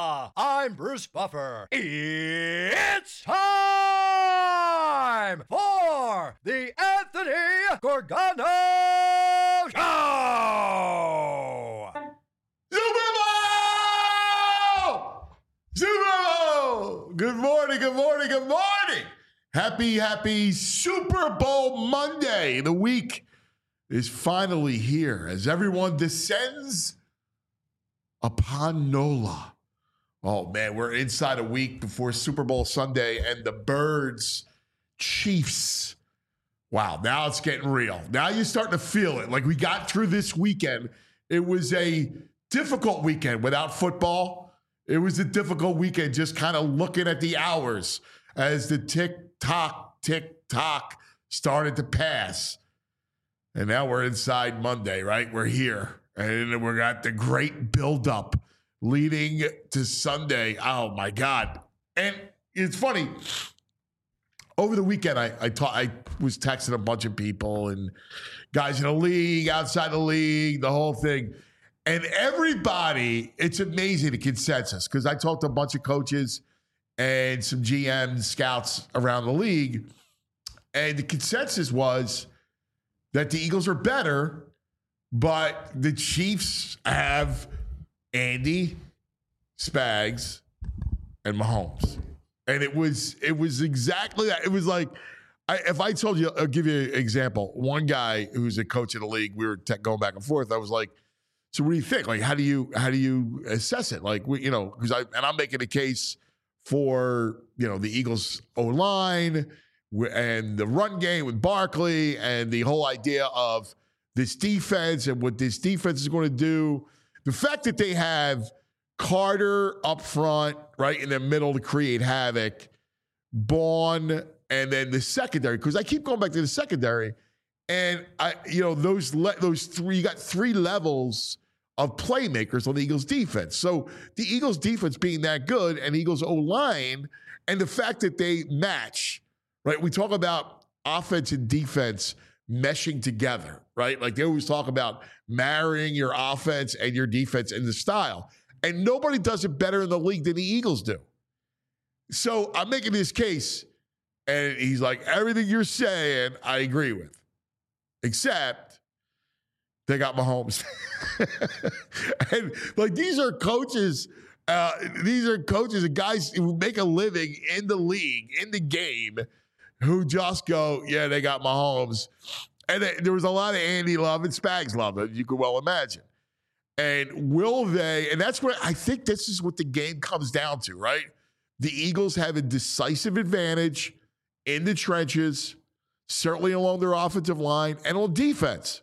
I'm Bruce Buffer. It's time for the Anthony Gorgano Show! Super Bowl! Super Bowl! Good morning, good morning, good morning. Happy Super Bowl Monday. The week is finally here as everyone descends upon NOLA. Oh, man, we're inside a week before Super Bowl Sunday and the Birds Chiefs. Wow, now it's getting real. Now you're starting to feel it. Like we got through this weekend. It was a difficult weekend without football. It was a difficult weekend just kind of looking at the hours as the tick-tock started to pass. And now we're inside Monday, right? We're here. And we got the great buildup leading to Sunday. Oh, my God. And it's funny. Over the weekend, I was texting a bunch of people and guys in the league, outside the league, the whole thing. And everybody, it's amazing the consensus, because I talked to a bunch of coaches and some GMs, scouts around the league. And the consensus was that the Eagles are better, but the Chiefs have Andy, Spags, and Mahomes. And it was exactly that. It was like, if I told you, I'll give you an example. One guy who's a coach in the league, we were going back and forth. I was like, so what do you think? Like, how do you assess it? Like, because I'm making a case for, the Eagles O-line and the run game with Barkley and the whole idea of this defense and what this defense is going to do. The fact that they have Carter up front, right in the middle to create havoc, Bourne, and then the secondary, because I keep going back to the secondary, and those three, you got three levels of playmakers on the Eagles defense. So the Eagles defense being that good and Eagles O-line, and the fact that they match, right? We talk about offense and defense meshing together, right? Like they always talk about marrying your offense and your defense in the style. And nobody does it better in the league than the Eagles do. So I'm making this case, and he's like, everything you're saying, I agree with. Except they got Mahomes. And like these are coaches and guys who make a living in the league, in the game, who just go, yeah, they got Mahomes. And there was a lot of Andy love and Spags love, as you could well imagine. And will they, and that's what I think this is what the game comes down to, right? The Eagles have a decisive advantage in the trenches, certainly along their offensive line and on defense.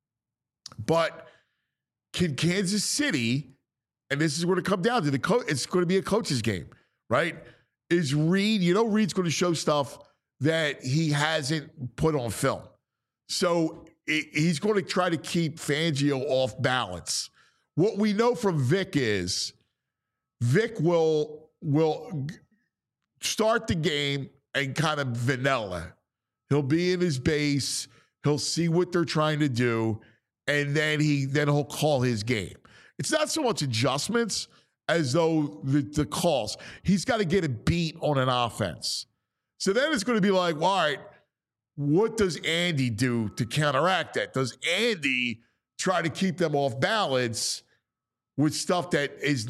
But can Kansas City, and this is what it comes down to, it's going to be a coach's game, right? Is Reed, Reed's going to show stuff that he hasn't put on film. So he's going to try to keep Fangio off balance. What we know from Vic is Vic will start the game and kind of vanilla. He'll be in his base. He'll see what they're trying to do, and then he'll call his game. It's not so much adjustments as though the calls. He's got to get a beat on an offense. So then it's going to be like, well, all right, what does Andy do to counteract that? Does Andy try to keep them off balance with stuff that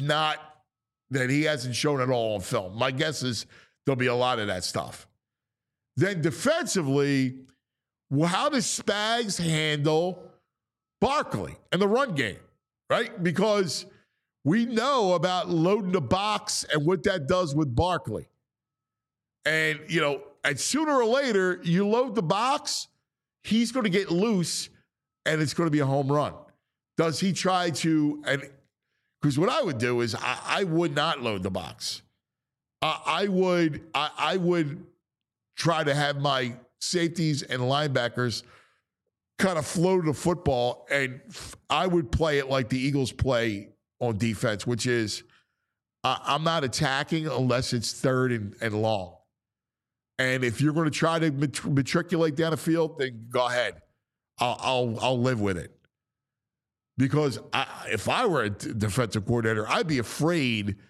he hasn't shown at all on film? My guess is there'll be a lot of that stuff. Then defensively, well, how does Spags handle Barkley and the run game, right? Because we know about loading the box and what that does with Barkley. And, and sooner or later, you load the box, he's going to get loose, and it's going to be a home run. Does he try to, because what I would do is I would not load the box. I would try to have my safeties and linebackers kind of float the football, and I would play it like the Eagles play on defense, which is I'm not attacking unless it's third and long. And if you're going to try to matriculate down the field, then go ahead. I'll live with it. Because if I were a defensive coordinator, I'd be afraid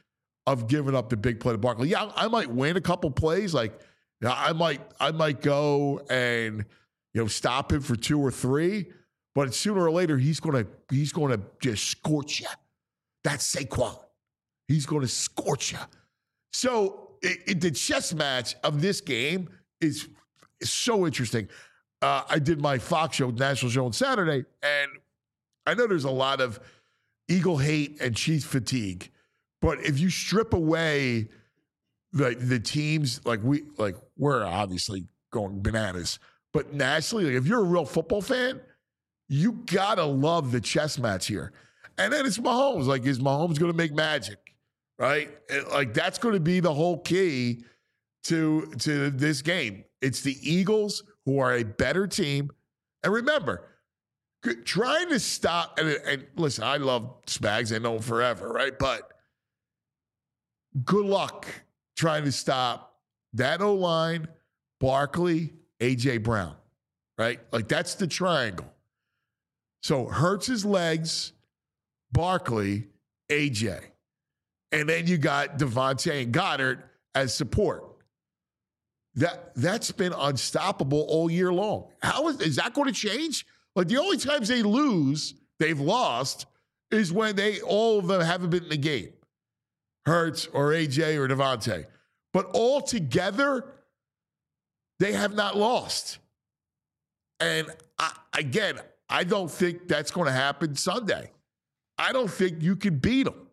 of giving up the big play to Barkley. Yeah, I might win a couple plays. Like, I might go and stop him for 2 or 3, but sooner or later he's gonna just scorch you. That's Saquon. He's gonna scorch you. So the chess match of this game is so interesting. I did my Fox show, national show on Saturday, and I know there's a lot of Eagle hate and Chiefs fatigue, but if you strip away the teams, we're obviously going bananas, but nationally, if you're a real football fan, you gotta love the chess match here. And then it's Mahomes. Like, is Mahomes going to make magic, right? That's going to be the whole key to this game. It's the Eagles, who are a better team. And remember, trying to stop, and listen, I love Spags. I know him forever, right? But good luck trying to stop that O-line, Barkley, A.J. Brown, right? That's the triangle. So Hurts' legs, Barkley, A.J. And then you got Devontae and Goddard as support. That's been unstoppable all year long. How is that going to change? The only times they've lost, is when all of them haven't been in the game. Hurts or AJ or Devontae. But all together, they have not lost. And I don't think that's going to happen Sunday. I don't think you can beat them.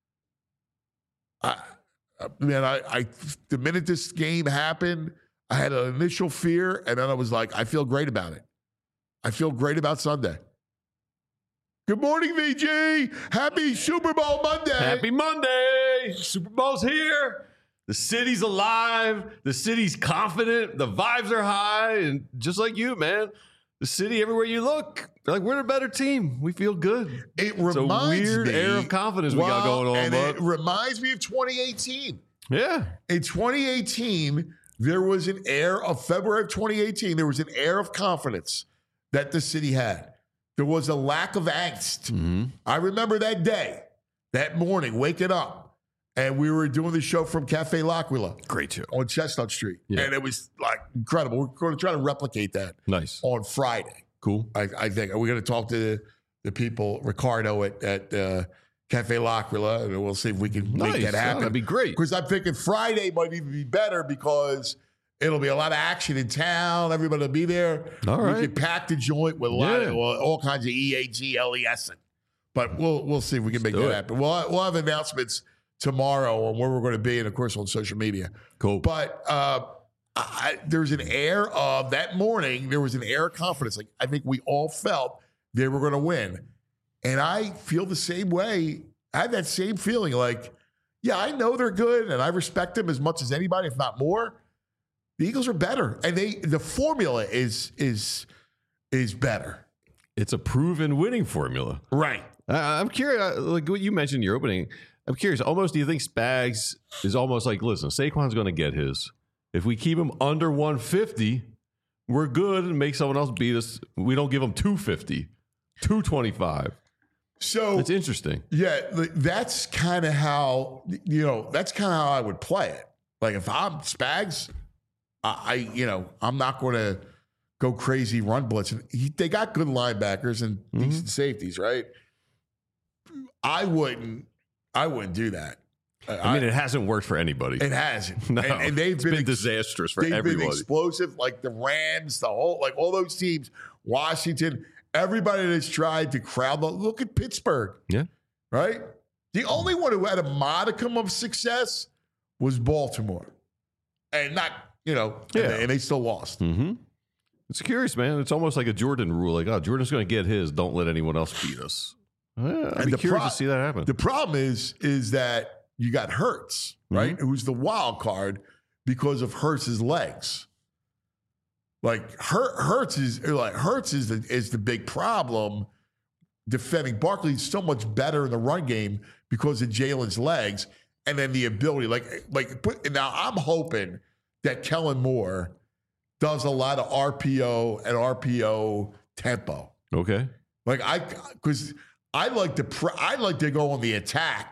The minute this game happened, I had an initial fear, and then I was like, I feel great about it. I feel great about Sunday. Good morning, VG. Happy Super Bowl Monday. Happy Monday. Super Bowl's here. The city's alive. The city's confident. The vibes are high. And just like you, man, the city, everywhere you look, they're like, we're a better team. We feel good. It's a weird air of confidence we got going on. And it reminds me of 2018. Yeah. In 2018, there was an air of February of 2018. There was an air of confidence that the city had. There was a lack of angst. Mm-hmm. I remember that day, that morning, waking up, and we were doing the show from Cafe L'Aquila. Great show. On Chestnut Street. Yeah. And it was incredible. We're going to try to replicate that. Nice. On Friday. Cool. I think. We're going to talk to the people, Ricardo at Cafe L'Aquila, and we'll see if we can make that happen. That'd be great. Because I'm thinking Friday might even be better because it'll be a lot of action in town. Everybody will be there. All right. We can pack the joint with all kinds of EAGLES. But we'll see if we can make that happen. We'll have announcements tomorrow on where we're going to be, and of course on social media. Cool. But there's an air of that morning. There was an air of confidence. I think we all felt they were going to win, and I feel the same way. I had that same feeling. I know they're good, and I respect them as much as anybody, if not more. The Eagles are better, and the formula is better. It's a proven winning formula, right? I'm curious, like what you mentioned in your opening. I'm curious. Almost, do you think Spags is almost like, listen, Saquon's going to get his. If we keep him under 150, we're good and make someone else beat us. We don't give him 250, 225. So it's interesting. Yeah, that's kind of how I would play it. If I'm Spags, I'm not going to go crazy run blitz. They got good linebackers and decent safeties, right? I wouldn't do that. I mean, it hasn't worked for anybody. It hasn't. No, and they've been disastrous for everybody. They've been explosive, like the Rams, all those teams, Washington, everybody that's tried to crowd. Look at Pittsburgh. Yeah. Right? The only one who had a modicum of success was Baltimore. And not, and they still lost. Mm-hmm. It's curious, man. It's almost like a Jordan rule. Jordan's going to get his. Don't let anyone else beat us. I'd be curious to see that happen. The problem is that you got Hurts, right? Mm-hmm. Who's the wild card because of Hurts' legs. Hurts is the big problem defending. Barkley's so much better in the run game because of Jalen's legs and then the ability. Now I'm hoping that Kellen Moore does a lot of RPO and RPO tempo. Okay. Because I like to go on the attack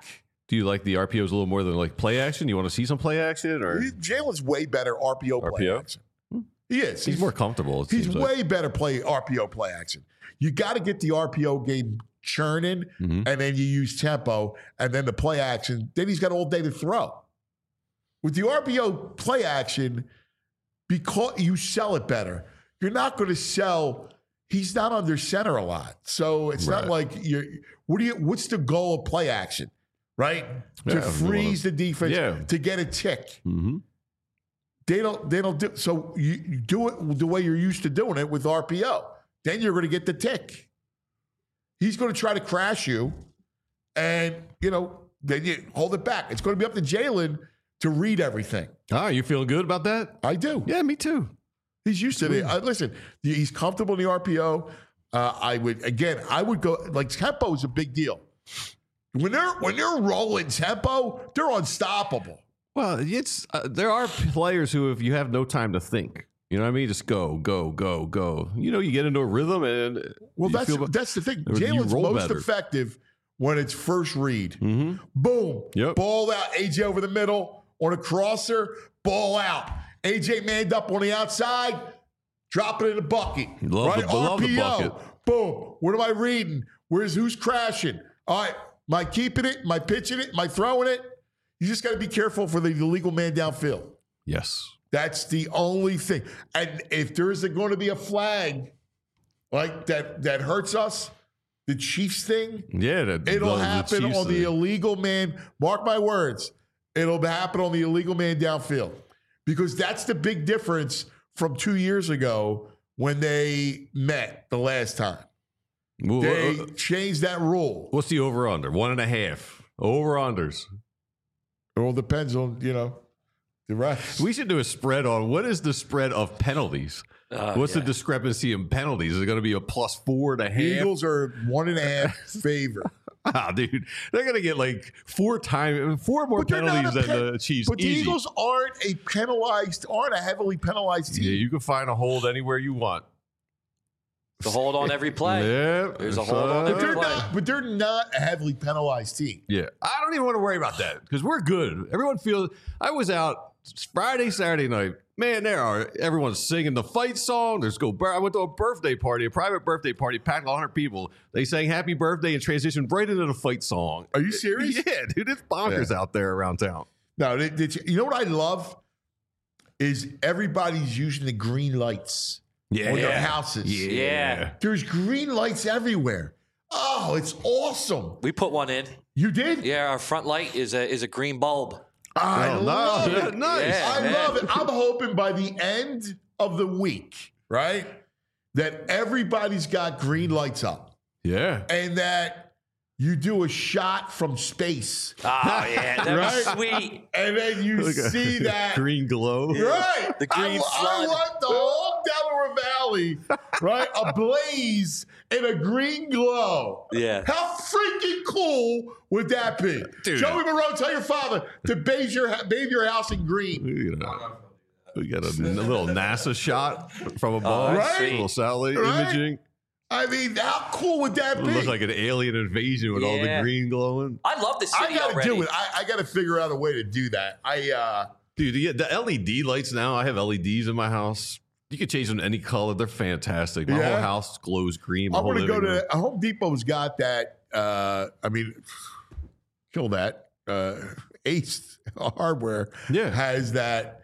Do you like the RPOs a little more than like play action? You want to see some play action or Jalen's way better RPO play RPO? action. He is. he's more comfortable? He's way better RPO play action. You got to get the RPO game churning, and then you use tempo, and then the play action. Then he's got all day to throw. With the RPO play action, because you sell it better, you're not going to sell. He's not under center a lot, so it's not like you're. What's the goal of play action? Right? To freeze the defense, to get a tick. Mm-hmm. They don't do so. You do it the way you're used to doing it with RPO. Then you're going to get the tick. He's going to try to crash you, and then you hold it back. It's going to be up to Jalen to read everything. Ah, you feeling good about that? I do. Yeah, me too. He's used to it. Listen, he's comfortable in the RPO. I would go like tempo is a big deal. When they're rolling tempo, they're unstoppable. Well, it's there are players who, if you have no time to think, you know what I mean, just go, go, go, go. You get into a rhythm, and that's the thing. Jalen's most effective when it's first read. Mm-hmm. Boom, ball out. AJ over the middle on a crosser, ball out. AJ manned up on the outside, drop it in the bucket. Love the bucket. Boom. What am I reading? Who's crashing? All right. Am I keeping it? Am I pitching it? Am I throwing it? You just got to be careful for the illegal man downfield. Yes. That's the only thing. And if there is going to be a flag like that hurts us, the Chiefs thing, it'll happen on the illegal man. Mark my words. It'll happen on the illegal man downfield. Because that's the big difference from 2 years ago when they met the last time. They changed that rule. What's the over-under? 1.5. Over-unders. It all depends on, the rest. We should do a spread on what is the spread of penalties. What's the discrepancy in penalties? Is it going to be a +4.5? Eagles are 1.5 favor. Dude, they're going to get like 4 more penalties than the Chiefs. But the Eagles aren't a heavily penalized team. Yeah, you can find a hold anywhere you want. The hold on every play. Yeah, there's a hold on every play. But they're not a heavily penalized team. Yeah, I don't even want to worry about that because we're good. Everyone feels. I was out Friday, Saturday night. Man, everyone's singing the fight song. I went to a birthday party, a private birthday party, packed 100 people. They sang "Happy Birthday" and transitioned right into the fight song. Are you serious? Yeah, dude, it's bonkers out there around town. No, you know what I love is everybody's using the green lights. On their houses. Yeah. There's green lights everywhere. Oh, it's awesome. We put one in. You did? Yeah, our front light is a green bulb. I love it. Nice. Yeah, I love it. I'm hoping by the end of the week, right, that everybody's got green lights up. Yeah. And that you do a shot from space. Oh, yeah. That's sweet. And then you see that green glow. Right. The green flood. I want the whole Delaware Valley, right, ablaze in a green glow. Yeah. How freaking cool would that be? Dude. Joey Moreau, tell your father to bathe your house in green. We got a little NASA shot from above. Right? A little satellite Right? imaging. I mean, how cool would that It be? looks like an alien invasion with all the green glowing. I love the city I gotta already. do it. I gotta figure out a way to do that. Dude, the LED lights now, I have LEDs in my house. You can change them to any color. They're fantastic. My whole house glows green. I want to go to Home Depot's got that. Kill that. Ace Hardware has that.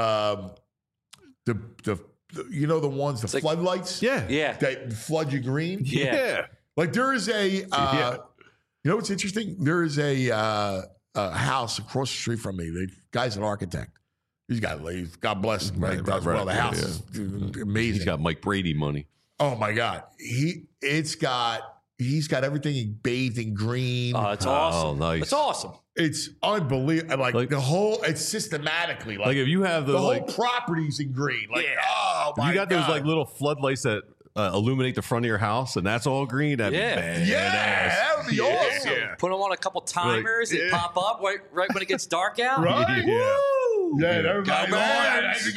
The ones, the floodlights? Yeah. That flood you green? Yeah. Like there is a, you know what's interesting? There is a house across the street from me. The guy's an architect. He's got, God bless him, right? Does well. The house is amazing. He's got Mike Brady money. Oh my God. He's got everything bathed in green. Oh, it's awesome. Oh, nice. It's awesome. It's unbelievable. Like the whole, it's systematically like if you have the whole property's in green. Like, oh my God. You got those like little floodlights that illuminate the front of your house, and that's all green. That'd be badass. Yeah, that would be awesome. Yeah. Put them on a couple timers. They pop up right when it gets dark out. Right? Yeah. Woo! Yeah, everybody Let's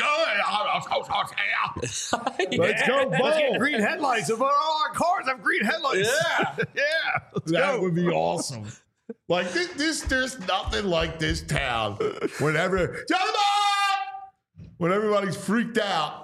go, Bo. Green headlights. All our cars have green headlights. Yeah. Yeah. Let's That go. would be awesome. Like there's nothing like this town. Whenever Johnny Mark, when everybody's freaking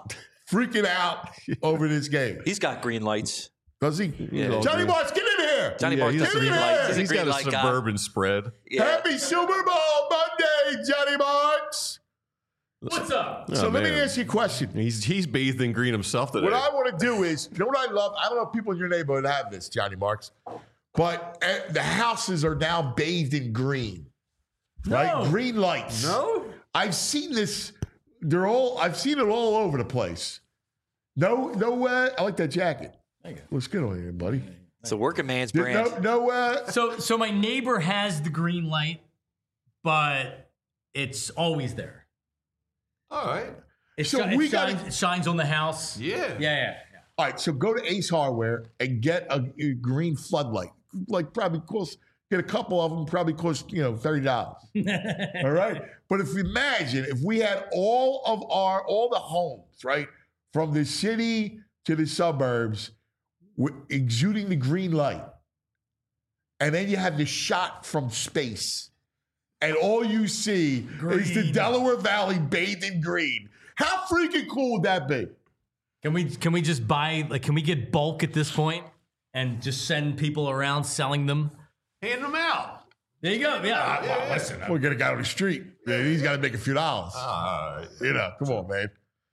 out over this game. He's got green lights. Does he? Yeah. Johnny Marks, get in here. Johnny Marks get does in green here. lights. He's got a green light guy. suburban spread. Yeah. Happy Super Bowl Monday, Johnny Marks. What's up? So let me man. ask you a question. He's bathed in green himself today. What I want to do is, you know what I love? I don't know if people in your neighborhood have this, Johnny Marks, but the houses are now bathed in green, right? No. Green lights. No? I've seen this. I've seen it all over the place. No, I like that jacket. Thank you. Looks good on you, buddy. It's a working man's brand. So my neighbor has the green light, but it's always there. All right. It shines on the house. Yeah. All right, so go to Ace Hardware and get a green floodlight. Like probably get a couple of them, probably cost $30. All right, but imagine if we had all the homes, right, from the city to the suburbs, exuding the green light, and then you have the shot from space, and all you see is the Delaware Valley bathed in green. How freaking cool would that be? Can we just buy, can we get bulk at this point and just send people around selling them? Hand them out. There you go. Yeah. Well, listen, we're gonna go on the street. Man, he's got to make a few dollars. Come on, man.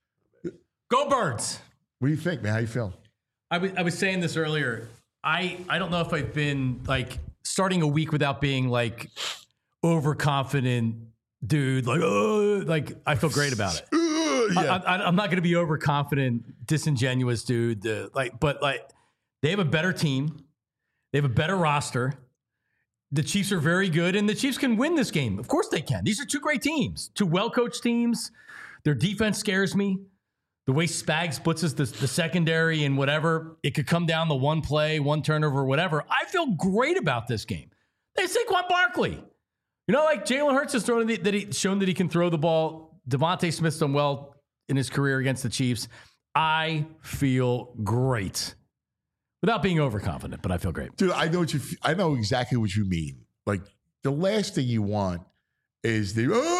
Go Birds. What do you think, man? How you feeling? I was saying this earlier. I don't know if I've been starting a week without being overconfident, dude. I feel great about it. Yeah. I'm not going to be overconfident, disingenuous, dude. But they have a better team. They have a better roster. The Chiefs are very good, and the Chiefs can win this game. Of course they can. These are two great teams, two well-coached teams. Their defense scares me. The way Spags blitzes the secondary and whatever, it could come down to one play, one turnover, whatever. I feel great about this game. They have Saquon Barkley. Jalen Hurts has shown that he can throw the ball. Devontae Smith's done well in his career against the Chiefs. I feel great. Without being overconfident, but I feel great. Dude, I know exactly what you mean. Like, the last thing you want is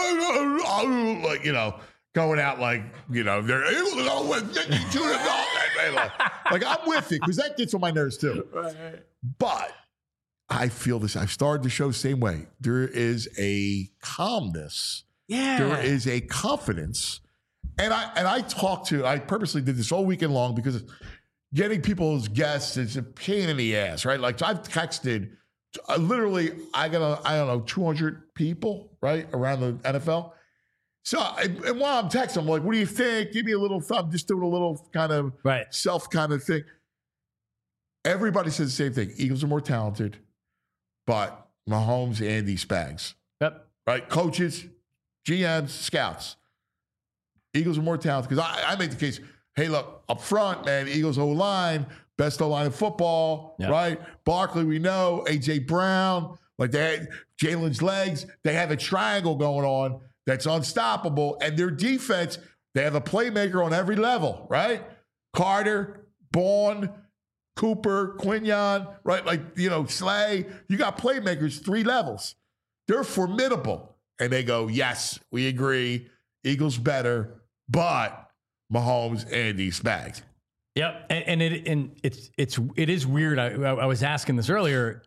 going out they're able to go with 52 like I'm with it because that gets on my nerves too. Right. But I feel this. I've started the show the same way. There is a calmness. Yeah. There is a confidence. And I purposely did this all weekend long because getting people as guests is a pain in the ass, right? Like, I've texted literally, I got 200 people, right, around the NFL. So, and while I'm texting, I'm like, what do you think? Give me a little thumb, just doing a little kind of self kind of thing. Everybody says the same thing. Eagles are more talented, but Mahomes, Andy, Spags. Yep. Right? Coaches, GMs, scouts. Eagles are more talented because I make the case, hey, look, up front, man, Eagles O-line, best O-line in football, right? Barkley, we know, A.J. Brown, Jalen's legs. They have a triangle going on that's unstoppable. And their defense, they have a playmaker on every level, right? Carter, Bourne, Cooper, Quinion, right? Slay. You got playmakers, 3 levels. They're formidable. And they go, yes, we agree. Eagles better, but Mahomes, Andy, Spags. Yep, and it is weird. I was asking this earlier.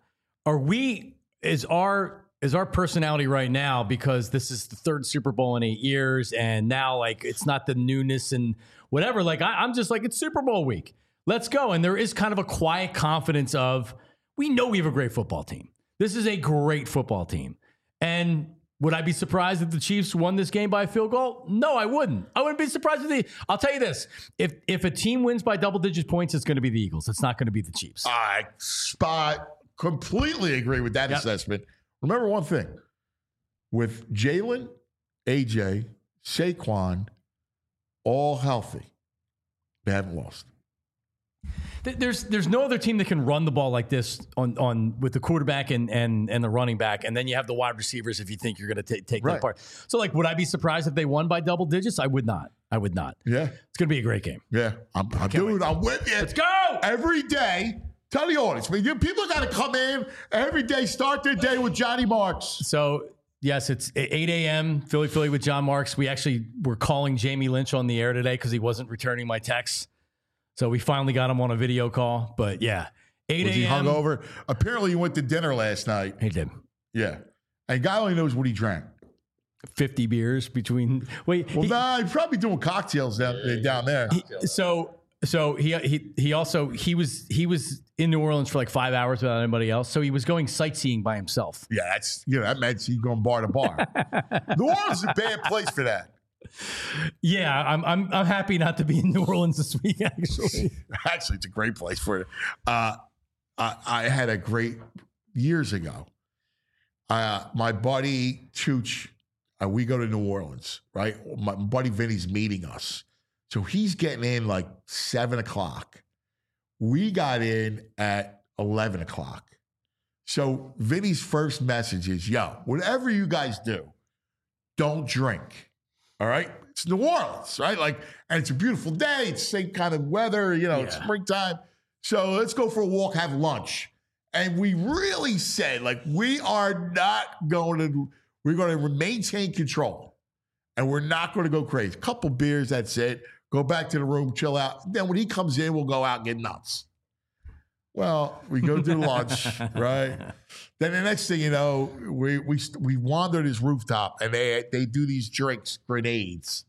Is our personality right now, because this is the 3rd Super Bowl in 8 years, and now it's not the newness and whatever. I'm just it's Super Bowl week. Let's go. And there is kind of a quiet confidence of, we know we have a great football team. This is a great football team, and would I be surprised if the Chiefs won this game by a field goal? No, I wouldn't. I wouldn't be surprised I'll tell you this. If a team wins by double-digit points, it's going to be the Eagles. It's not going to be the Chiefs. I completely agree with that assessment. Remember one thing. With Jalen, AJ, Saquon, all healthy, they haven't lost. There's no other team that can run the ball like this on with the quarterback and the running back, and then you have the wide receivers if you think you're going to take that part. So, would I be surprised if they won by double digits? I would not. Yeah. It's going to be a great game. Yeah. I'm with you. Let's go! Every day, Tell the audience. I mean, people got to come in every day, start their day with Johnny Marks. So, yes, it's 8 a.m., Philly with John Marks. We actually were calling Jamie Lynch on the air today because he wasn't returning my texts. So we finally got him on a video call. But, yeah, 8 a.m. Was he hungover? Apparently, he went to dinner last night. He did. Yeah. And God only knows what he drank. 50 beers between. Wait. Well, he's probably doing cocktails down there. He was in New Orleans for like 5 hours without anybody else. So he was going sightseeing by himself. Yeah, that meant he's going bar to bar. New Orleans is a bad place for that. Yeah, I'm happy not to be in New Orleans this week. Actually, it's a great place for it. I had a great years ago. My buddy Chooch, we go to New Orleans, right? My buddy Vinny's meeting us. So he's getting in like 7 o'clock. We got in at 11 o'clock. So Vinny's first message is, yo, whatever you guys do, don't drink. All right? It's New Orleans, right? And it's a beautiful day. It's the same kind of weather, it's springtime. So let's go for a walk, have lunch. And we really said, we're going to maintain control. And we're not going to go crazy. A couple beers, that's it. Go back to the room, chill out. Then when he comes in, we'll go out and get nuts. Well, we go do lunch, right? Then the next thing you know, we wander this rooftop, and they do these drinks, grenades.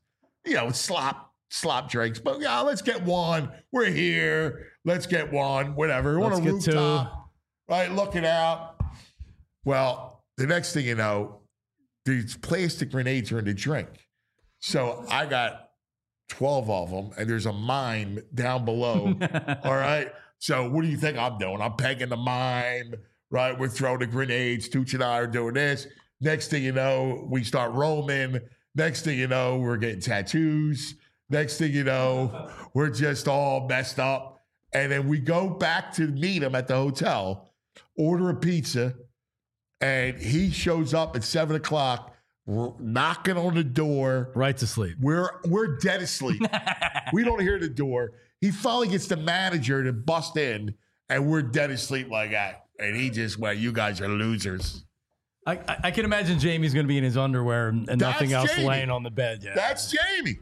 Slop drinks. But yeah, let's get one. We're here. Let's get one. Whatever. We're on a rooftop, right? Looking out. Well, the next thing you know, these plastic grenades are in the drink. So I got 12 of them, and there's a mime down below. All right. So what do you think I'm doing? I'm pegging the mime, right? We're throwing the grenades. Tooch and I are doing this. Next thing you know, we start roaming. Next thing you know, we're getting tattoos. Next thing you know, we're just all messed up. And then we go back to meet him at the hotel, order a pizza, and he shows up at 7 o'clock. We're knocking on the door. Right to sleep. We're dead asleep. We don't hear the door. He finally gets the manager to bust in, and we're dead asleep like that. And he just went, you guys are losers. I can imagine Jamie's going to be in his underwear and nothing else laying on the bed. Yeah. That's Jamie.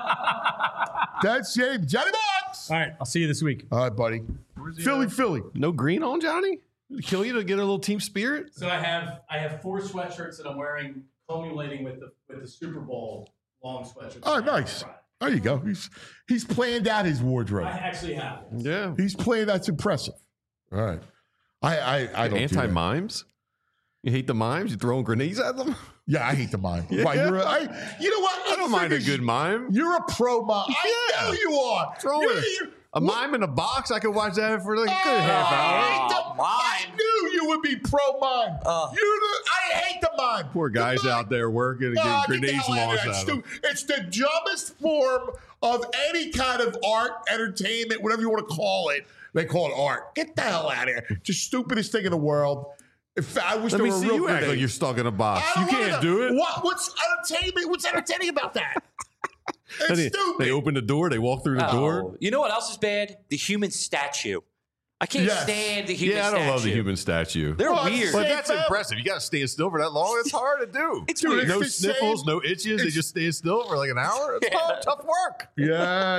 That's Jamie. Johnny Box. All right. I'll see you this week. All right, buddy. Philly. No green on, Johnny? Kill you to get a little team spirit? So I have 4 sweatshirts that I'm wearing, culminating with the Super Bowl long sweatshirts. Oh, nice. There you go. He's planned out his wardrobe. I actually have. Yeah. He's planned. That's impressive. All right. I don't anti-mimes? You hate the mimes? You throwing grenades at them? Yeah, I hate the mime. Yeah. Why, you know what? I don't mind a good mime. You're a pro mime. I know you are. Throw it. A mime in a box, I could watch that for like a good half hour. I knew you would be pro mime. I hate the mime. Poor guys out there working and getting grenades launched at them. It's the dumbest form of any kind of art, entertainment, whatever you want to call it. They call it art. Get the hell out of here. It's the stupidest thing in the world. I wish Let there me were see real you act grenades. like you're stuck in a box. You can't do it. What's entertainment? What's entertaining about that? It's stupid. They open the door. They walk through the door. You know what else is bad? The human statue. I can't stand the human statue. Yeah, I don't love the human statue. They're weird. But that's impressive. You got to stand still for that long. It's hard to do. It's weird. No sniffles, no itches. They just stand still for like an hour. It's tough work. Yeah.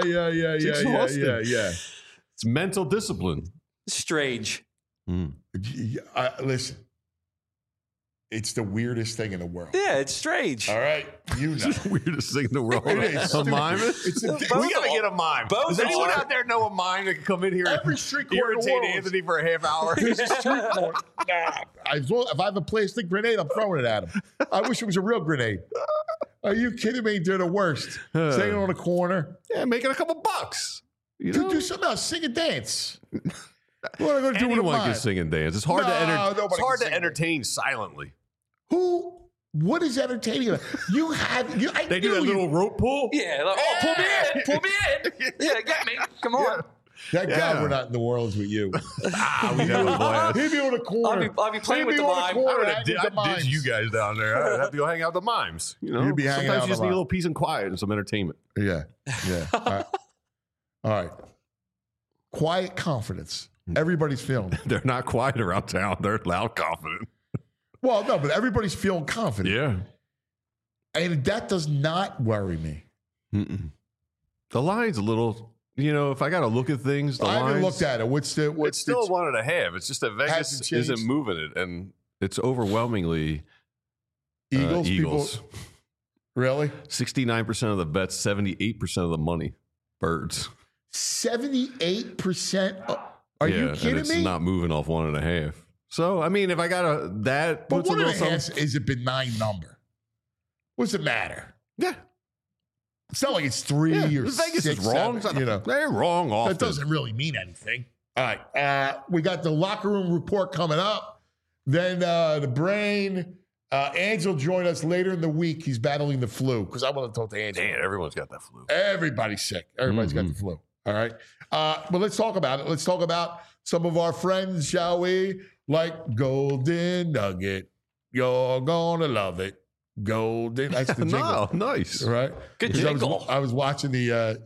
It's mental discipline. Strange. Listen, it's the weirdest thing in the world. Yeah, it's strange. All right, you know. It's the weirdest thing in the world. It is. A mime? We got to get a mime. Does anyone out there know a mime that can come in here Every and street corner in the irritate world. Anthony for a half hour? There's a street corner. If I have a plastic grenade, I'm throwing it at him. I wish it was a real grenade. Are you kidding me? They're the worst. Staying on the corner. Yeah, making a couple bucks. You know? Do something else. Sing and dance. What am I going to do with Anyone mine? can sing and dance. It's hard nobody can sing and entertain silently. What is entertaining? I They do that little rope pull. Yeah. Like, pull me in. Pull me in. Yeah, get me. Come on. That guy, we're not in the worlds with you. We have a blast. He'd be on the corner. I'll be playing with the mime. I ditch you guys down there. I'd have to go hang out with the mimes. You know, You'd be hanging sometimes out you just with need a the little peace and quiet and some entertainment. Yeah. All right. Quiet confidence. Everybody's feeling it. They're not quiet around town. They're loud, confident. Well, no, but everybody's feeling confident. Yeah. And that does not worry me. Mm-mm. The line's a little, if I got to look at things, I haven't looked at it. What's it's still 1.5. It's just that Vegas isn't moving it, and it's overwhelmingly Eagles. Eagles. People, really? 69% of the bets, 78% of the money. Birds. 78%? Are you kidding and it's me? not moving off 1.5. So, I mean, if I got that, but puts a little 1.5 is a benign number. What's it matter? Yeah. It's not like it's 3 or Vegas 6, is wrong. 7, They're wrong often. That doesn't really mean anything. All right. We got the locker room report coming up. Then the brain. Angel will join us later in the week. He's battling the flu because I want to talk to Angel. Damn, everyone's got that flu. Everybody's sick. Everybody's got the flu. All right. But let's talk about it. Let's talk about some of our friends, shall we? Like Golden Nugget. You're going to love it. Golden. That's the jingle. No, nice. Right? Good jingle. I was watching the,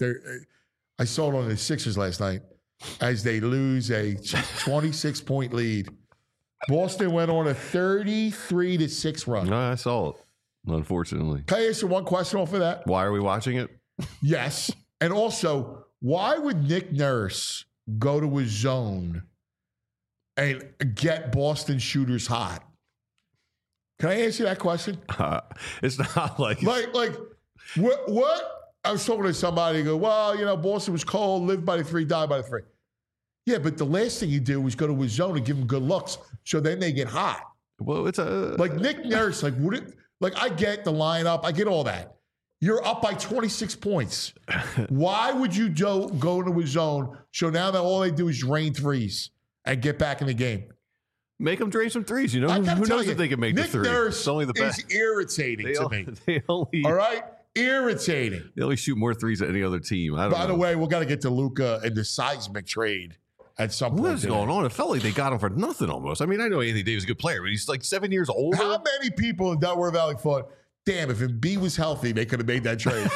I saw it on the Sixers last night as they lose a 26-point lead. Boston went on a 33-6 run. No, I saw it, unfortunately. Can I ask you one question off of that? Why are we watching it? Yes. And also, why would Nick Nurse go to his zone and get Boston shooters hot? Can I ask you that question? It's not like what? I was talking to somebody who go, well, Boston was cold, lived by the 3, died by the 3. Yeah, but the last thing you do is go to his zone and give him good looks, so then they get hot. Well, it's like Nick Nurse. I get the lineup, I get all that. You're up by 26 points. Why would you go into his zone? So now that all they do is drain threes and get back in the game. Make them drain some threes. Who knows if they can make Nick the 3? Nurse it's only the best. Is irritating to me. All right, irritating. They only shoot more threes than any other team. By the way, we got to get to Luka and the seismic trade. At some point. What is going on? It felt like they got him for nothing almost. I mean, I know Anthony Davis is a good player, but he's like 7 years older. How many people in Delaware Valley thought, damn, if Embiid was healthy, they could have made that trade?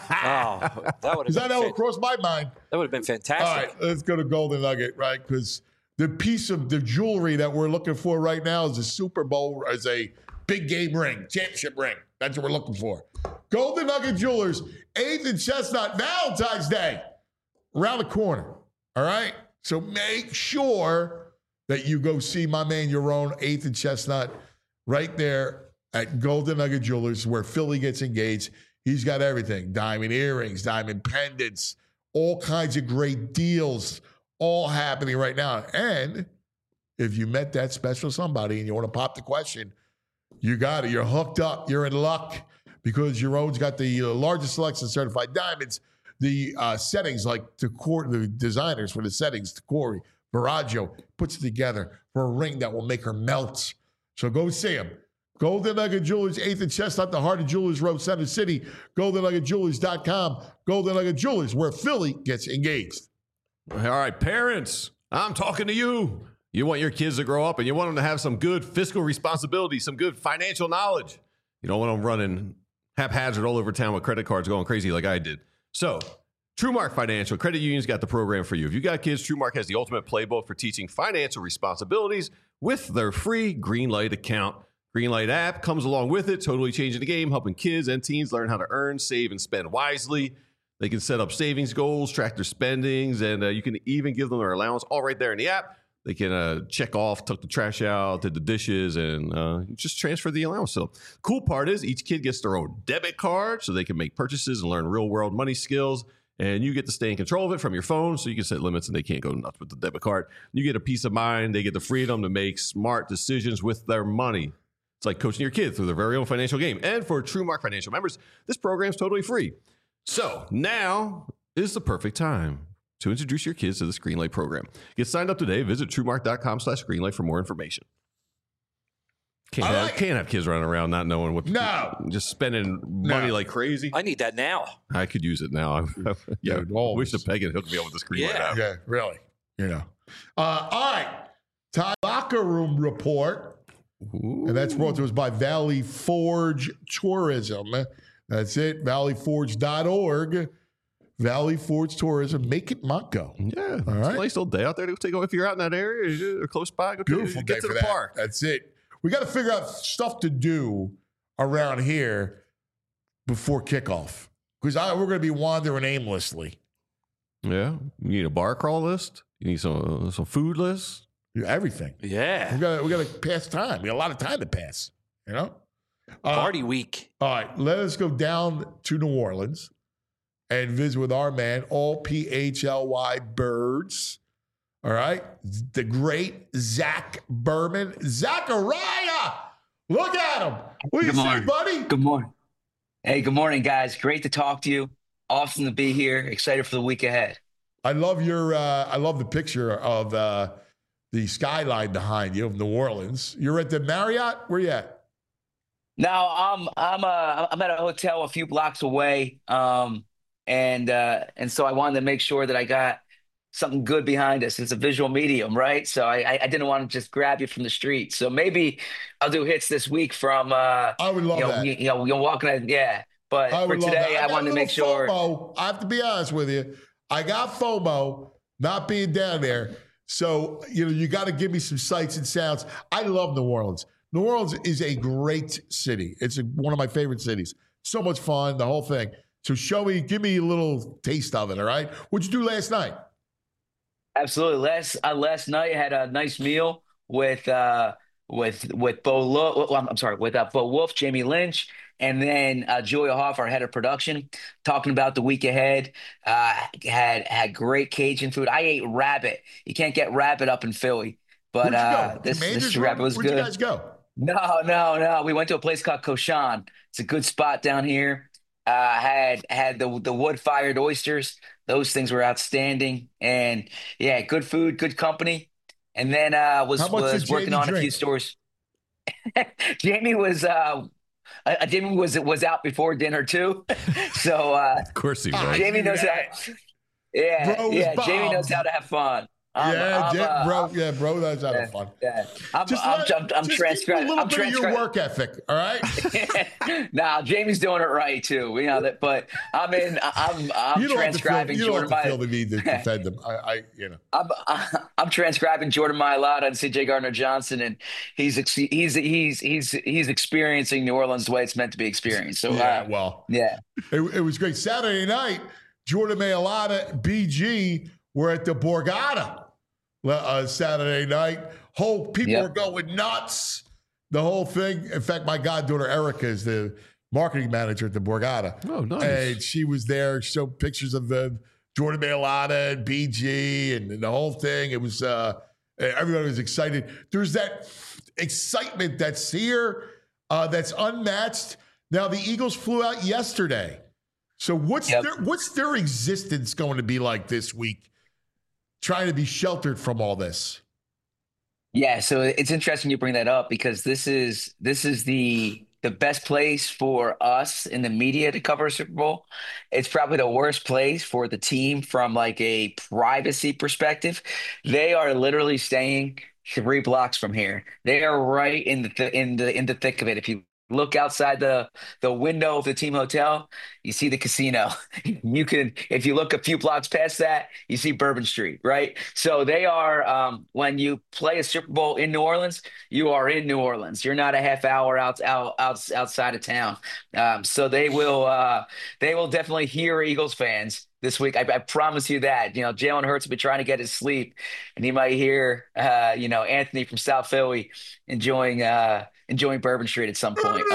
That would have. Because I know it crossed my mind. That would have been fantastic. All right, let's go to Golden Nugget, right? Because the piece of the jewelry that we're looking for right now is a Super Bowl, as a big game ring, championship ring. That's what we're looking for. Golden Nugget Jewelers, 8th and Chestnut, Valentine's Day, around the corner. All right? So make sure that you go see my man, Yaron, 8th and Chestnut, right there at Golden Nugget Jewelers, where Philly gets engaged. He's got everything. Diamond earrings, diamond pendants, all kinds of great deals, all happening right now. And if you met that special somebody and you want to pop the question, you got it. You're hooked up. You're in luck because Yaron's got the largest selection of certified diamonds. The settings, like the designers for the settings, Corey Baraggio puts it together for a ring that will make her melt. So go see him. Golden Nugget Jewelers, 8th and Chestnut, the heart of Jewelers Road, Center City. GoldenNuggetJewelers.com. Golden Nugget Jewelers, where Philly gets engaged. All right, parents, I'm talking to you. You want your kids to grow up and you want them to have some good fiscal responsibility, some good financial knowledge. You don't want them running haphazard all over town with credit cards going crazy like I did. So, TrueMark Financial Credit Union's got the program for you. If you got kids, TrueMark has the ultimate playbook for teaching financial responsibilities with their free Greenlight account. Greenlight app comes along with it, totally changing the game, helping kids and teens learn how to earn, save, and spend wisely. They can set up savings goals, track their spendings, and you can even give them their allowance all right there in the app. They can check off, took the trash out, did the dishes, and just transfer the allowance. So cool part is each kid gets their own debit card so they can make purchases and learn real-world money skills. And you get to stay in control of it from your phone so you can set limits and they can't go nuts with the debit card. You get a peace of mind. They get the freedom to make smart decisions with their money. It's like coaching your kid through their very own financial game. And for TrueMark Financial members, this program is totally free. So now is the perfect time to introduce your kids to this Greenlight program. Get signed up today. Visit TrueMark.com/Greenlight for more information. Can't have kids running around not knowing what to do. Just spending money like crazy. I need that now. I could use it now. Yeah, Dude, I wish the Peg hooked me up with the Greenlight app. Yeah, really. All right. Ty Locker Room Report. Ooh. And that's brought to us by Valley Forge Tourism. That's it, valleyforge.org. Valley Forge Tourism. Make it Montgo. Yeah. All right. It's a nice little day out there to take. If you're out in that area or close by, go Beautiful day get to for the that. park. That's it. We got to figure out stuff to do around here before kickoff because we're going to be wandering aimlessly. Yeah. You need a bar crawl list. You need some food lists. Everything. Yeah. We got to pass time. We got a lot of time to pass. You know. Party week. All right, let us go down to New Orleans and visit with our man, all PHLY Birds. All right, the great Zach Berman. Zachariah, look at him. What do you say, buddy? Good morning. Hey, good morning, guys. Great to talk to you. Awesome to be here. Excited for the week ahead. I love I love the picture of the skyline behind you of New Orleans. You're at the Marriott. Where you at? Now I'm at a hotel a few blocks away, and so I wanted to make sure that I got something good behind us. It's a visual medium, right? So I didn't want to just grab you from the street. So maybe I'll do hits this week from. I would love that. You're walking. Yeah, but for today, I wanted to make sure. FOMO. I have to be honest with you. I got FOMO not being down there. So you got to give me some sights and sounds. I love New Orleans. New Orleans is a great city. It's one of my favorite cities. So much fun, the whole thing. So give me a little taste of it, all right? What'd you do last night? Absolutely. Last night I had a nice meal with Bo Wolf, Jamie Lynch, and then Julia Hoff, our head of production, talking about the week ahead. Had great Cajun food. I ate rabbit. You can't get rabbit up in Philly, but this rabbit was good. Where'd you guys go? No. We went to a place called Koshan. It's a good spot down here. Had the wood-fired oysters. Those things were outstanding. And yeah, good food, good company. And then was working on a few stores. Jamie was out before dinner too. So of course he was. Jamie knows how. Yeah. Jamie knows how to have fun. Bro knows how to have fun. Yeah. I'm transcribing. A little bit of your work ethic, all right? Nah, Jamie's doing it right too. We know that, but I'm transcribing Jordan. You don't have to feel the need to defend them. I'm transcribing Jordan Mailata and C.J. Gardner-Johnson, and he's experiencing New Orleans the way it's meant to be experienced. So it was great. Saturday night, Jordan Mailata, BG were at the Borgata Saturday night. People were going nuts. The whole thing. In fact, my goddaughter Erica is the marketing manager at the Borgata. Oh, nice. And she was there, showed pictures of the Jordan Mailata and BG and the whole thing. It was everybody was excited. There's that excitement that's here, that's unmatched. Now the Eagles flew out yesterday. So what's their existence going to be like this week? Trying to be sheltered from all this. Yeah, so it's interesting you bring that up because this is the best place for us in the media to cover a Super Bowl. It's probably the worst place for the team from like a privacy perspective. They are literally staying 3 blocks from here. They are right in the thick of it. If you look outside the window of the team hotel, you see the casino. If you look a few blocks past that, you see Bourbon Street, right? So they are, when you play a Super Bowl in New Orleans, you are in New Orleans. You're not a half hour outside of town. So they will definitely hear Eagles fans this week. I promise you that. Jalen Hurts will be trying to get his sleep, and he might hear, Anthony from South Philly enjoying Bourbon Street at some point.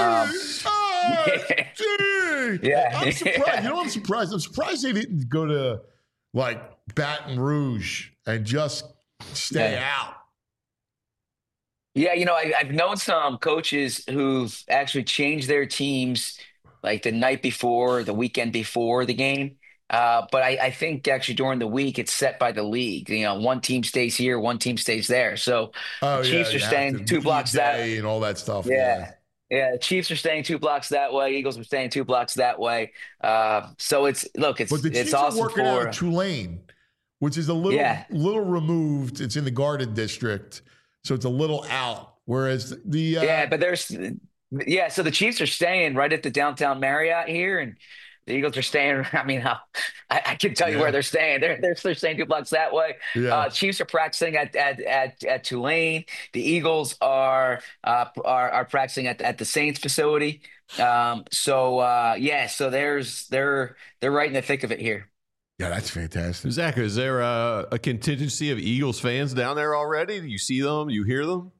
Yeah. I'm surprised. I'm surprised. I'm surprised they didn't go to like Baton Rouge and just stay out. Yeah, I've known some coaches who've actually changed their teams like the night before, the weekend before the game. But I think actually during the week it's set by the league. One team stays here, one team stays there. So the Chiefs are staying 2 blocks that way and all that stuff. Yeah. The Chiefs are staying 2 blocks that way. Eagles are staying 2 blocks that way. So it's but the Chiefs awesome are working out of Tulane, which is a little removed. It's in the Garden District, so it's a little out. Whereas so the Chiefs are staying right at the downtown Marriott here, and The Eagles are staying. I mean, I can tell you where they're staying. They're staying 2 blocks that way. Chiefs are practicing at Tulane. The Eagles are practicing at the Saints facility. So they're right in the thick of it here. Yeah, that's fantastic. Zach, is there a contingency of Eagles fans down there already? Do you see them? You hear them?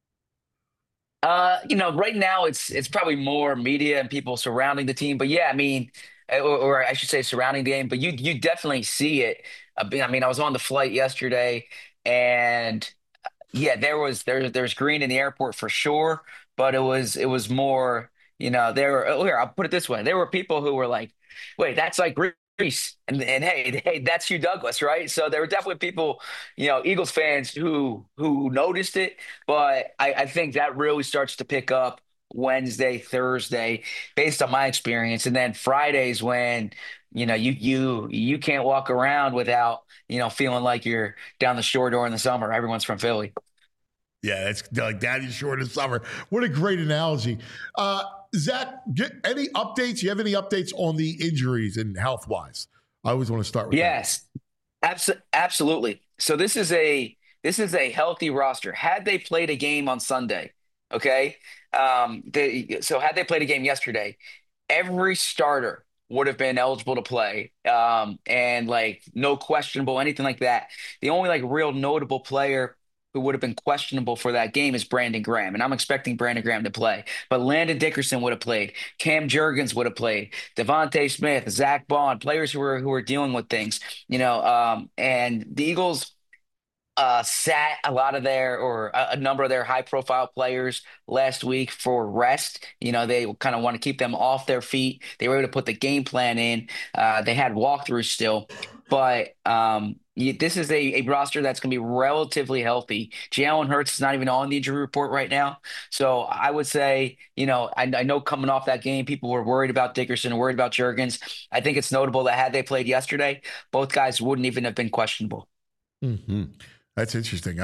Right now it's probably more media and people surrounding the team. But yeah, I mean, or I should say surrounding the game. But you definitely see it. I mean, I was on the flight yesterday, and yeah, there's green in the airport for sure. But it was more. Here, I'll put it this way: there were people who were like, "Wait, that's like Greece," and hey, that's Hugh Douglas, right? So there were definitely people, Eagles fans who noticed it, but I think that really starts to pick up Wednesday, Thursday, based on my experience, and then Fridays when you can't walk around without feeling like you're down the shore during the summer. Everyone's from Philly. Yeah, it's like daddy's short in summer. What a great analogy. Zach, any updates? You have any updates on the injuries and health-wise? I always want to start with that. Yes, absolutely. So this is a healthy roster. Had they played a game on Sunday, okay? So had they played a game yesterday, every starter would have been eligible to play, and like no questionable, anything like that. The only like real notable player who would have been questionable for that game is Brandon Graham. And I'm expecting Brandon Graham to play. But Landon Dickerson would have played. Cam Jurgens would have played. Devontae Smith, Zach Bond, players who are dealing with things. And the Eagles sat a number of their high-profile players last week for rest. They kind of want to keep them off their feet. They were able to put the game plan in. They had walkthroughs still. But this is a roster that's going to be relatively healthy. Jalen Hurts is not even on the injury report right now. So I would say, I know coming off that game, people were worried about Dickerson and worried about Jurgens. I think it's notable that had they played yesterday, both guys wouldn't even have been questionable. Mm-hmm. That's interesting.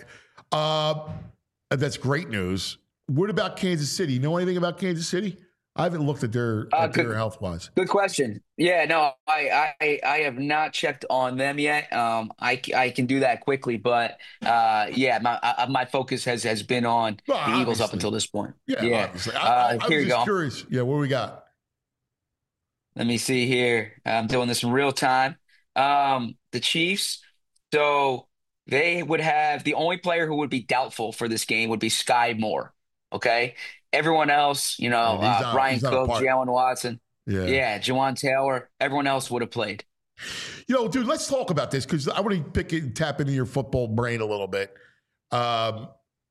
That's great news. What about Kansas City? You know anything about Kansas City? I haven't looked at their health-wise. Good question. Yeah, no, I have not checked on them yet. I can do that quickly, but my focus has been on the Eagles up until this point. Yeah. Obviously. I was just curious. Yeah, what do we got? Let me see here. I'm doing this in real time. The Chiefs. So they would have the only player who would be doubtful for this game would be Sky Moore. Okay. Everyone else, Brian Cook, Jalen Watson, Jawan Taylor, everyone else would have played. Dude, let's talk about this because I want to tap into your football brain a little bit. I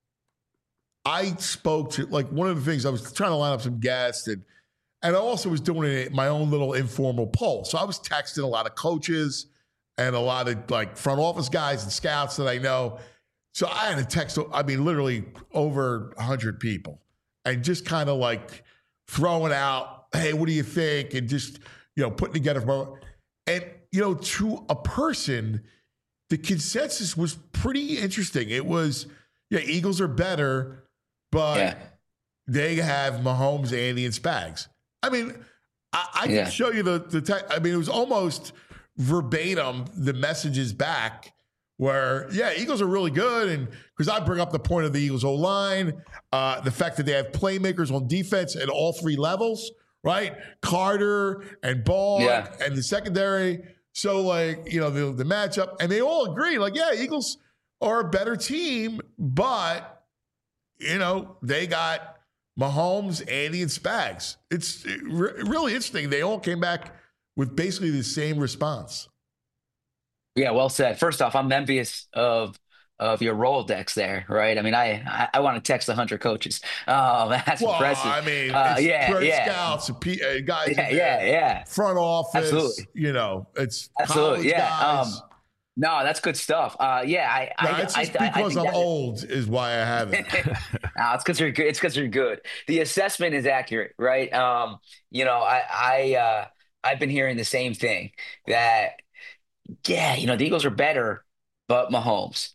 spoke to, one of the things I was trying to line up some guests, and I also was doing my own little informal poll. So I was texting a lot of coaches and a lot of front office guys and scouts that I know. So I had to text, literally over 100 people. And just kind of throwing out, hey, what do you think? And just, putting together. And, to a person, the consensus was pretty interesting. It was, Eagles are better, but they have Mahomes, Andy, and Spags. I can show you the text. It was almost verbatim the messages back where, Eagles are really good. And because I bring up the point of the Eagles O-line, the fact that they have playmakers on defense at all three levels, right? Carter and Ball and the secondary. So, the matchup. And they all agree, Eagles are a better team, but, they got Mahomes, Andy, and Spags. It's really interesting. They all came back with basically the same response. Yeah, well said. First off, I'm envious of your Rolodex there, right? I want to text 100 coaches. That's impressive. Scouts, guys, front office. Absolutely. It's absolutely guys. No, that's good stuff. It's just because I'm old is why I haven't. No, it's because you're good. It's because you're good. The assessment is accurate, right? I've been hearing the same thing that. The Eagles are better, but Mahomes.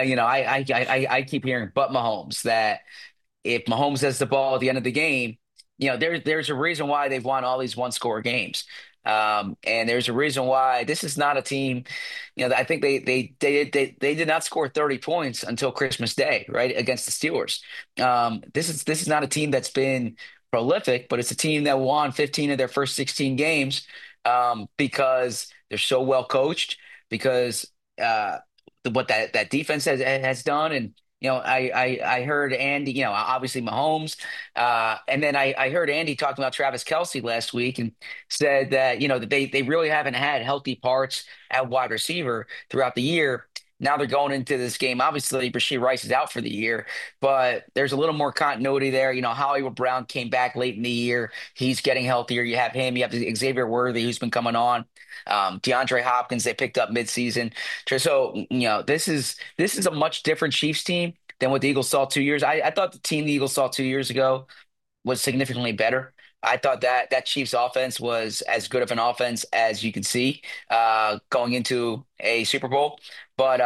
I keep hearing but Mahomes, that if Mahomes has the ball at the end of the game, there's a reason why they've won all these one-score games. And there's a reason why this is not a team. I think they did not score 30 points until Christmas Day, right, against the Steelers. This is not a team that's been prolific, but it's a team that won 15 of their first 16 games because they're so well coached, because what that defense has done. And I heard Andy, obviously Mahomes, and then I heard Andy talking about Travis Kelce last week and said that that they really haven't had healthy parts at wide receiver throughout the year. Now they're going into this game. Obviously, Rashee Rice is out for the year, but there's a little more continuity there. Hollywood Brown came back late in the year. He's getting healthier. You have him. You have Xavier Worthy, who's been coming on. DeAndre Hopkins, they picked up midseason. So, this is a much different Chiefs team than what the Eagles saw 2 years. I thought the team the Eagles saw 2 years ago was significantly better. I thought that Chiefs offense was as good of an offense as you could see going into a Super Bowl. But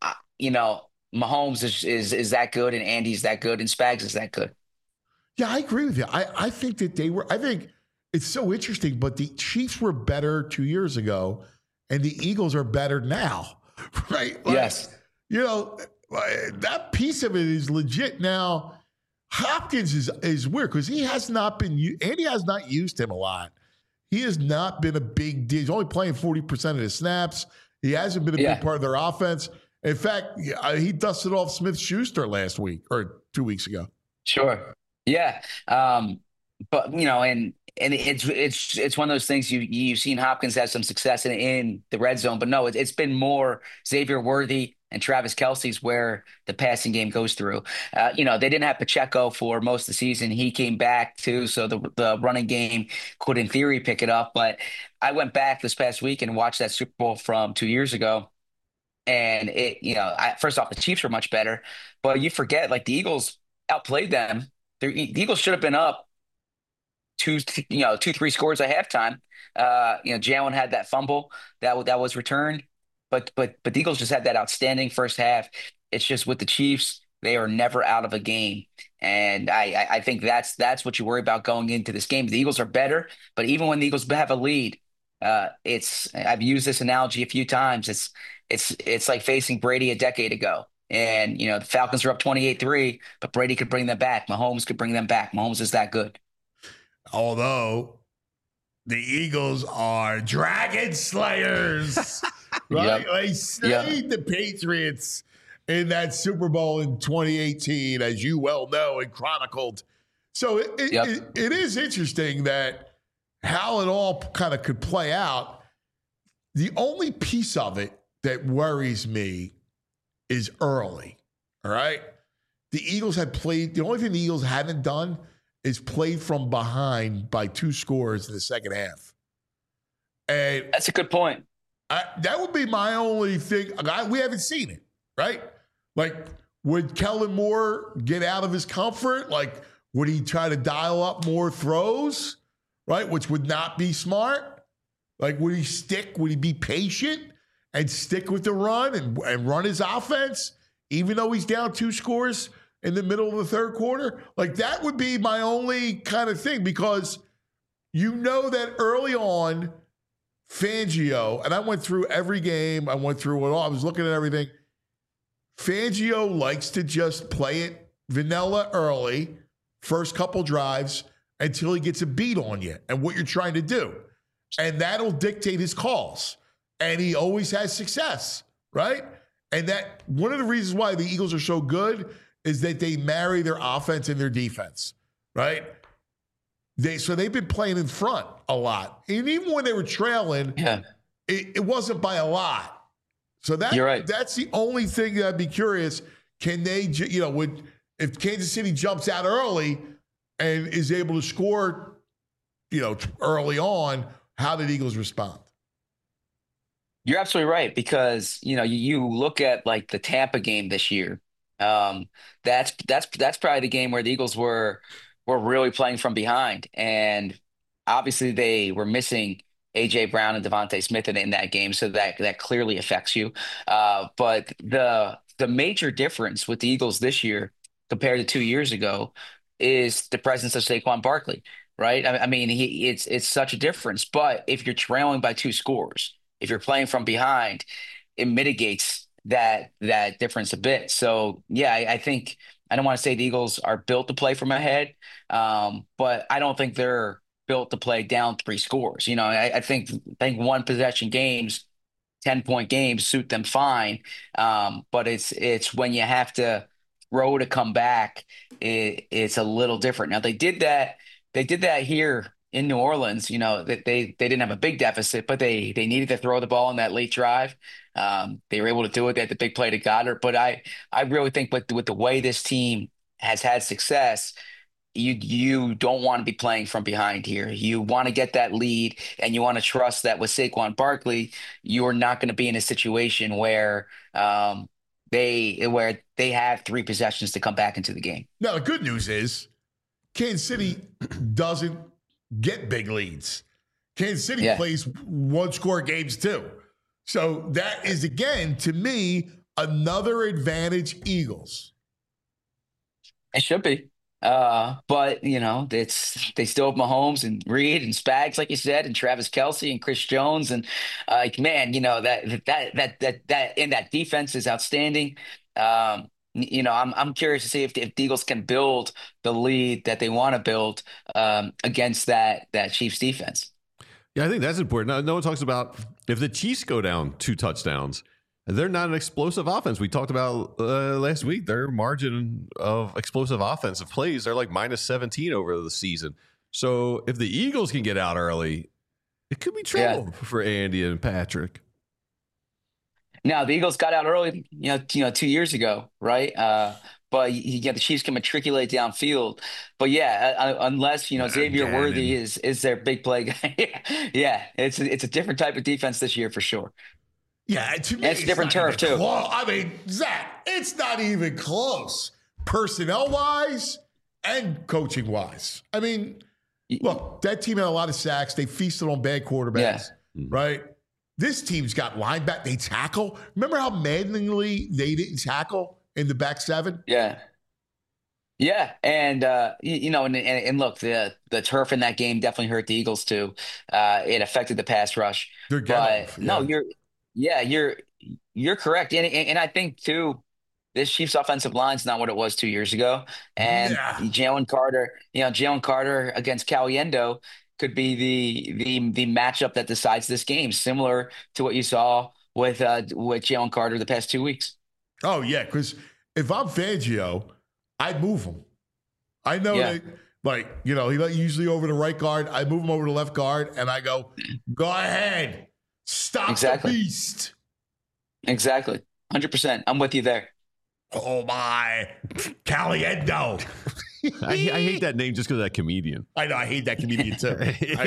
Mahomes is that good, and Andy's that good, and Spags is that good. Yeah, I agree with you. I think that I think it's so interesting, but the Chiefs were better 2 years ago, and the Eagles are better now, right? Yes. That piece of it is legit. Now, Hopkins is weird because Andy has not used him a lot. He has not been a big deal. He's only playing 40% of the snaps. He hasn't been a big part of their offense. In fact, he dusted off Smith-Schuster last week or 2 weeks ago. Sure. Yeah. But and it's one of those things you've seen Hopkins have some success in the red zone, but no, it's been more Xavier Worthy and Travis Kelce's where the passing game goes through. They didn't have Pacheco for most of the season. He came back too, so the running game could in theory pick it up. But I went back this past week and watched that Super Bowl from 2 years ago. And first off, the Chiefs were much better, but you forget the Eagles outplayed them. The Eagles should have been up 2-3 scores at halftime. Jalen had that fumble that was returned, but the Eagles just had that outstanding first half. It's just with the Chiefs, they are never out of a game, and I think that's what you worry about going into this game. The Eagles are better, but even when the Eagles have a lead, I've used this analogy a few times. It's like facing Brady a decade ago. And, the Falcons are up 28-3, but Brady could bring them back. Mahomes could bring them back. Mahomes is that good. Although the Eagles are dragon slayers, right? Yep. They slayed the Patriots in that Super Bowl in 2018, as you well know and chronicled. So it is interesting that how it all kind of could play out. The only piece of it that worries me is early, all right? The only thing the Eagles haven't done is played from behind by 2 scores in the second half. And that's a good point. That would be my only thing. We haven't seen it, right? Would Kellen Moore get out of his comfort? Would he try to dial up more throws, right? Which would not be smart. Would he be patient and stick with the run and run his offense, even though he's down 2 scores in the middle of the third quarter? That would be my only kind of thing, because that early on, Fangio, and I went through every game, I went through it all, I was looking at everything. Fangio likes to just play it vanilla early, first couple drives, until he gets a beat on you and what you're trying to do. And that'll dictate his calls. And he always has success, right? And that one of the reasons why the Eagles are so good is that they marry their offense and their defense, right? So they've been playing in front a lot. And even when they were trailing, it wasn't by a lot. So you're right. That's the only thing that I'd be curious. Can they, if Kansas City jumps out early and is able to score, early on, how did Eagles respond? You're absolutely right, because you look at the Tampa game this year. That's probably the game where the Eagles were really playing from behind, and obviously they were missing A.J. Brown and Devontae Smith in that game, so that clearly affects you. But the major difference with the Eagles this year compared to 2 years ago is the presence of Saquon Barkley. right? I mean, it's such a difference. But if you're trailing by 2 scores, if you're playing from behind, it mitigates that difference a bit. So yeah, I think I don't want to say the Eagles are built to play from ahead, but I don't think they're built to play down 3 scores. I think one possession games, 10-point games suit them fine. But it's when you have to throw to come back, it's a little different. Now they did that here in New Orleans. They didn't have a big deficit, but they needed to throw the ball in that late drive. They were able to do it. They had the big play to Goddard. But I really think with the way this team has had success, you don't want to be playing from behind here. You want to get that lead, and you want to trust that with Saquon Barkley, you're not going to be in a situation where they have 3 possessions to come back into the game. Now, the good news is Kansas City doesn't get big leads. Kansas City plays 1-score games too. So that is, again, to me, another advantage Eagles. It should be. But they still have Mahomes and Reed and Spags, like you said, and Travis Kelce and Chris Jones, and man, that in that defense is outstanding. I'm curious to see if the Eagles can build the lead that they want to build against that Chiefs defense. Yeah, I think that's important. No one talks about if the Chiefs go down 2 touchdowns. They're not an explosive offense. We talked about last week, their margin of explosive offensive plays, they're like minus 17 over the season. So if the Eagles can get out early, it could be trouble for Andy and Patrick. Now, the Eagles got out early, 2 years ago, right? But the Chiefs can matriculate downfield. But unless Xavier Worthy is their big play guy, it's a different type of defense this year for sure. Yeah, to me, it's a different turf too. I mean, Zach, it's not even close, personnel-wise and coaching-wise. I mean, look, that team had a lot of sacks. They feasted on bad quarterbacks, right? This team's got linebacker. They tackle. Remember how maddeningly they didn't tackle in the back seven? Yeah. Yeah, and and look, the turf in that game definitely hurt the Eagles too. It affected the pass rush. You're correct, and I think too, this Chiefs offensive line is not what it was 2 years ago. And Jalen Carter against Caliendo could be the matchup that decides this game, similar to what you saw with Jalen Carter the past 2 weeks. Oh yeah, because if I'm Fangio, I'd move him. I know that, he usually over the right guard. I move him over to left guard, and I go ahead, stop the beast. Exactly, 100%. I'm with you there. Oh my, Caliendo. I hate that name just because of that comedian. I know, I hate that comedian too.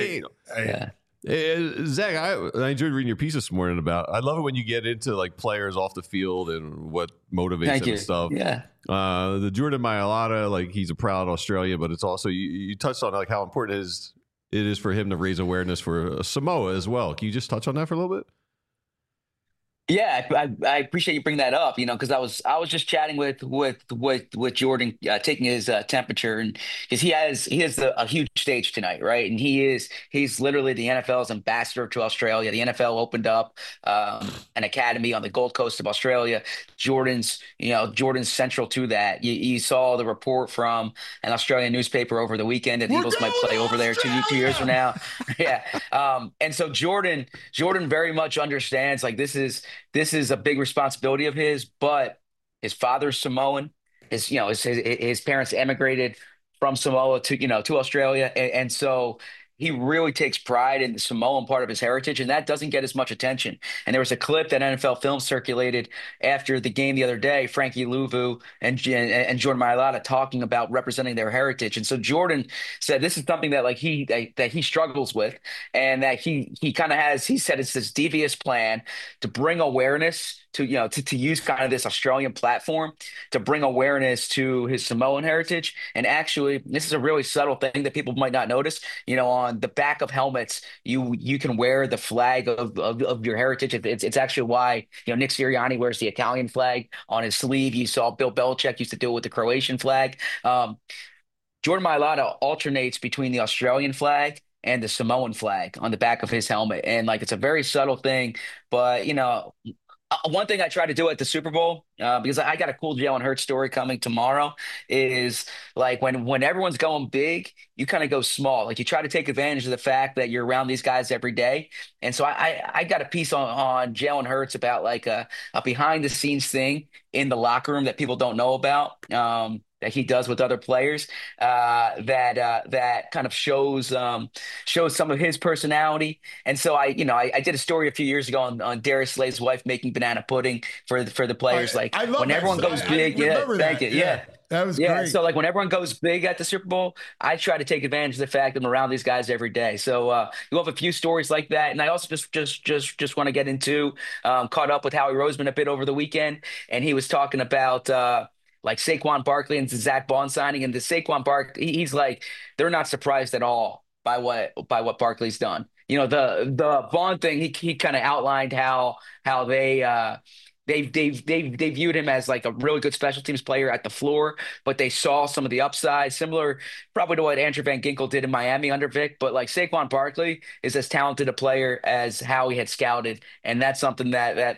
Zach, I enjoyed reading your piece this morning about. I love it when you get into like players off the field and what motivates them and stuff. Yeah. The Jordan Mailata, like he's a proud Australian, but it's also you touched on like how important it is for him to raise awareness for Samoa as well. Can you just touch on that for a little bit? Yeah, I appreciate you bringing that up, because I was just chatting with Jordan, taking his temperature, and because he has a huge stage tonight, right? And he's literally the NFL's ambassador to Australia. The NFL opened up an academy on the Gold Coast of Australia. Jordan's central to that. You saw the report from an Australian newspaper over the weekend that the Eagles might play over there 2 years from now. Yeah, and so Jordan very much understands like this is a big responsibility of his, but his father's Samoan. His parents emigrated from Samoa to Australia, and so he really takes pride in the Samoan part of his heritage, and that doesn't get as much attention. And there was a clip that NFL Films circulated after the game the other day, Frankie Louvu and Jordan Mailata talking about representing their heritage. And so Jordan said this is something that he struggles with, and that he kind of has. He said it's this devious plan to bring awareness to use kind of this Australian platform to bring awareness to his Samoan heritage. And actually, this is a really subtle thing that people might not notice. On the back of helmets, you can wear the flag of your heritage. It's actually why Nick Sirianni wears the Italian flag on his sleeve. You saw Bill Belichick used to do it with the Croatian flag. Jordan Mailata alternates between the Australian flag and the Samoan flag on the back of his helmet. And like, it's a very subtle thing, but one thing I try to do at the Super Bowl, because I got a cool Jalen Hurts story coming tomorrow, is like when everyone's going big, you kind of go small. Like you try to take advantage of the fact that you're around these guys every day. And so I got a piece on Jalen Hurts about like a behind the scenes thing in the locker room that people don't know about. That he does with other players, that kind of shows some of his personality. And so I did a story a few years ago on Darius Slay's wife making banana pudding for the players. Like I love when everyone goes big, thank you. Yeah. That was great. So like when everyone goes big at the Super Bowl, I try to take advantage of the fact that I'm around these guys every day. So you'll have a few stories like that. And I also just want to get into caught up with Howie Roseman a bit over the weekend, and he was talking about like Saquon Barkley and Zach Bond signing, and the Saquon Barkley, he's like, they're not surprised at all by what Barkley's done. The Bond thing, he kind of outlined how they viewed him as like a really good special teams player at the floor, but they saw some of the upside, similar probably to what Andrew Van Ginkel did in Miami under Vic. But like Saquon Barkley is as talented a player as Howie had scouted, and that's something that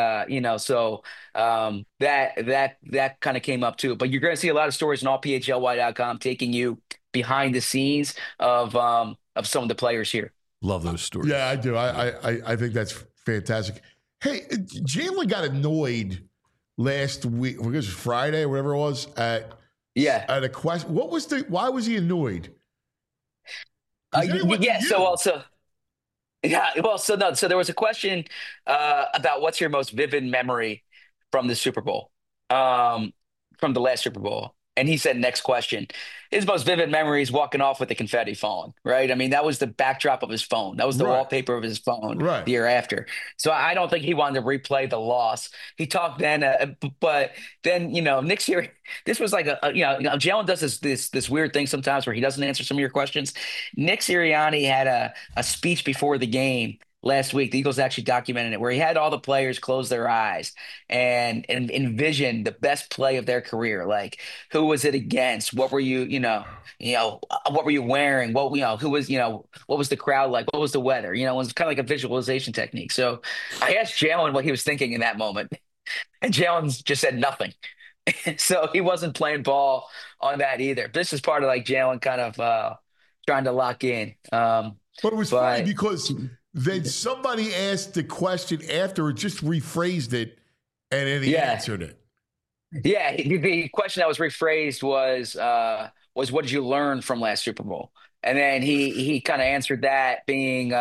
that kind of came up too. But you're going to see a lot of stories on allphly.com taking you behind the scenes of some of the players here. Love those stories. Yeah, I do. I think that's fantastic. Hey, Jalen got annoyed last week, because it was Friday or whatever it was, at a question. Why was he annoyed? So there was a question about what's your most vivid memory from the Super Bowl, from the last Super Bowl. And he said, next question. His most vivid memory is walking off with the confetti falling, right? I mean, that was the backdrop of his phone. That was the wallpaper of his phone the year after. So I don't think he wanted to replay the loss. He talked then, but then, Nick Sirianni, this was like Jalen does this weird thing sometimes where he doesn't answer some of your questions. Nick Sirianni had a speech before the game last week. The Eagles actually documented it, where he had all the players close their eyes and envision the best play of their career. Like, who was it against? What were you, what were you wearing? What was the crowd like? What was the weather? It was kind of like a visualization technique. So I asked Jalen what he was thinking in that moment, and Jalen just said nothing. So he wasn't playing ball on that either. This is part of like Jalen kind of trying to lock in. But it was funny because then somebody asked the question after, just rephrased it, and then he answered it. Yeah, the question that was rephrased was what did you learn from last Super Bowl? And then he kind of answered that being,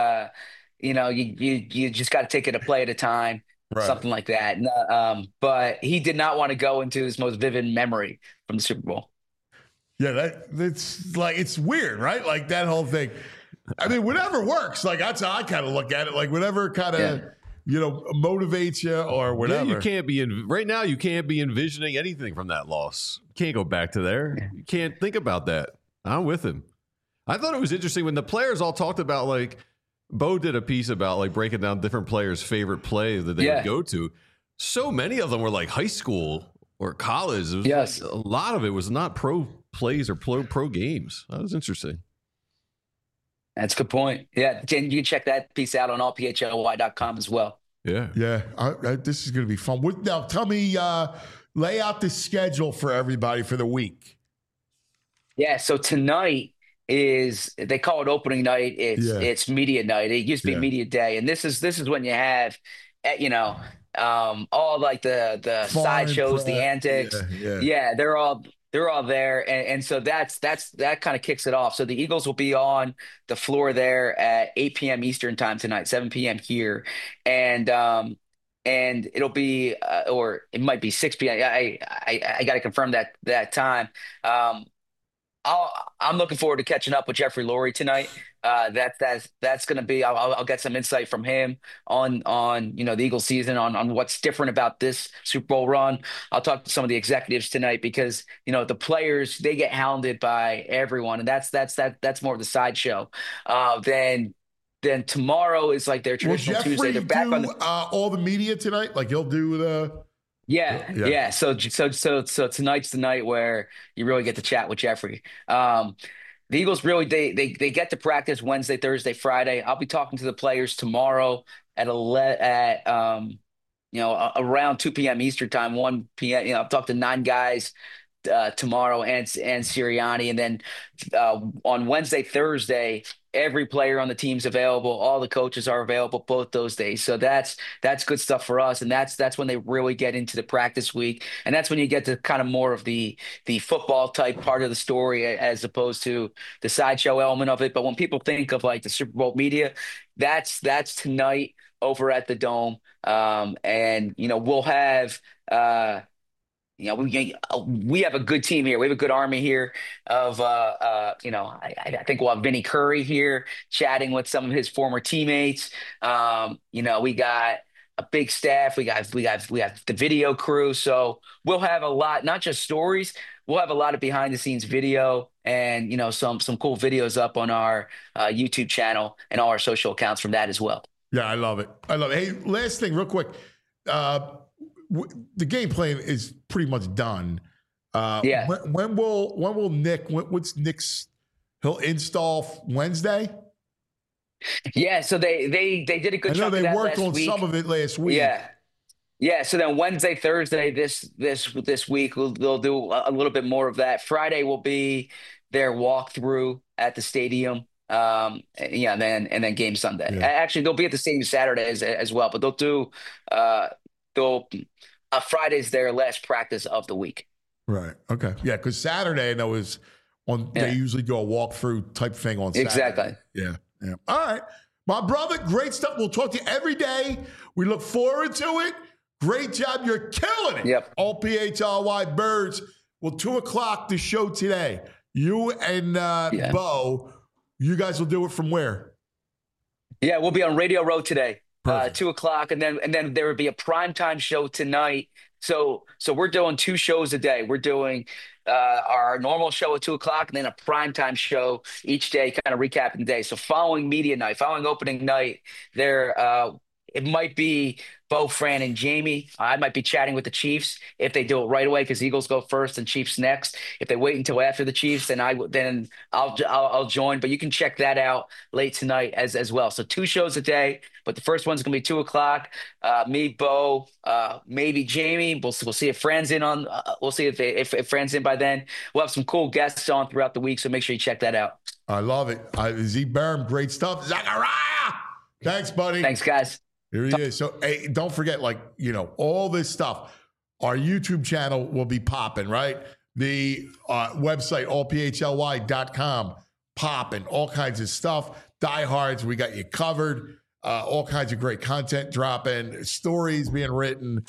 you just got to take it a play at a time, something like that. But he did not want to go into his most vivid memory from the Super Bowl. Yeah, that's like, it's weird, right? Like that whole thing. I mean, whatever works. Like that's how I kind of look at it. Like whatever kind of motivates you or whatever. Yeah, you can't be right now. You can't be envisioning anything from that loss. You can't go back to there. You can't think about that. I'm with him. I thought it was interesting when the players all talked about, like, Bo did a piece about like breaking down different players' favorite play that they would go to. So many of them were like high school or college. It was a lot of it was not pro plays or pro games. That was interesting. That's a good point. Yeah, you can check that piece out on allphly.com as well. Yeah. This is going to be fun. Now, tell me, lay out the schedule for everybody for the week. Yeah, so tonight they call it opening night. It's media night. It used to be media day, and this is when you have, all like the sideshows, the antics. Yeah, they're all there. And so that kind of kicks it off. So the Eagles will be on the floor there at 8 p.m. Eastern time tonight, 7 p.m. here. And it'll be, or it might be 6 p.m. I got to confirm that time. I'm looking forward to catching up with Jeffrey Lurie tonight. That's going to be. I'll get some insight from him on the Eagles season, on what's different about this Super Bowl run. I'll talk to some of the executives tonight because the players, they get hounded by everyone, and that's more of the sideshow. Then tomorrow is like their traditional Tuesday. They're back on all the media tonight. Like he'll do the. Yeah. So tonight's the night where you really get to chat with Jeffrey. The Eagles really they get to practice Wednesday, Thursday, Friday. I'll be talking to the players tomorrow around 2 p.m. Eastern time, 1 p.m. I've talked to 9 guys tomorrow and Sirianni, and then on Wednesday, Thursday, every player on the team's available. All the coaches are available both those days. So that's good stuff for us, and that's when they really get into the practice week, and that's when you get to kind of more of the football type part of the story as opposed to the sideshow element of it. But when people think of like the Super Bowl media, that's tonight over at the Dome, and we'll have. We have a good team here. We have a good army here of, I think we'll have Vinny Curry here chatting with some of his former teammates. We got a big staff. We got the video crew. So we'll have a lot, not just stories. We'll have a lot of behind the scenes video and, some cool videos up on our YouTube channel and all our social accounts from that as well. Yeah, I love it. Hey, last thing real quick. The game plan is pretty much done. When will Nick? What's Nick's? He'll install Wednesday. Yeah. So they did a good job. I know they worked on some of it last week. Yeah. So then Wednesday, Thursday, this week they'll do a little bit more of that. Friday will be their walkthrough at the stadium. And then game Sunday. Yeah. Actually, they'll be at the stadium Saturday as well, but they'll do. Friday's their last practice of the week. Right. Okay. Yeah, because Saturday I know is on. Yeah. They usually do a walkthrough type thing on Saturday. Exactly. Yeah. All right, my brother. Great stuff. We'll talk to you every day. We look forward to it. Great job. You're killing it. Yep. All PHLY Birds. Well, 2:00 the show today. You and Bo. You guys will do it from where? Yeah, we'll be on Radio Row today. 2:00, and then there would be a primetime show tonight. So we're doing 2 shows a day. We're doing our normal show at 2:00, and then a primetime show each day, kind of recapping the day. So following media night, following opening night, it might be Bo, Fran, and Jamie. I might be chatting with the Chiefs if they do it right away because Eagles go first and Chiefs next. If they wait until after the Chiefs, then I'll join. But you can check that out late tonight as well. So 2 shows a day, but the first one's gonna be 2:00. Me, Bo, maybe Jamie. We'll see if Fran's in on. We'll see if Fran's in by then. We'll have some cool guests on throughout the week, so make sure you check that out. I love it. Z Berm, great stuff. Zachariah, thanks, buddy. Thanks, guys. Here he is. So, hey, don't forget, all this stuff. Our YouTube channel will be popping, right? The website, allphly.com, popping, all kinds of stuff. Diehards, we got you covered. All kinds of great content dropping, stories being written.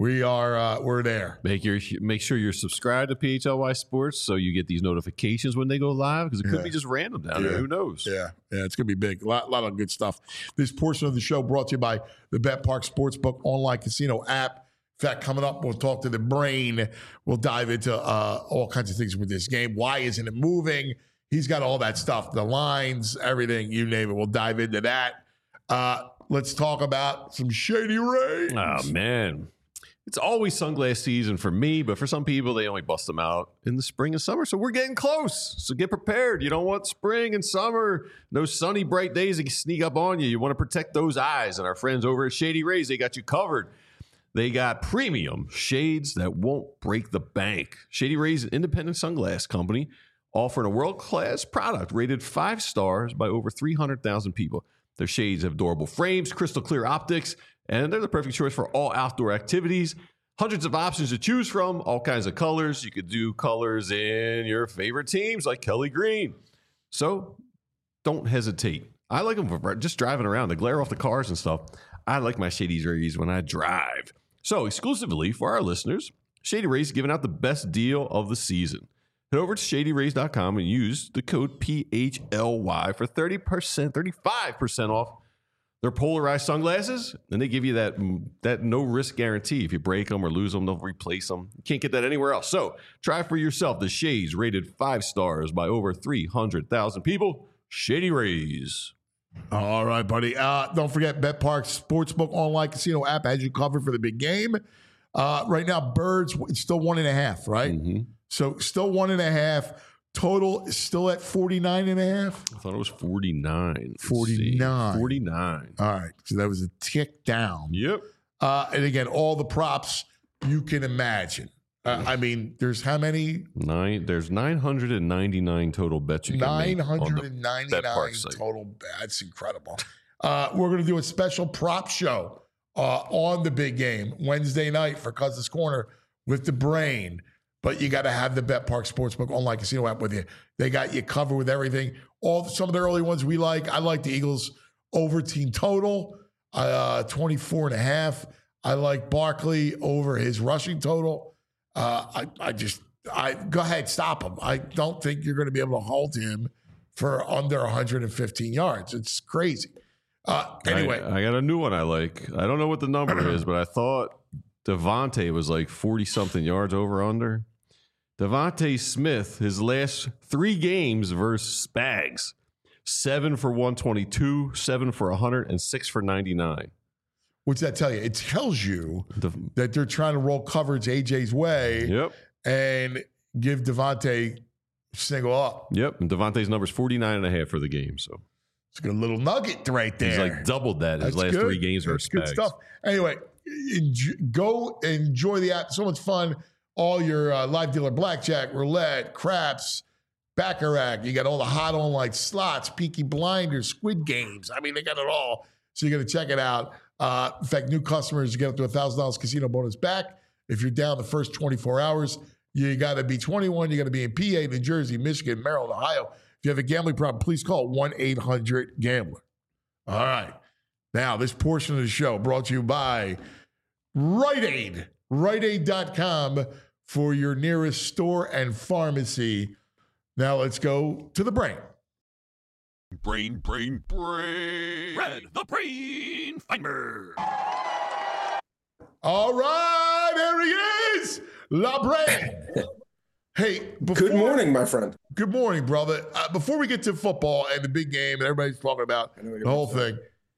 We're there. Make sure you're subscribed to PHLY Sports so you get these notifications when they go live because it could be just random down there. Who knows? Yeah, it's gonna be big. A lot of good stuff. This portion of the show brought to you by the BetParx Sportsbook online casino app. In fact, coming up, we'll talk to the brain. We'll dive into all kinds of things with this game. Why isn't it moving? He's got all that stuff, the lines, everything, you name it. We'll dive into that. Let's talk about some Shady Rays. Oh man. It's always sunglass season for me, but for some people, they only bust them out in the spring and summer. So we're getting close. So get prepared. You don't want spring and summer, no sunny, bright days that can sneak up on you. You want to protect those eyes. And our friends over at Shady Rays, they got you covered. They got premium shades that won't break the bank. Shady Rays, an independent sunglass company, offering a world-class product rated 5 stars by over 300,000 people. Their shades have durable frames, crystal clear optics, and they're the perfect choice for all outdoor activities. Hundreds of options to choose from, all kinds of colors. You could do colors in your favorite teams like Kelly Green. So don't hesitate. I like them for just driving around. The glare off the cars and stuff. I like my Shady Rays when I drive. So exclusively for our listeners, Shady Rays is giving out the best deal of the season. Head over to shadyrays.com and use the code PHLY for 35% off their polarized sunglasses, and they give you that no-risk guarantee. If you break them or lose them, they'll replace them. You can't get that anywhere else. So try for yourself the shades rated 5 stars by over 300,000 people. Shady Rays. All right, buddy. Don't forget, BetParx Sportsbook online casino app has you covered for the big game. Right now, Birds, it's still 1.5, right? Mm-hmm. So still 1.5. Total is still at 49.5. I thought it was 49. 49. 49. All right. So that was a tick down. Yep. And again, all the props you can imagine. I mean, there's how many? There's 999 total bets you can make. 999 total bets. That's incredible. We're going to do a special prop show on the big game Wednesday night for Cousins Corner with the Brain. But you got to have the BetParx Sportsbook online casino app with you. They got you covered with everything. Some of the early ones we like. I like the Eagles over team total, 24.5. I like Barkley over his rushing total. I go ahead, stop him. I don't think you're going to be able to hold him for under 115 yards. It's crazy. Anyway, I got a new one I like. I don't know what the number is, but I thought Devontae was like 40-something yards over under. Devontae Smith, his last 3 games versus Spags, 7 for 122, 7 for 100, and 6 for 99. What's that tell you? It tells you that they're trying to roll coverage AJ's way and give Devontae single up. Yep. And Devontae's number is 49.5 for the game. So it's a good little nugget right there. He's like doubled that his last 3 games versus Spags. Good stuff. Anyway, go enjoy the app. So much fun. All your live dealer blackjack, roulette, craps, baccarat. You got all the hot online slots, Peaky Blinders, Squid Games. I mean, they got it all. So you got to check it out. In fact, new customers get up to $1,000 casino bonus back. If you're down the first 24 hours, you got to be 21. You got to be in PA, New Jersey, Michigan, Maryland, Ohio. If you have a gambling problem, please call 1-800-GAMBLER. All right. Now, this portion of the show brought to you by Rite Aid. RiteAid.com for your nearest store and pharmacy. Now let's go to the Brain. Brain. Red, the Brain Finder. All right, there he is, La Brain. Hey, good morning, my friend. Good morning, brother. Before we get to football and the big game and everybody's talking about the whole thing,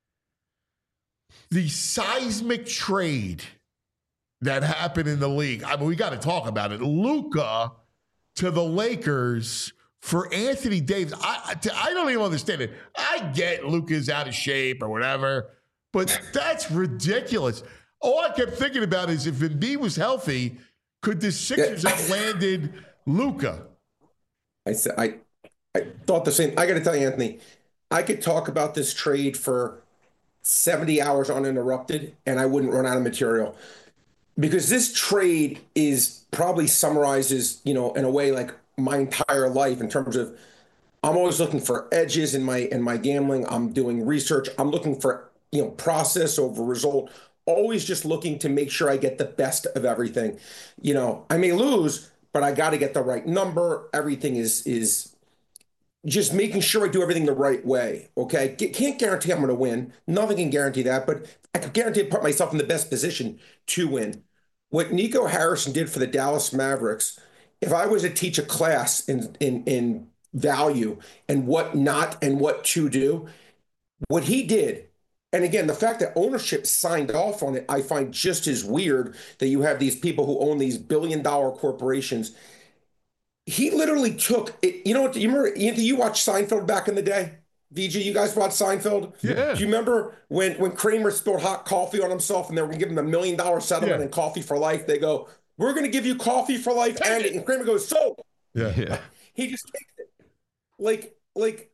the seismic trade that happened in the league. I mean, we got to talk about it. Luka to the Lakers for Anthony Davis. I don't even understand it. I get Luka's out of shape or whatever, but that's ridiculous. All I kept thinking about is if Embiid was healthy, could the Sixers have landed Luka? I thought the same. I got to tell you, Anthony, I could talk about this trade for 70 hours uninterrupted, and I wouldn't run out of material. Because this trade is probably summarizes, in a way, like my entire life in terms of I'm always looking for edges in my gambling. I'm doing research. I'm looking for, process over result, always just looking to make sure I get the best of everything. I may lose, but I got to get the right number. Everything is just making sure I do everything the right way. Okay. Can't guarantee I'm going to win. Nothing can guarantee that, but I can guarantee I put myself in the best position to win. What Nico Harrison did for the Dallas Mavericks, if I was to teach a class in value and what not and what to do, what he did, and again, the fact that ownership signed off on it, I find just as weird that you have these people who own these billion-dollar corporations. He literally took it. You know what? You remember, Anthony, you watched Seinfeld back in the day? VG, you guys watched Seinfeld? Yeah. Do you remember when Kramer spilled hot coffee on himself and they were going to give him $1 million settlement and coffee for life? They go, we're going to give you coffee for life. And Kramer goes, so. Yeah. He just takes it. Like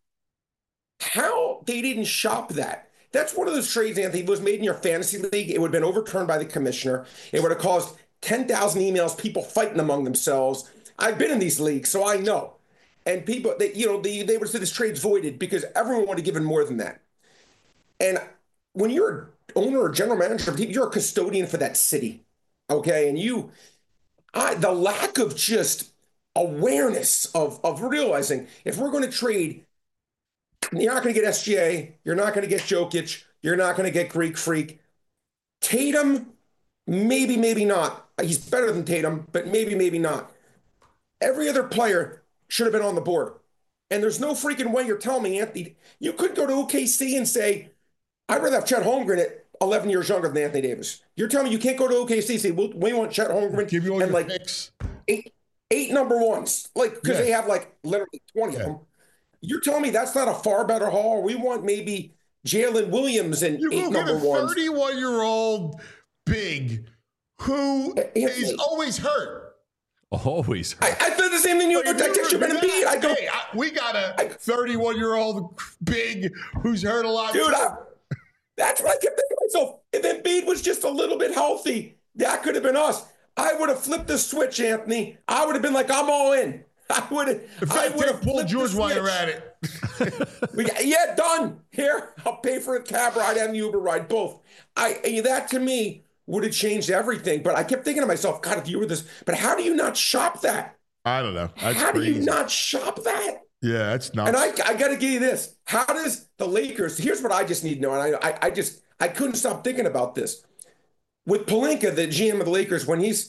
how they didn't shop that. That's one of those trades, Anthony, was made in your fantasy league. It would have been overturned by the commissioner. It would have caused 10,000 emails, people fighting among themselves. I've been in these leagues, so I know. And people, they would have said this trade's voided because everyone would have given more than that. And when you're an owner or general manager, you're a custodian for that city, okay? And the lack of just awareness of realizing if we're going to trade, you're not going to get SGA, you're not going to get Jokic, you're not going to get Greek Freak. Tatum, maybe not. He's better than Tatum, but maybe not. Every other player should have been on the board. And there's no freaking way you're telling me, Anthony, you could go to OKC and say, I'd rather have Chet Holmgren 11 years younger than Anthony Davis. You're telling me you can't go to OKC and say, we want Chet Holmgren Give you all and your like picks. eight number ones, like because Yeah. they have like literally 20 of them. You're telling me that's not a far better haul? We want maybe Jalen Williams and You 8 go get number a ones. 31-year-old big who is always hurt. Always. I said the same thing. I text you about Embiid. I go, we got a 31-year-old big who's hurt a lot. dude, that's what I kept thinking to myself. If Embiid was just a little bit healthy, that could have been us. I would have flipped the switch, Anthony. I would have been like, I'm all in. I would have Paul George while you're at it. Yeah, done. Here, I'll pay for a cab ride and the Uber ride, both. That to me would have changed everything. But I kept thinking to myself, God, if you were this, but how do you not shop that? I don't know. That's how crazy. do you not shop that? Yeah, that's not. And I got to give you this. How does the Lakers? Here's what I just need to know, and I couldn't stop thinking about this. With Pelinka, the GM of the Lakers,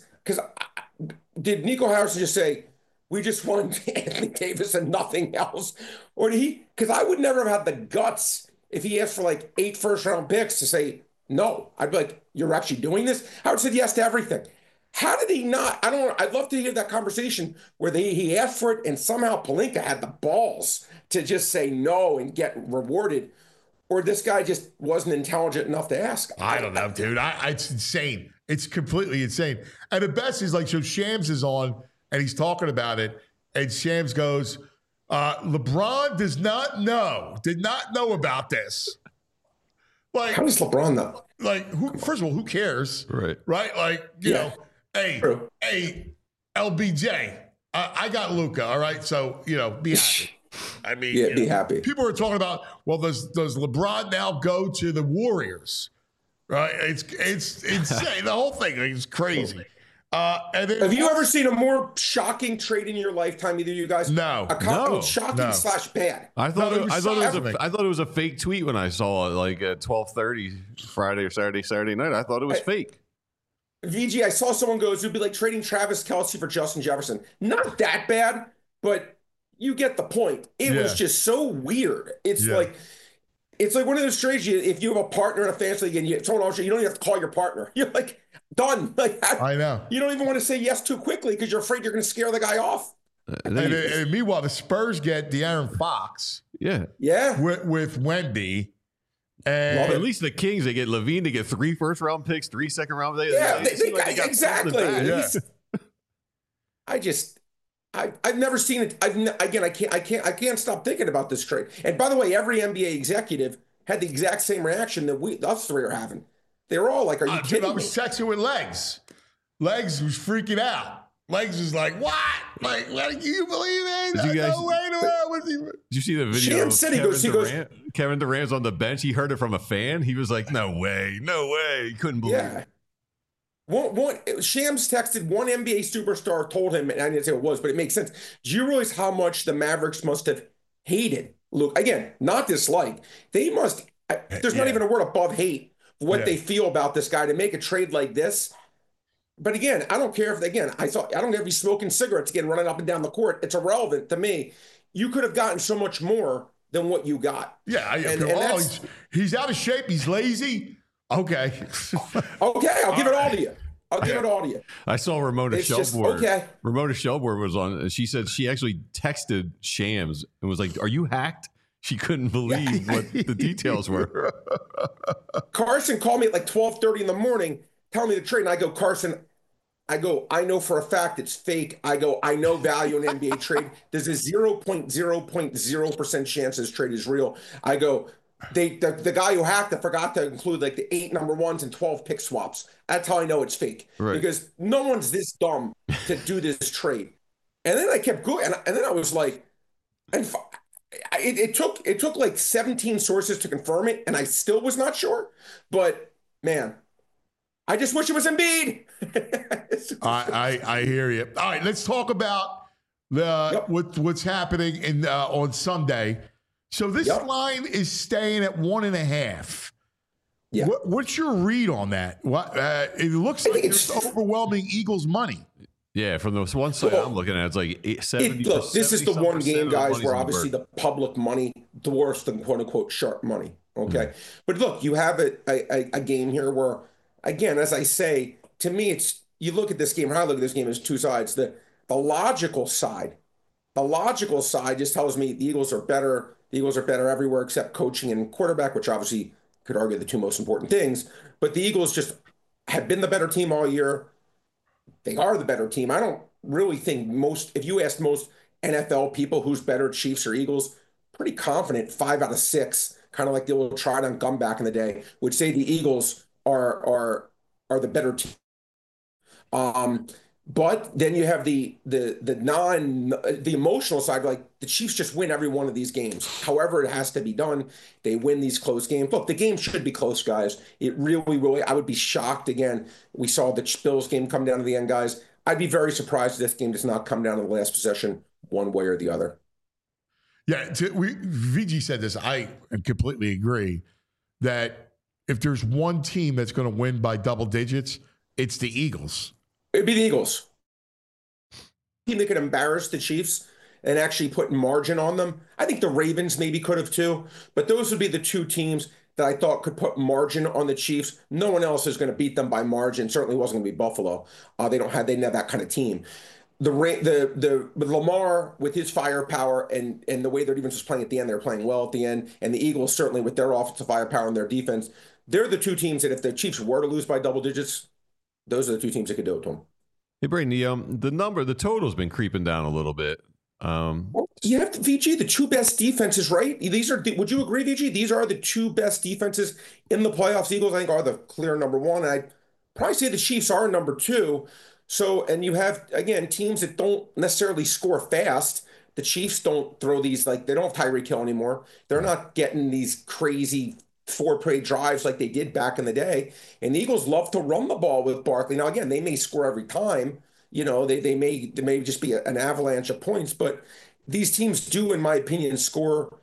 did Nico Harrison just say, we just want Anthony Davis and nothing else? Or did he? Because I would never have had the guts if he asked for like 8 first-round picks to say no. I'd be like, you're actually doing this? Howard said yes to everything. How did he not? I'd love to hear that conversation where he asked for it and somehow Pelinka had the balls to just say no and get rewarded. Or this guy just wasn't intelligent enough to ask. I don't know, dude. It's insane. It's completely insane. And the best is like, so Shams is on and he's talking about it. And Shams goes, LeBron did not know about this. Like, how does LeBron know? Like, first of all, who cares? Right. Right? Like, you know, hey, LBJ, I got Luka, all right? So, be happy. I mean, be happy. People are talking about, well, does LeBron now go to the Warriors? Right? It's insane. The whole thing is crazy. And then, have you ever seen a more shocking trade in your lifetime, either of you guys? No. Shocking / bad. I thought it was a fake tweet when I saw it, like at 12:30 Friday or Saturday night. I thought it was fake. VG, I saw someone go, it would be like trading Travis Kelce for Justin Jefferson. Not that bad, but you get the point. It was just so weird. It's like one of those trades. If you have a partner in a fantasy league and you don't even have to call your partner. You're like, done. Like, I know. You don't even want to say yes too quickly because you're afraid you're going to scare the guy off. And meanwhile, the Spurs get De'Aaron Fox. Yeah. With Wendy. And well, at least the Kings, they get Levine, they get 3 first-round picks, 3 second-round picks. They got exactly. Yeah. I've never seen it. I can't stop thinking about this trade. And by the way, every NBA executive had the exact same reaction that us three are having. They were all like, "Are you kidding me?" I was texting with Legs. Legs was freaking out. Legs was like, "What? Like, can you believe it? Did you guys, no way to Did you see the video? Kevin Durant's on the bench. He heard it from a fan. He was like, "No way, no way!" He couldn't believe it. Shams texted one NBA superstar, told him, and I didn't say it was, but it makes sense. Do you realize how much the Mavericks must have hated Luke? Again, not dislike. They must. There's not even a word above hate for what they feel about this guy to make a trade like this. But again, I don't care if I don't care if he's smoking cigarettes again, running up and down the court. It's irrelevant to me. You could have gotten so much more than what you got. Yeah, he's out of shape. He's lazy. Okay. I'll give it all to you. Give it all to you. I saw Ramona Shelburne. Ramona Shelburne was on, and she said she actually texted Shams and was like, "Are you hacked?" She couldn't believe what the details were. Carson called me at like 12:30 in the morning, telling me the trade, and I go, Carson, I know for a fact it's fake. I know value in NBA trade. There's a 0.0% chance this trade is real. I go, the guy who hacked it forgot to include like the 8 number ones and 12 pick swaps. That's how I know it's fake. Right. Because no one's this dumb to do this trade. And then I kept going, and then I was like, and it took like 17 sources to confirm it, and I still was not sure. But man, I just wish it was Embiid. I hear you. All right, let's talk about what's happening on Sunday. So this line is staying at 1.5. Yeah. What's your read on that? It looks like it's overwhelming Eagles money. Yeah, from the one side I'm looking at, it's like 70%. Look, this is the one game, guys, where obviously the public money dwarfs the quote-unquote sharp money. Okay. But look, you have a game here where, again, as I say, to me, it's you look at this game, how I look at this game as two sides. The logical side just tells me the Eagles are better. The Eagles are better everywhere except coaching and quarterback, which obviously could argue the two most important things. But the Eagles just have been the better team all year. They are the better team. I don't really think if you asked most NFL people who's better, Chiefs or Eagles, pretty confident 5 out of 6, kind of like the old tried on gum back in the day, would say the Eagles are the better team. But then you have the emotional side, like the Chiefs just win every one of these games. However, it has to be done. They win these close games. Look, the game should be close, guys. It really, I would be shocked again. We saw the Bills game come down to the end, guys. I'd be very surprised if this game does not come down to the last possession one way or the other. Yeah, VG said this. I completely agree that if there's one team that's going to win by double digits, it's the Eagles. It'd be the Eagles. Team that could embarrass the Chiefs and actually put margin on them. I think the Ravens maybe could have too, but those would be the two teams that I thought could put margin on the Chiefs. No one else is going to beat them by margin. Certainly wasn't going to be Buffalo. They didn't have that kind of team. The Lamar with his firepower and the way their defense was playing at the end, they were playing well at the end, and the Eagles certainly with their offensive firepower and their defense, they're the two teams that if the Chiefs were to lose by double digits, those are the two teams that could do it to them. Hey, Braden, the total's been creeping down a little bit. You have VG, the two best defenses, right? Would you agree, VG? These are the two best defenses in the playoffs. Eagles, I think, are the clear number one. I'd probably say the Chiefs are number two. So, and you have, again, teams that don't necessarily score fast. The Chiefs don't throw these, they don't have Tyreek Hill anymore. They're not getting these crazy 4-play drives like they did back in the day. And the Eagles love to run the ball with Barkley. Now, again, they may score every time. They may just be an avalanche of points, but these teams do, in my opinion, score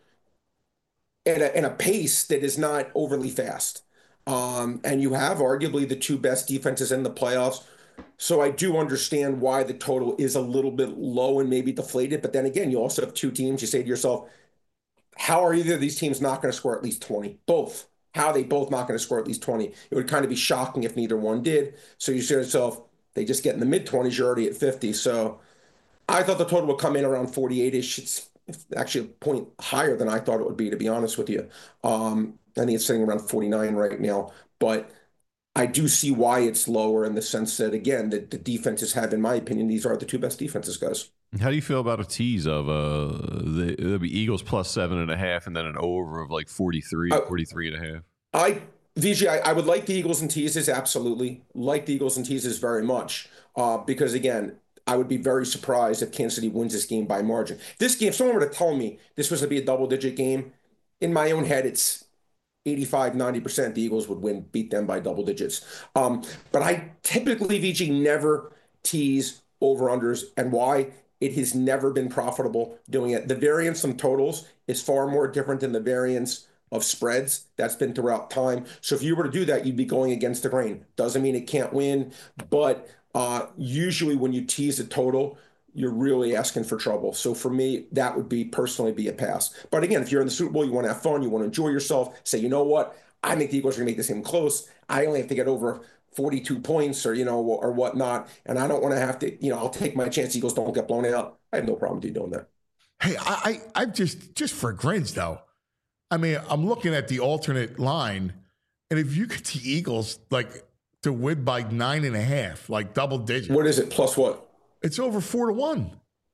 at a pace that is not overly fast. And you have arguably the two best defenses in the playoffs. So I do understand why the total is a little bit low and maybe deflated. But then again, you also have two teams. You say to yourself, how are either of these teams not going to score at least 20? Both. How are they both not going to score at least 20? It would kind of be shocking if neither one did. So you say to yourself, they just get in the mid-20s, you're already at 50. So I thought the total would come in around 48-ish. It's actually a point higher than I thought it would be, to be honest with you. I think it's sitting around 49 right now. But I do see why it's lower in the sense that, again, the defenses have, in my opinion, these are the two best defenses, guys. How do you feel about a tease of the Eagles plus 7.5 and then an over of 43, 43.5? VG, I would like the Eagles and teases, absolutely. Like the Eagles and teases very much. Because, again, I would be very surprised if Kansas City wins this game by margin. This game, if someone were to tell me this was going to be a double-digit game, in my own head, it's 85-90% the Eagles would beat them by double digits. But I typically, VG, never tease over-unders. And why? It has never been profitable doing it. The variance from totals is far more different than the variance of spreads. That's been throughout time. So if you were to do that, you'd be going against the grain. Doesn't mean it can't win, but usually when you tease a total, you're really asking for trouble. So for me, that would personally be a pass. But again, if you're in the Super Bowl, you want to have fun, you want to enjoy yourself, say, you know what? I think the Eagles are going to make this game close. I only have to get over 42 points or whatnot. And I don't want to have to, I'll take my chance. Eagles don't get blown out. I have no problem with you doing that. Hey, I just for grins though. I mean, I'm looking at the alternate line, and if you get the Eagles to win by 9.5, double digits. What is it? Plus what? It's over 4-1.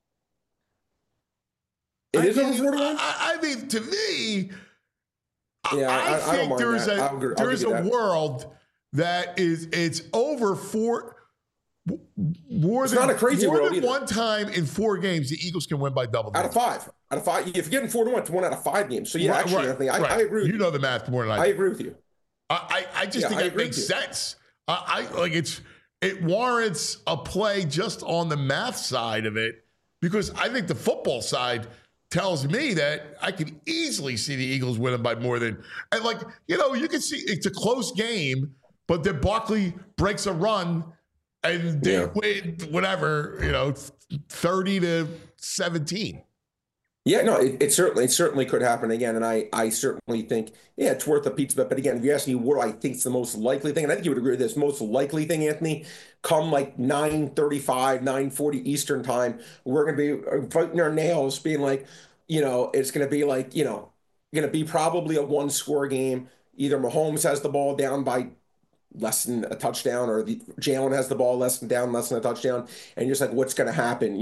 It is over 4-1? I mean, to me, yeah, I think there is a world that it's over 4. More than one time in 4 games, the Eagles can win by double digits. Out of 5. If you're getting 4-1, it's 1 out of 5 games. So yeah, Anthony, I agree with you. You know the math more than I do. I agree with you. I just think it makes sense. It warrants a play just on the math side of it, because I think the football side tells me that I can easily see the Eagles winning by more than, and you can see it's a close game, but then Barkley breaks a run and they win whatever, 30-17. Yeah, no, it certainly could happen again, and I certainly think it's worth a pizza bet. But again, if you ask me what I think is the most likely thing, and I think you would agree with this, most likely thing, Anthony, come like 9:35, 9:40 Eastern time, we're going to be fighting our nails, being like, it's going to be like, going to be probably a one-score game. Either Mahomes has the ball down by less than a touchdown, or Jalen has the ball less than a touchdown, and you're just like, what's going to happen?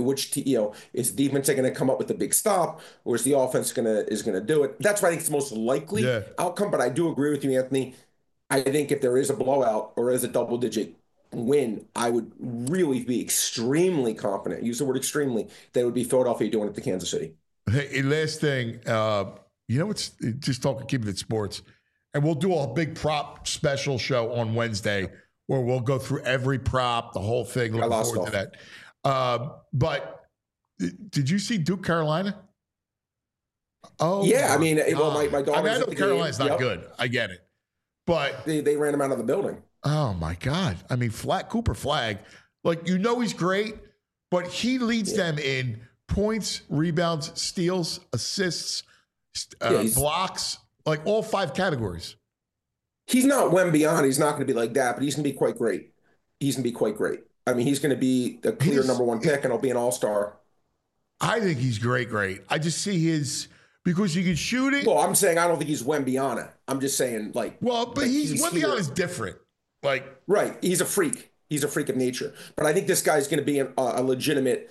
Is the defense going to come up with the big stop, or is the offense going to do it? That's why I think it's the most likely outcome. But I do agree with you, Anthony. I think if there is a blowout or is a double-digit win, I would really be extremely confident. Use the word extremely. That it would be Philadelphia doing it to Kansas City. Hey, last thing, it's just keeping it sports. And we'll do a big prop special show on Wednesday where we'll go through every prop, the whole thing. Looking forward to that. But did you see Duke Carolina? Oh, yeah. I mean, my daughter. I know Carolina's not good. I get it. But they ran him out of the building. Oh, my God. I mean, Cooper Flagg, he's great, but he leads them in points, rebounds, steals, assists, blocks. All 5 categories. He's not Wembyana. He's not going to be like that, but he's going to be quite great. I mean, he's going to be the clear number 1 pick, and he'll be an all-star. I think he's great. I just see because he can shoot it. Well, I'm saying I don't think he's Wembyana. I'm just saying, but Wembyana is different. Right. He's a freak. He's a freak of nature. But I think this guy's going to be a legitimate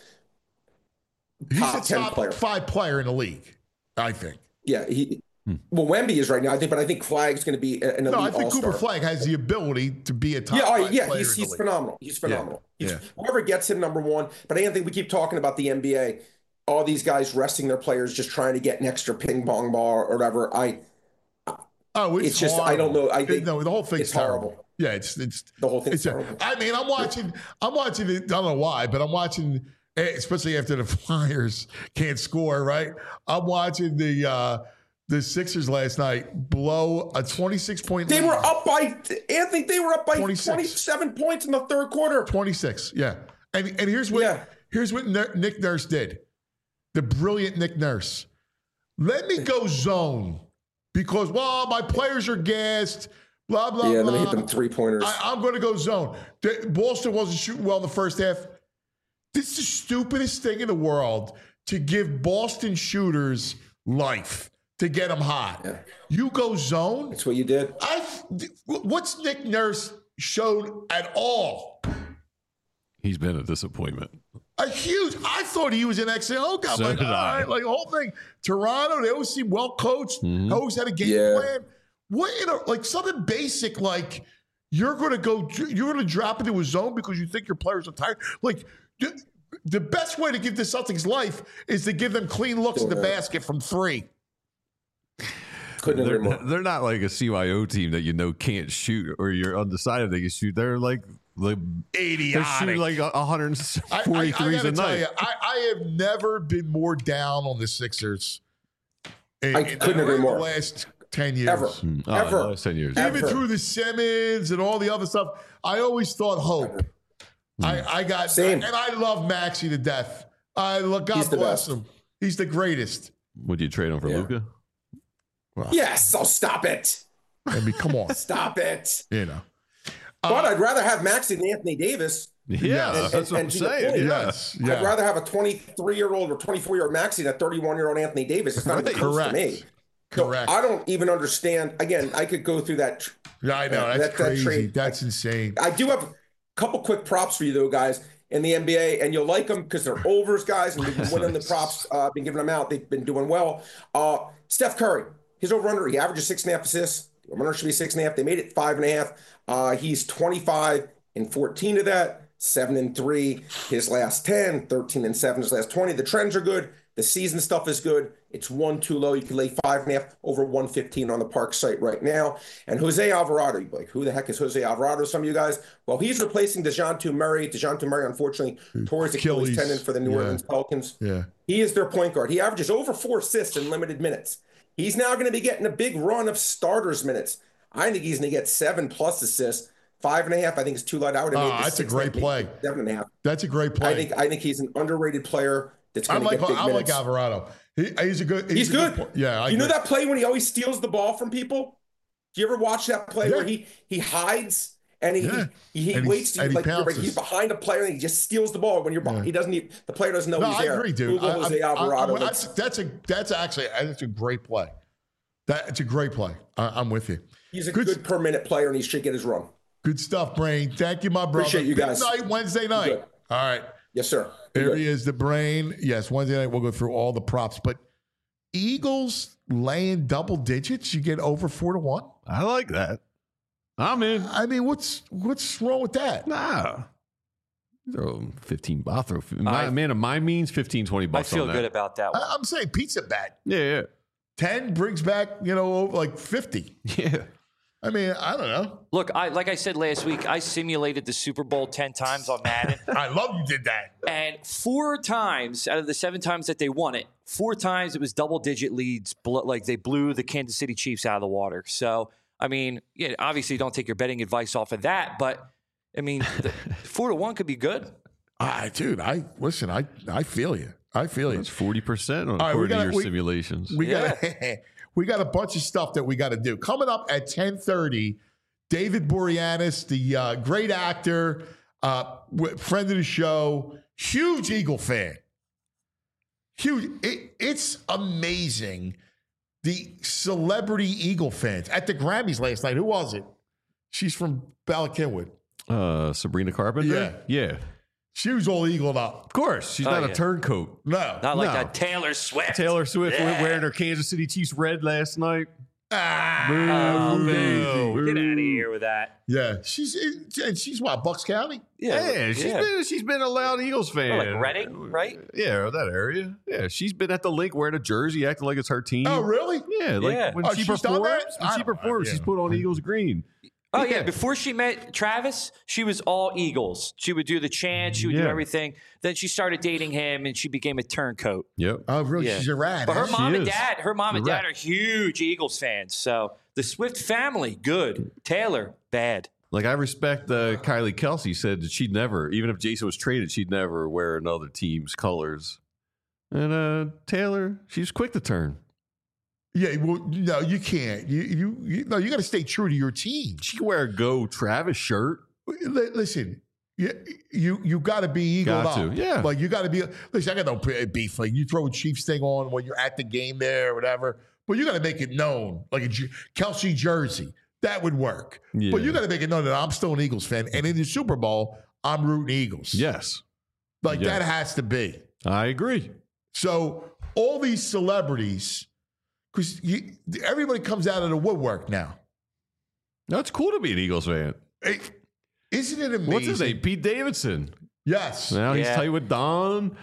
top 10 player. 5 player in the league, I think. Yeah, well, Wemby is right now, but I think Flagg's going to be an elite I think all-star. Cooper Flagg has the ability to be a top 5 player. He's phenomenal. He's phenomenal. Whoever gets him number 1. But I don't think we keep talking about the NBA. All these guys resting their players, just trying to get an extra ping pong ball or whatever. It's just horrible. I don't know. I think the whole thing's horrible. Yeah, it's the whole thing's terrible. I mean, I'm watching it. I don't know why, but I'm watching, especially after the Flyers can't score. Right, I'm watching the Sixers last night blow a 26-point lead. They were up by 27 points in the third quarter. 26, yeah. And here's what Nick Nurse did. The brilliant Nick Nurse. Let me go zone because my players are gassed. Blah blah. Yeah, blah. let me hit them 3-pointers. I'm going to go zone. Boston wasn't shooting well in the first half. This is the stupidest thing in the world to give Boston shooters life. To get them hot. Yeah. You go zone. That's what you did. What's Nick Nurse showed at all? He's been a disappointment. I thought he was an excellent. Oh, God. So did I. The whole thing. Toronto, they always seem well coached. Mm-hmm. Always had a game plan. What, something basic like you're going to drop into a zone because you think your players are tired? The best way to give the Celtics life is to give them clean looks at the basket from 3. They're not like a CYO team that can't shoot or you're undecided they can shoot. They're like idiotic. They shoot like 143s a night. I have never been more down on the Sixers. I couldn't agree more. The last 10 years. Ever. Last 10 years. Even through the Simmons and all the other stuff, I always thought hope. I got same. And I love Maxey to death. God bless him. He's the greatest. Would you trade him for Luka? Well, yes, I'll stop it. I mean, come on. Stop it. But I'd rather have Maxey than Anthony Davis. Yeah, that's what I'm saying. Yes. I'd rather have a 23-year-old or 24-year-old Maxey than a 31-year-old Anthony Davis. It's not even close to me. Correct. So I don't even understand. Again, I could go through that. Yeah, I know. That's crazy. That trade. That's insane. I do have a couple quick props for you, though, guys, in the NBA, and you'll like them because they're overs, guys, and we've been winning the props, been giving them out. They've been doing well. Steph Curry. His over-under, he averages 6.5 assists. Over-under should be 6.5. They made it 5.5. He's 25 and 14 of that, 7-3 his last 10, 13-7 his last 20. The trends are good. The season stuff is good. It's 1 too low. You can lay 5.5 over 115 on the Park site right now. And Jose Alvarado, you're like, who the heck is Jose Alvarado? Some of you guys. Well, he's replacing DeJounte Murray. DeJounte Murray, unfortunately, tore his Achilles tendon for the New Orleans Pelicans. Yeah. He is their point guard. He averages over 4 assists in limited minutes. He's now going to be getting a big run of starters minutes. I think he's going to get 7+ assists. 5.5, I think, is too light. I would have made this that's a great play. 7.5. That's a great play. I think he's an underrated player that's I going to get big like minutes. Alvarado. He's a good. He's good. Yeah, You know that play when he always steals the ball from people? Do you ever watch that play where he hides and he waits to he's behind a player and he just steals the ball when you're behind. He doesn't the player doesn't know he's there. I agree, dude. Jose Alvarado. That's a great play. It's a great play. I'm with you. He's a good per minute player and he should get his run. Good stuff, Brain. Thank you, my brother. Appreciate you guys. Good night, Wednesday night. Good. All right. Yes, sir. There he is, the Brain. Yes, Wednesday night we'll go through all the props. But Eagles laying double digits, you get over 4-1. I like that. I'm in. I mean, what's wrong with that? Nah. Throw 15. I'll throw. Man of my means, 15, 20 bucks. I feel good about that one. I'm saying pizza bet. Yeah. 10 brings back, over like 50. Yeah. I mean, I don't know. Look, like I said last week, I simulated the Super Bowl 10 times on Madden. I love you did that. And 4 times out of the 7 times that they won it, 4 times it was double-digit leads. Like they blew the Kansas City Chiefs out of the water. So, I mean, obviously don't take your betting advice off of that. But, I mean, 4-1 could be good. Dude, I feel you. I feel you. That's 40% according to your simulations. We got a bunch of stuff that we got to do. Coming up at 10:30, David Boreanaz, the great actor, friend of the show, huge Eagle fan. Huge. It's amazing. The celebrity Eagle fans. At the Grammys last night, who was it? She's from Bala Cynwyd. Sabrina Carpenter? Yeah. She was all eagled up. Of course. She's not a turncoat. No. Not like that Taylor Swift. Taylor Swift wearing her Kansas City Chiefs red last night. Boo. Get out of here with that. Yeah. She's what, Bucks County? Yeah. She's been a loud Eagles fan. Like Reading, right? Yeah, that area. Yeah. She's been at the link wearing a jersey, acting like it's her team. Oh, really? Yeah. When she performs, she's put on Eagles green. Oh, yeah. Before she met Travis, she was all Eagles. She would do the chant. She would do everything. Then she started dating him, and she became a turncoat. Yep. Oh, really? Yeah. She's a rat. But her mom and dad are huge Eagles fans. So the Swift family, good. Taylor, bad. Like, I respect Kylie Kelsey said that she'd never, even if Jason was traded, she'd never wear another team's colors. And Taylor, she's quick to turn. Yeah, well, no, you can't. You got to stay true to your team. She can wear a Go Travis shirt. Listen, you got to be eagled up. Yeah. Like, you got to be. Listen, I got no beef. Like, you throw a Chiefs thing on when you're at the game there or whatever, but you got to make it known, like a Kelsey jersey. That would work. Yeah. But you got to make it known that I'm still an Eagles fan, and in the Super Bowl, I'm rooting Eagles. Yes. Like, that has to be. I agree. So all these celebrities. Because everybody comes out of the woodwork now. No, it's cool to be an Eagles fan. Isn't it amazing? What's his name? Pete Davidson. Yes. Now he's tight with Dom,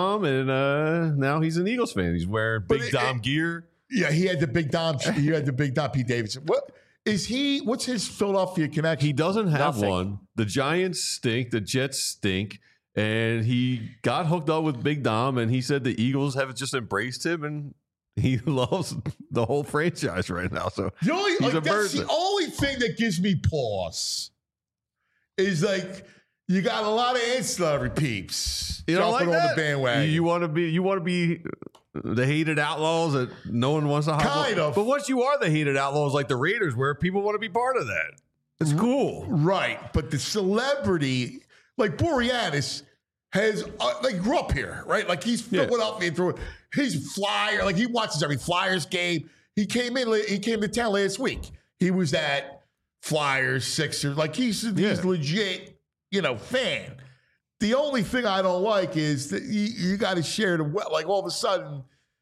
and now he's an Eagles fan. He's wearing big Dom gear. Yeah, he had the big Dom. He had the big Dom. Pete Davidson. What is he? What's his Philadelphia connection? He doesn't have one. The Giants stink. The Jets stink. And he got hooked up with Big Dom, and he said the Eagles have just embraced him, and he loves the whole franchise right now. So that's the only thing that gives me pause is like you got a lot of ancillary peeps jumping on the bandwagon. You want to be the hated outlaws that no one wants to hop kind of. But once you are the hated outlaws like the Raiders were, people want to be part of that. It's cool. Right. But the celebrity, like Boreanaz, has grew up here, right? Like he's Philadelphia through. He's Flyer, like he watches every Flyers game. He came to town last week. He was at Flyers, Sixers. Like he's legit, fan. The only thing I don't like is that you got to share like all of a sudden,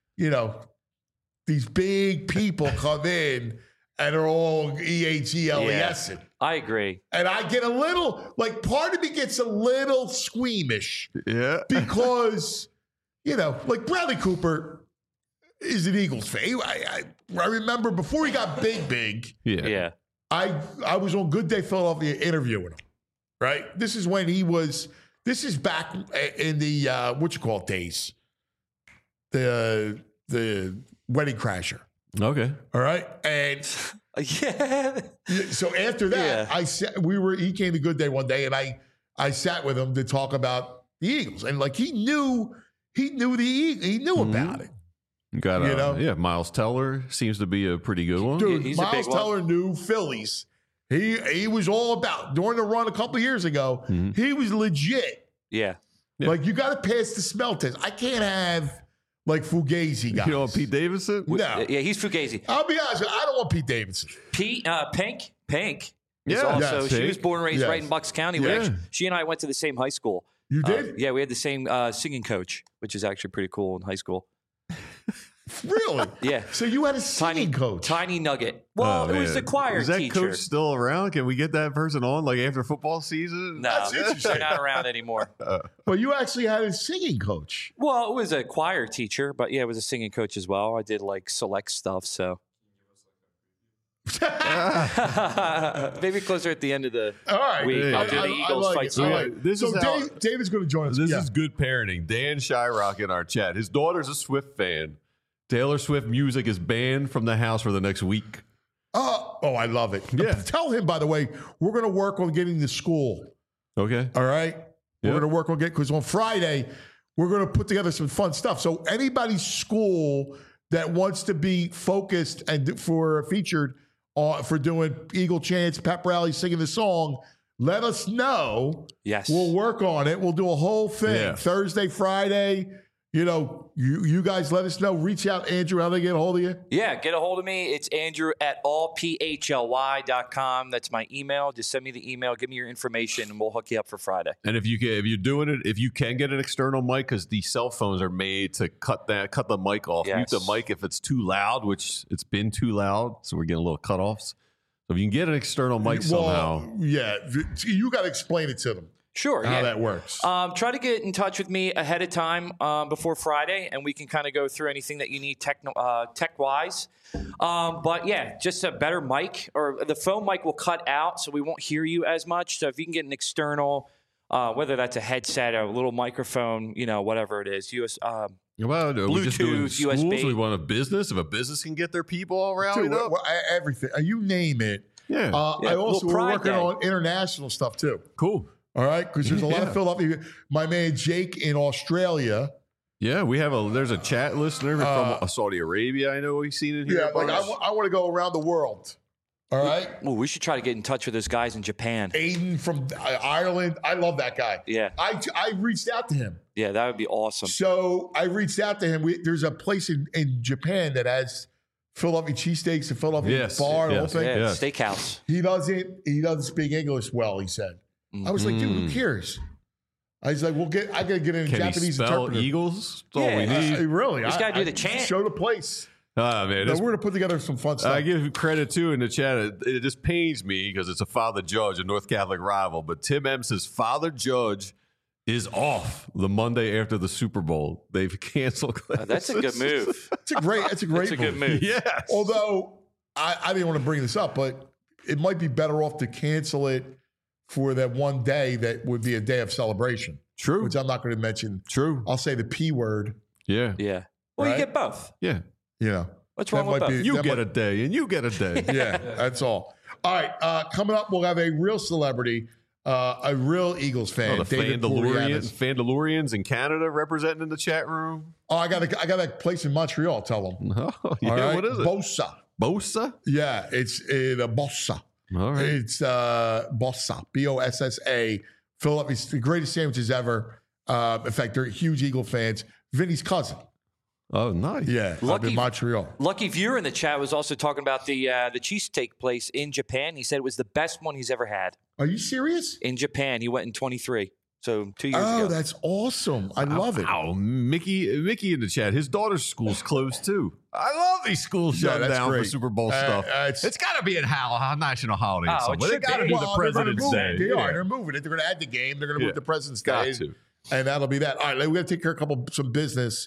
these big people come in and are all EAGLES. Yeah, I agree. And I get a little, part of me gets a little squeamish. Yeah. Because, like Bradley Cooper is an Eagles fan. I remember before he got big. Yeah. I was on Good Day Philadelphia interviewing him, right? This is back in the, days. The Wedding Crasher. Okay. All right. And so after that, he came to Good Day one day and I sat with him to talk about the Eagles. And he knew he knew about it. Got You know? Miles Teller seems to be a pretty good one. Dude, he's a Miles big one. Teller knew Phillies. He was all about during the run a couple of years ago. He was legit. Yeah. Yeah. Like you got to pass the smell test. I can't have like Fugazi guys. You know Pete Davidson? No, Yeah, he's Fugazi. I'll be honest. I don't want Pete Davidson. Pink is Yeah. also, Yes. she Pink. was born and raised Yes. right in Bucks County. Yeah. She and I went to the same high school. You did Yeah, we had the same singing coach, which is actually pretty cool in high school. really? Yeah. So you had a singing coach. Tiny nugget. Well, Oh, it was man. the choir Is that teacher. coach still around? Can we get that person on like after football season? No, That's interesting. they're not around anymore. But you actually had a singing coach. Well, it was a choir teacher, but yeah, it was a singing coach as well. I did like select stuff, so maybe closer at the end of the All right. week. Hey, I'll do the Eagles like fight it. song. All right. This So is how- David's going to join us. This Yeah. is good parenting. Dan Shyrock in our chat. His daughter's a Swift fan. Taylor Swift music is banned from the house for the next week. Oh, I love it. Yeah. Tell him, by the way, we're going to work on getting to school. Okay. All right. We're Yep. going to work on because on Friday, we're going to put together some fun stuff. So anybody's school that wants to be focused and featured for doing Eagle chants, pep rally, singing the song, let us know. Yes. We'll work on it. We'll do a whole thing. Yeah. Thursday, Friday. You know, you guys let us know. Reach out, Andrew, how they get a hold of you. Yeah, get a hold of me. It's Andrew at allphly.com. That's my email. Just send me the email, give me your information, and we'll hook you up for Friday. And if you're doing it, if you can get an external mic, because these cell phones are made to cut the mic off, Yes. mute the mic if it's too loud, which it's been too loud, so we're getting a little cutoffs. So if you can get an external mic somehow, Yeah, you got to explain it to them Sure. how yeah. that works. Try to get in touch with me ahead of time before Friday, and we can kind of go through anything that you need tech-wise. But yeah, just a better mic, or the phone mic will cut out, so we won't hear you as much. So if you can get an external, whether that's a headset or a little microphone, whatever it is, well, are we just doing Bluetooth, schools? USB. We want a business. If a business can get their people all Dude, rallied up, everything. You name it. yeah, I also little we're Pride working Day. on international stuff too. cool. All right, because there's a lot of Yeah. Philadelphia. My man Jake in Australia. Yeah, there's a chat listener from Saudi Arabia. I know we've seen it here. Yeah, a bunch. I want to go around the world. All right, Well, we should try to get in touch with those guys in Japan. Aiden from Ireland. I love that guy. Yeah. I reached out to him. Yeah, that would be awesome. So I reached out to him. There's a place in Japan that has Philadelphia cheesesteaks and Philadelphia Yes, bar and the whole yes. thing. Yeah, Yes. steakhouse. He doesn't speak English well, he said. I was like, dude, who cares? I was like, I gotta get in a Can he Japanese spell interpreter. Eagles? That's all we Yeah. need. Really? Just gotta do the chant. Show the place. Ah, man, No, this we're gonna put together some fun stuff. I give credit too in the chat. It just pains me because it's a Father Judge, a North Catholic rival. But Tim M says Father Judge is off the Monday after the Super Bowl. They've canceled classes. That's a good move. It's a great That's a good move. Yes. Although I didn't want to bring this up, but it might be better off to cancel it for that one day that would be a day of celebration. True. Which I'm not going to mention. True. I'll say the P word. Yeah. Yeah. Well, Right? you get both. Yeah. You know. What's wrong with might both? You that get might- a day and you get a day. Yeah, that's all. All right, coming up, we'll have a real celebrity, a real Eagles fan, Oh, the David Boreanaz. Fandalorians in Canada representing in the chat room. Oh, I got a place in Montreal. Tell them. Oh, yeah. All right? What is it? Bossa. Bosa? Yeah, it's the Bossa. All right. It's Bossa. Bossa. Philadelphia's the greatest sandwiches ever. In fact, they're huge Eagle fans. Vinny's cousin. Oh, nice. Yeah, up Lucky- in Montreal. Lucky Viewer in the chat was also talking about the cheesesteak place in Japan. He said it was the best one he's ever had Are you serious? in Japan. He went in 23, so 2 years Oh, ago. that's awesome. I love it. Wow, Mickey in the chat. His daughter's school's closed too. I love these schools Yeah, shutting that's down for great. Super Bowl stuff. it's- It's got to be a national holiday. Oh, it somewhere. They should got to be. do Well, the they're gonna President's move Day. it. They Yeah. are. They're moving it. They're going to add the game. They're going to Yeah. move the President's Got Day. to. And that'll be that. All right, we got to take care of some business.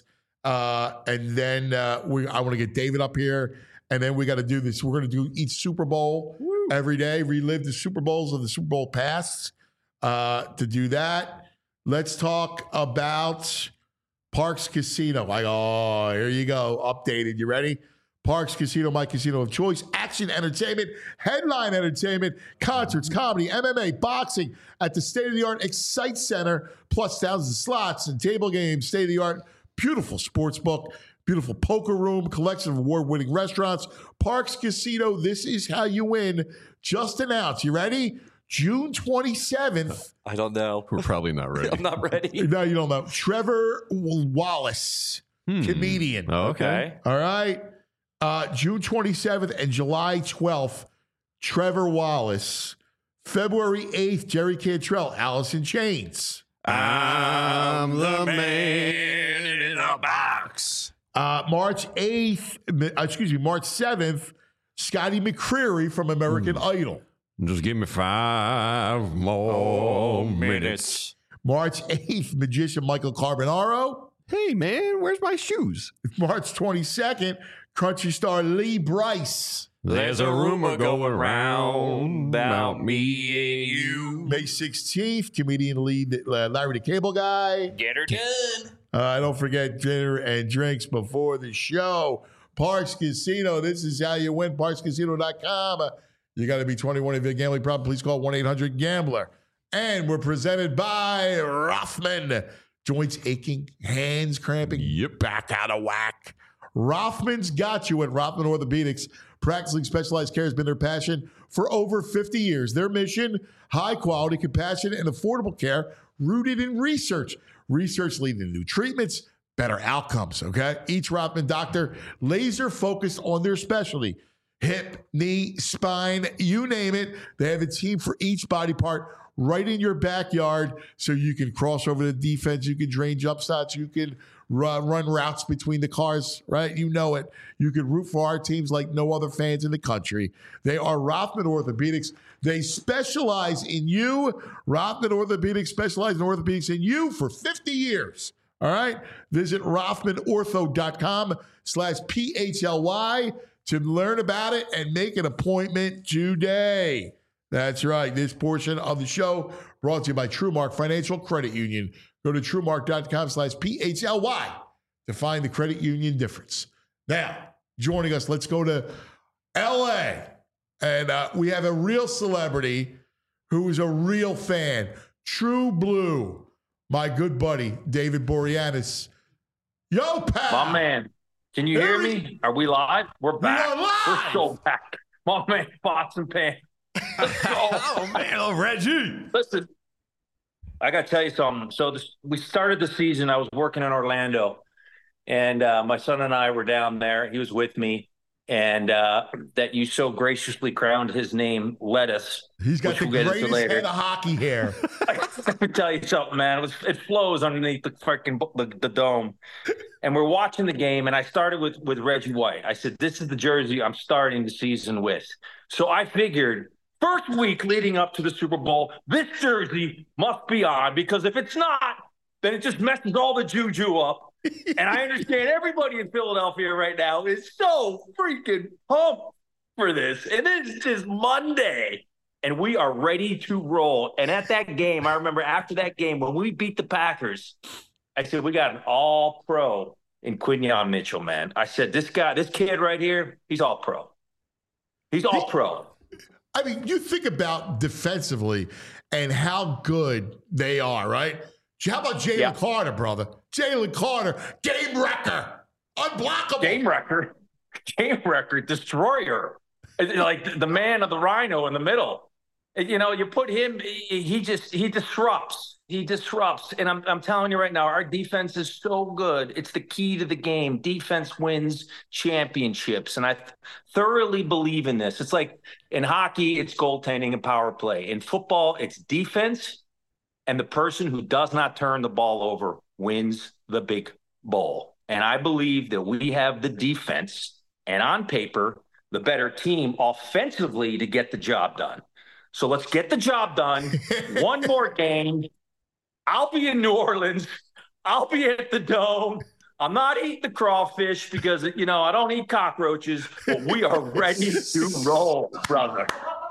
And then I want to get David up here. And then we got to do this. We're going to do each Super Bowl every day, relive the Super Bowls of the Super Bowl past. To do that, let's talk about Parks Casino. Here you go. Updated. You ready? Parks Casino, my casino of choice. Action entertainment, headline entertainment, concerts, comedy, MMA, boxing at the state-of-the-art Excite Center, plus thousands of slots and table games, state-of-the-art beautiful sports book, beautiful poker room, collection of award-winning restaurants. Parx Casino, this is how you win. Just announced. You ready? June 27th. I don't know. We're probably not ready. I'm not ready. No, you don't know. Trevor Wallace, comedian. Oh, okay. All right. June 27th and July 12th, Trevor Wallace. February 8th, Jerry Cantrell, Alice in Chains. I'm the man in a box. March 7th, Scotty McCreery from American Idol. Just give me 5 more minutes. March 8th, magician Michael Carbonaro. Hey, man, where's my shoes? March 22nd, country star Lee Brice. There's a rumor going round about me and you. May 16th, comedian Larry the Cable Guy. Get her done. Don't forget dinner and drinks before the show. Parx Casino, this is how you win. ParxCasino.com. You got to be 21 if you're a gambling problem. Please call 1-800-GAMBLER. And we're presented by Rothman. Joints aching, hands cramping, back out of whack. Rothman's got you at Rothman Orthopedics. Practicing specialized care has been their passion for over 50 years. Their mission, high quality, compassionate, and affordable care rooted in research. Research leading to new treatments, better outcomes, okay? Each Rothman doctor laser focused on their specialty. Hip, knee, spine, you name it. They have a team for each body part right in your backyard so you can cross over the defense, you can drain jump shots, you can run routes between the cars, right? You know it. You can root for our teams like no other fans in the country. They are Rothman Orthopedics. They specialize in you. Rothman Orthopedics specializes in orthopedics in you for 50 years. All right? Visit RothmanOrtho.com/PHLY to learn about it and make an appointment today. That's right. This portion of the show brought to you by TrueMark Financial Credit Union. Go to TrueMark.com/PHLY to find the credit union difference. Now, joining us, let's go to L.A. And we have a real celebrity who is a real fan. True Blue, my good buddy, David Boreanaz. Yo, pal. My man, can you hear me? Are we live? We're back. We are live. We're so back. My man, Pots and Pan. Let's go. Oh, man, Reggie. Listen, I got to tell you something. So we started the season. I was working in Orlando, and my son and I were down there. He was with me, and that you so graciously crowned his name Lettuce. He's got the greatest head of hockey hair. Let me tell you something, man. It flows underneath the freaking the dome. And we're watching the game, and I started with Reggie White. I said, this is the jersey I'm starting the season with. So I figured first week leading up to the Super Bowl, this jersey must be on, because if it's not, then it just messes all the juju up. And I understand everybody in Philadelphia right now is so freaking pumped for this. And it's just Monday, and we are ready to roll. And at that game, I remember after that game, when we beat the Packers, I said, we got an all-pro in Quinyon Mitchell, man. I said, this kid right here, he's all-pro. He's all-pro. I mean, you think about defensively and how good they are, right? How about Jalen Carter, brother? Jalen Carter, game wrecker, unblockable. Game wrecker, destroyer. Like the man of the rhino in the middle. You know, you put him, he disrupts. He disrupts. And I'm telling you right now, our defense is so good. It's the key to the game. Defense wins championships. And I thoroughly believe in this. It's like in hockey, it's goaltending and power play. In football, it's defense. And the person who does not turn the ball over wins the big bowl. And I believe that we have the defense and on paper, the better team offensively to get the job done. So let's get the job done. One more game. I'll be in New Orleans. I'll be at the Dome. I'm not eating the crawfish because, I don't eat cockroaches, but we are ready to roll, brother.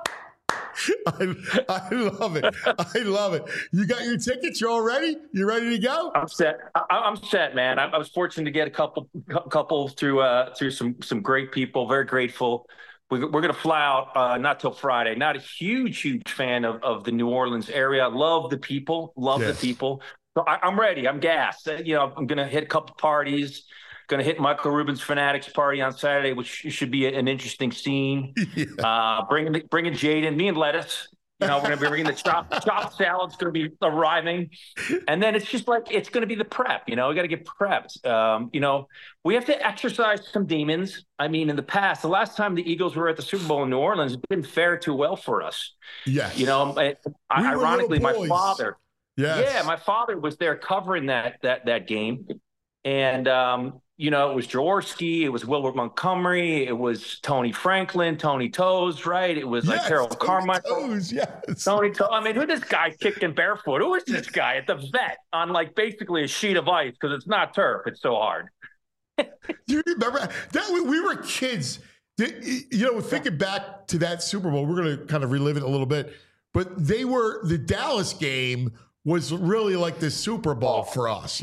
I love it. I love it. You got your tickets? You all ready? You ready to go? I'm set. I'm set, man. I was fortunate to get a couple through some great people. Very grateful. We're going to fly out not till Friday. Not a huge fan of the New Orleans area. Love the people. The people. So I'm ready. I'm gassed. I'm going to hit a couple parties. Going to hit Michael Rubin's Fanatics party on Saturday, which should be an interesting scene. Yeah. Bringing Jaden, me and Lettuce. We're going to be bringing the chopped salad's going to be arriving. And then it's just like, it's going to be the prep. We got to get prepped. We have to exercise some demons. I mean, in the past, the last time the Eagles were at the Super Bowl in New Orleans, it didn't fare too well for us. Yes. Ironically, my father. Yes. Yeah, my father was there covering that game. And, it was Jaworski, it was Wilbert Montgomery, it was Tony Franklin, Tony Toes, right? It was like Harold Carmichael. Toes, yes. Tony Toes. I mean, who this guy kicking barefoot? Who is this guy at the vet on like basically a sheet of ice because it's not turf? It's so hard. You remember that we were kids. Thinking back to that Super Bowl, we're going to kind of relive it a little bit. But the Dallas game was really like the Super Bowl for us,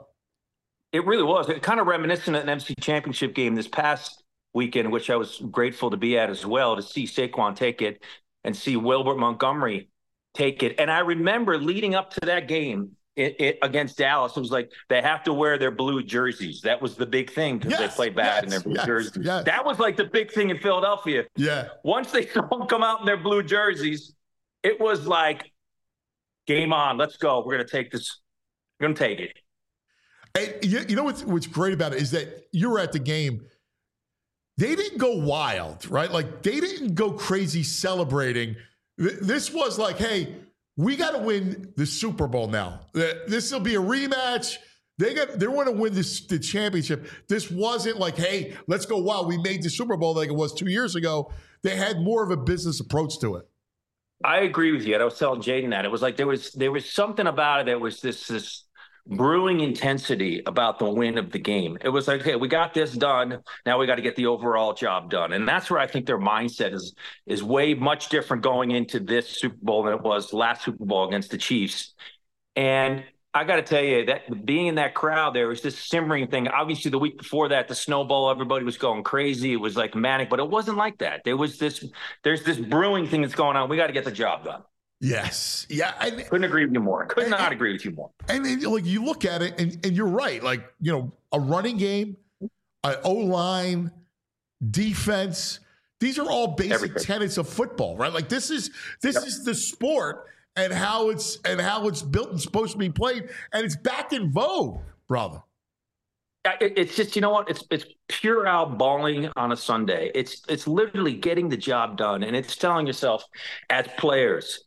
It really was. It kind of reminiscent of an MC Championship game this past weekend, which I was grateful to be at as well, to see Saquon take it and see Wilbert Montgomery take it. And I remember leading up to that game against Dallas, it was like they have to wear their blue jerseys. That was the big thing because they played bad in their blue jerseys. Yes. That was like the big thing in Philadelphia. Yeah. Once they saw them come out in their blue jerseys, it was like, game on. Let's go. We're going to take this. We're going to take it. And you know what's great about it is that you were at the game. They didn't go wild, right? Like they didn't go crazy celebrating. This was like, hey, we got to win the Super Bowl now. This will be a rematch. They want to win the championship. This wasn't like, hey, let's go wild. We made the Super Bowl like it was 2 years ago. They had more of a business approach to it. I agree with you. I was telling Jaden that it was like there was something about it that was this brewing intensity about the win of the game. It was like, hey, we got this done. Now we got to get the overall job done. And that's where I think their mindset is way much different going into this Super Bowl than it was last Super Bowl against the Chiefs. And I got to tell you that being in that crowd, there was this simmering thing. Obviously, the week before that, the snowball, everybody was going crazy. It was like manic, but it wasn't like that. There's this brewing thing that's going on. We got to get the job done. Yes. Yeah. Couldn't agree with you more. Could not agree with you more. And like you look at it and you're right. Like, a running game, an O-line, defense, these are all basic tenets of football, right? Like this is the sport and how it's built and supposed to be played. And it's back in vogue, brother. It's just, you know what? It's pure out balling on a Sunday. It's literally getting the job done. And it's telling yourself as players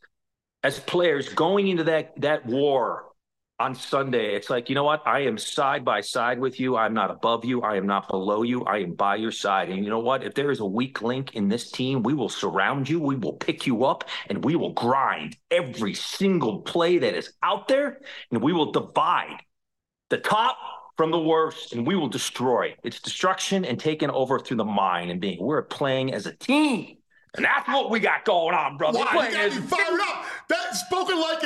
going into that war on Sunday, it's like, you know what? I am side by side with you. I'm not above you. I am not below you. I am by your side. And you know what? If there is a weak link in this team, we will surround you. We will pick you up and we will grind every single play that is out there. And we will divide the top from the worst and we will destroy. It's destruction and taking over through the mind and we're playing as a team. And that's what we got going on, brother. Wow, you got me fired up. That's spoken like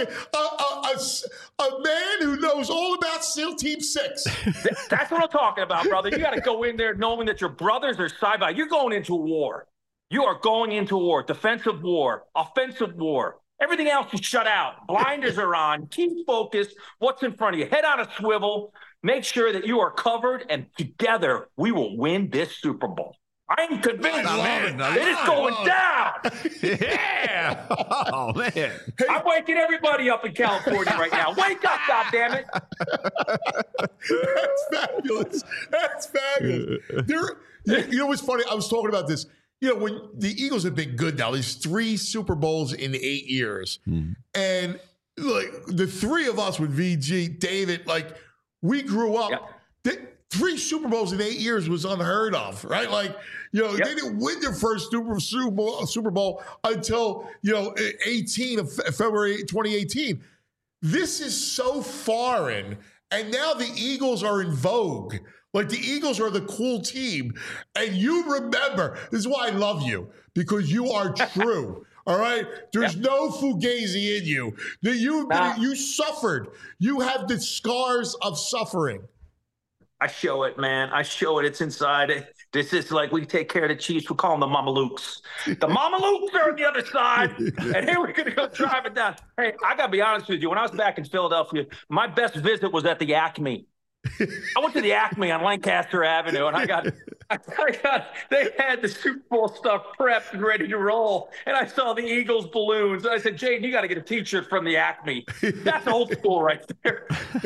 a man who knows all about SEAL Team 6. That's what I'm talking about, brother. You got to go in there knowing that your brothers are side by. You're going into a war. You are going into a war. Defensive war. Offensive war. Everything else is shut out. Blinders are on. Keep focused. What's in front of you? Head on a swivel. Make sure that you are covered, and together we will win this Super Bowl. I'm convinced, man. It is going down. Yeah. Oh, man. I'm waking everybody up in California right now. Wake up, goddammit. That's fabulous. That's fabulous. You know what's funny? I was talking about this. When the Eagles have been good now, there's 3 Super Bowls in 8 years. And like the 3 of us with VG, David, like we grew up. Yep. 3 Super Bowls in 8 years was unheard of, right? Like, they didn't win their first Super Bowl until, 18 of February 2018. This is so foreign. And now the Eagles are in vogue. Like the Eagles are the cool team. And you remember, this is why I love you, because you are true. All right? There's no fugazi in you. You suffered. You have the scars of suffering. I show it, man. I show it. It's inside. This is like we take care of the Chiefs. We call them the Mamalukes. The Mamalukes are on the other side. And here we're going to go drive it down. Hey, I got to be honest with you. When I was back in Philadelphia, my best visit was at the Acme. I went to the Acme on Lancaster Avenue, and they had the Super Bowl stuff prepped and ready to roll. And I saw the Eagles balloons. And I said, Jaden, you got to get a T-shirt from the Acme. That's old school right there.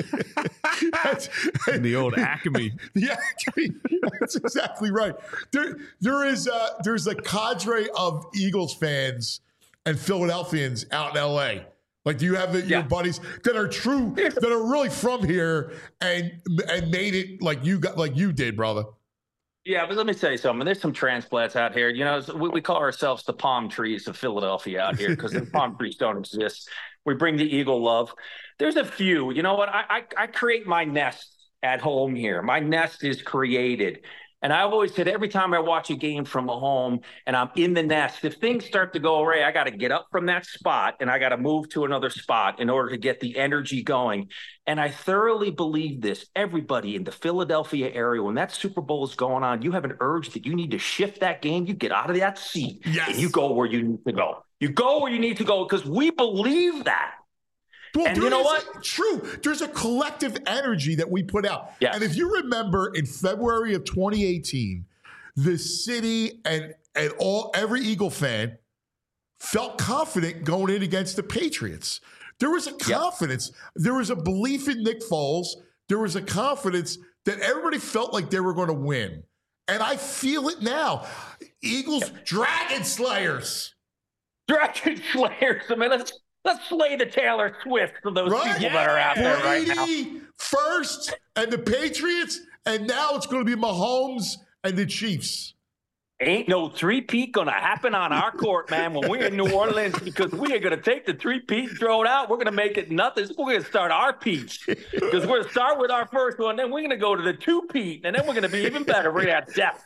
The old Acme. The Acme. That's exactly right. There's a cadre of Eagles fans and Philadelphians out in L.A. Like, do you have your buddies that are true, that are really from here and made it like you did, brother? Yeah, but let me tell you something. There's some transplants out here. You know, we call ourselves the palm trees of Philadelphia out here because the palm trees don't exist. We bring the Eagle love. There's a few. You know what? I create my nest at home here. My nest is created. And I've always said every time I watch a game from home and I'm in the nest, if things start to go away, I got to get up from that spot and I got to move to another spot in order to get the energy going. And I thoroughly believe this. Everybody in the Philadelphia area, when that Super Bowl is going on, you have an urge that you need to shift that game. You get out of that seat and you go where you need to go. You go where you need to go because we believe that. Well, and you know what? True. There's a collective energy that we put out. Yes. And if you remember in February of 2018, the city and every Eagle fan felt confident going in against the Patriots. There was a confidence. Yep. There was a belief in Nick Foles. There was a confidence that everybody felt like they were going to win. And I feel it now. Eagles, Dragon Slayers. Dragon Slayers. I mean, let's slay the Taylor Swift for those people that are out there right now. First, and the Patriots, and now it's going to be Mahomes and the Chiefs. Ain't no three-peat going to happen on our court, man, when we're in New Orleans, because we are going to take the three-peat and throw it out. We're going to make it nothing. We're going to start our peats, because we're going to start with our first one, then we're going to go to the two-peat, and then we're going to be even better. We're going to have depth.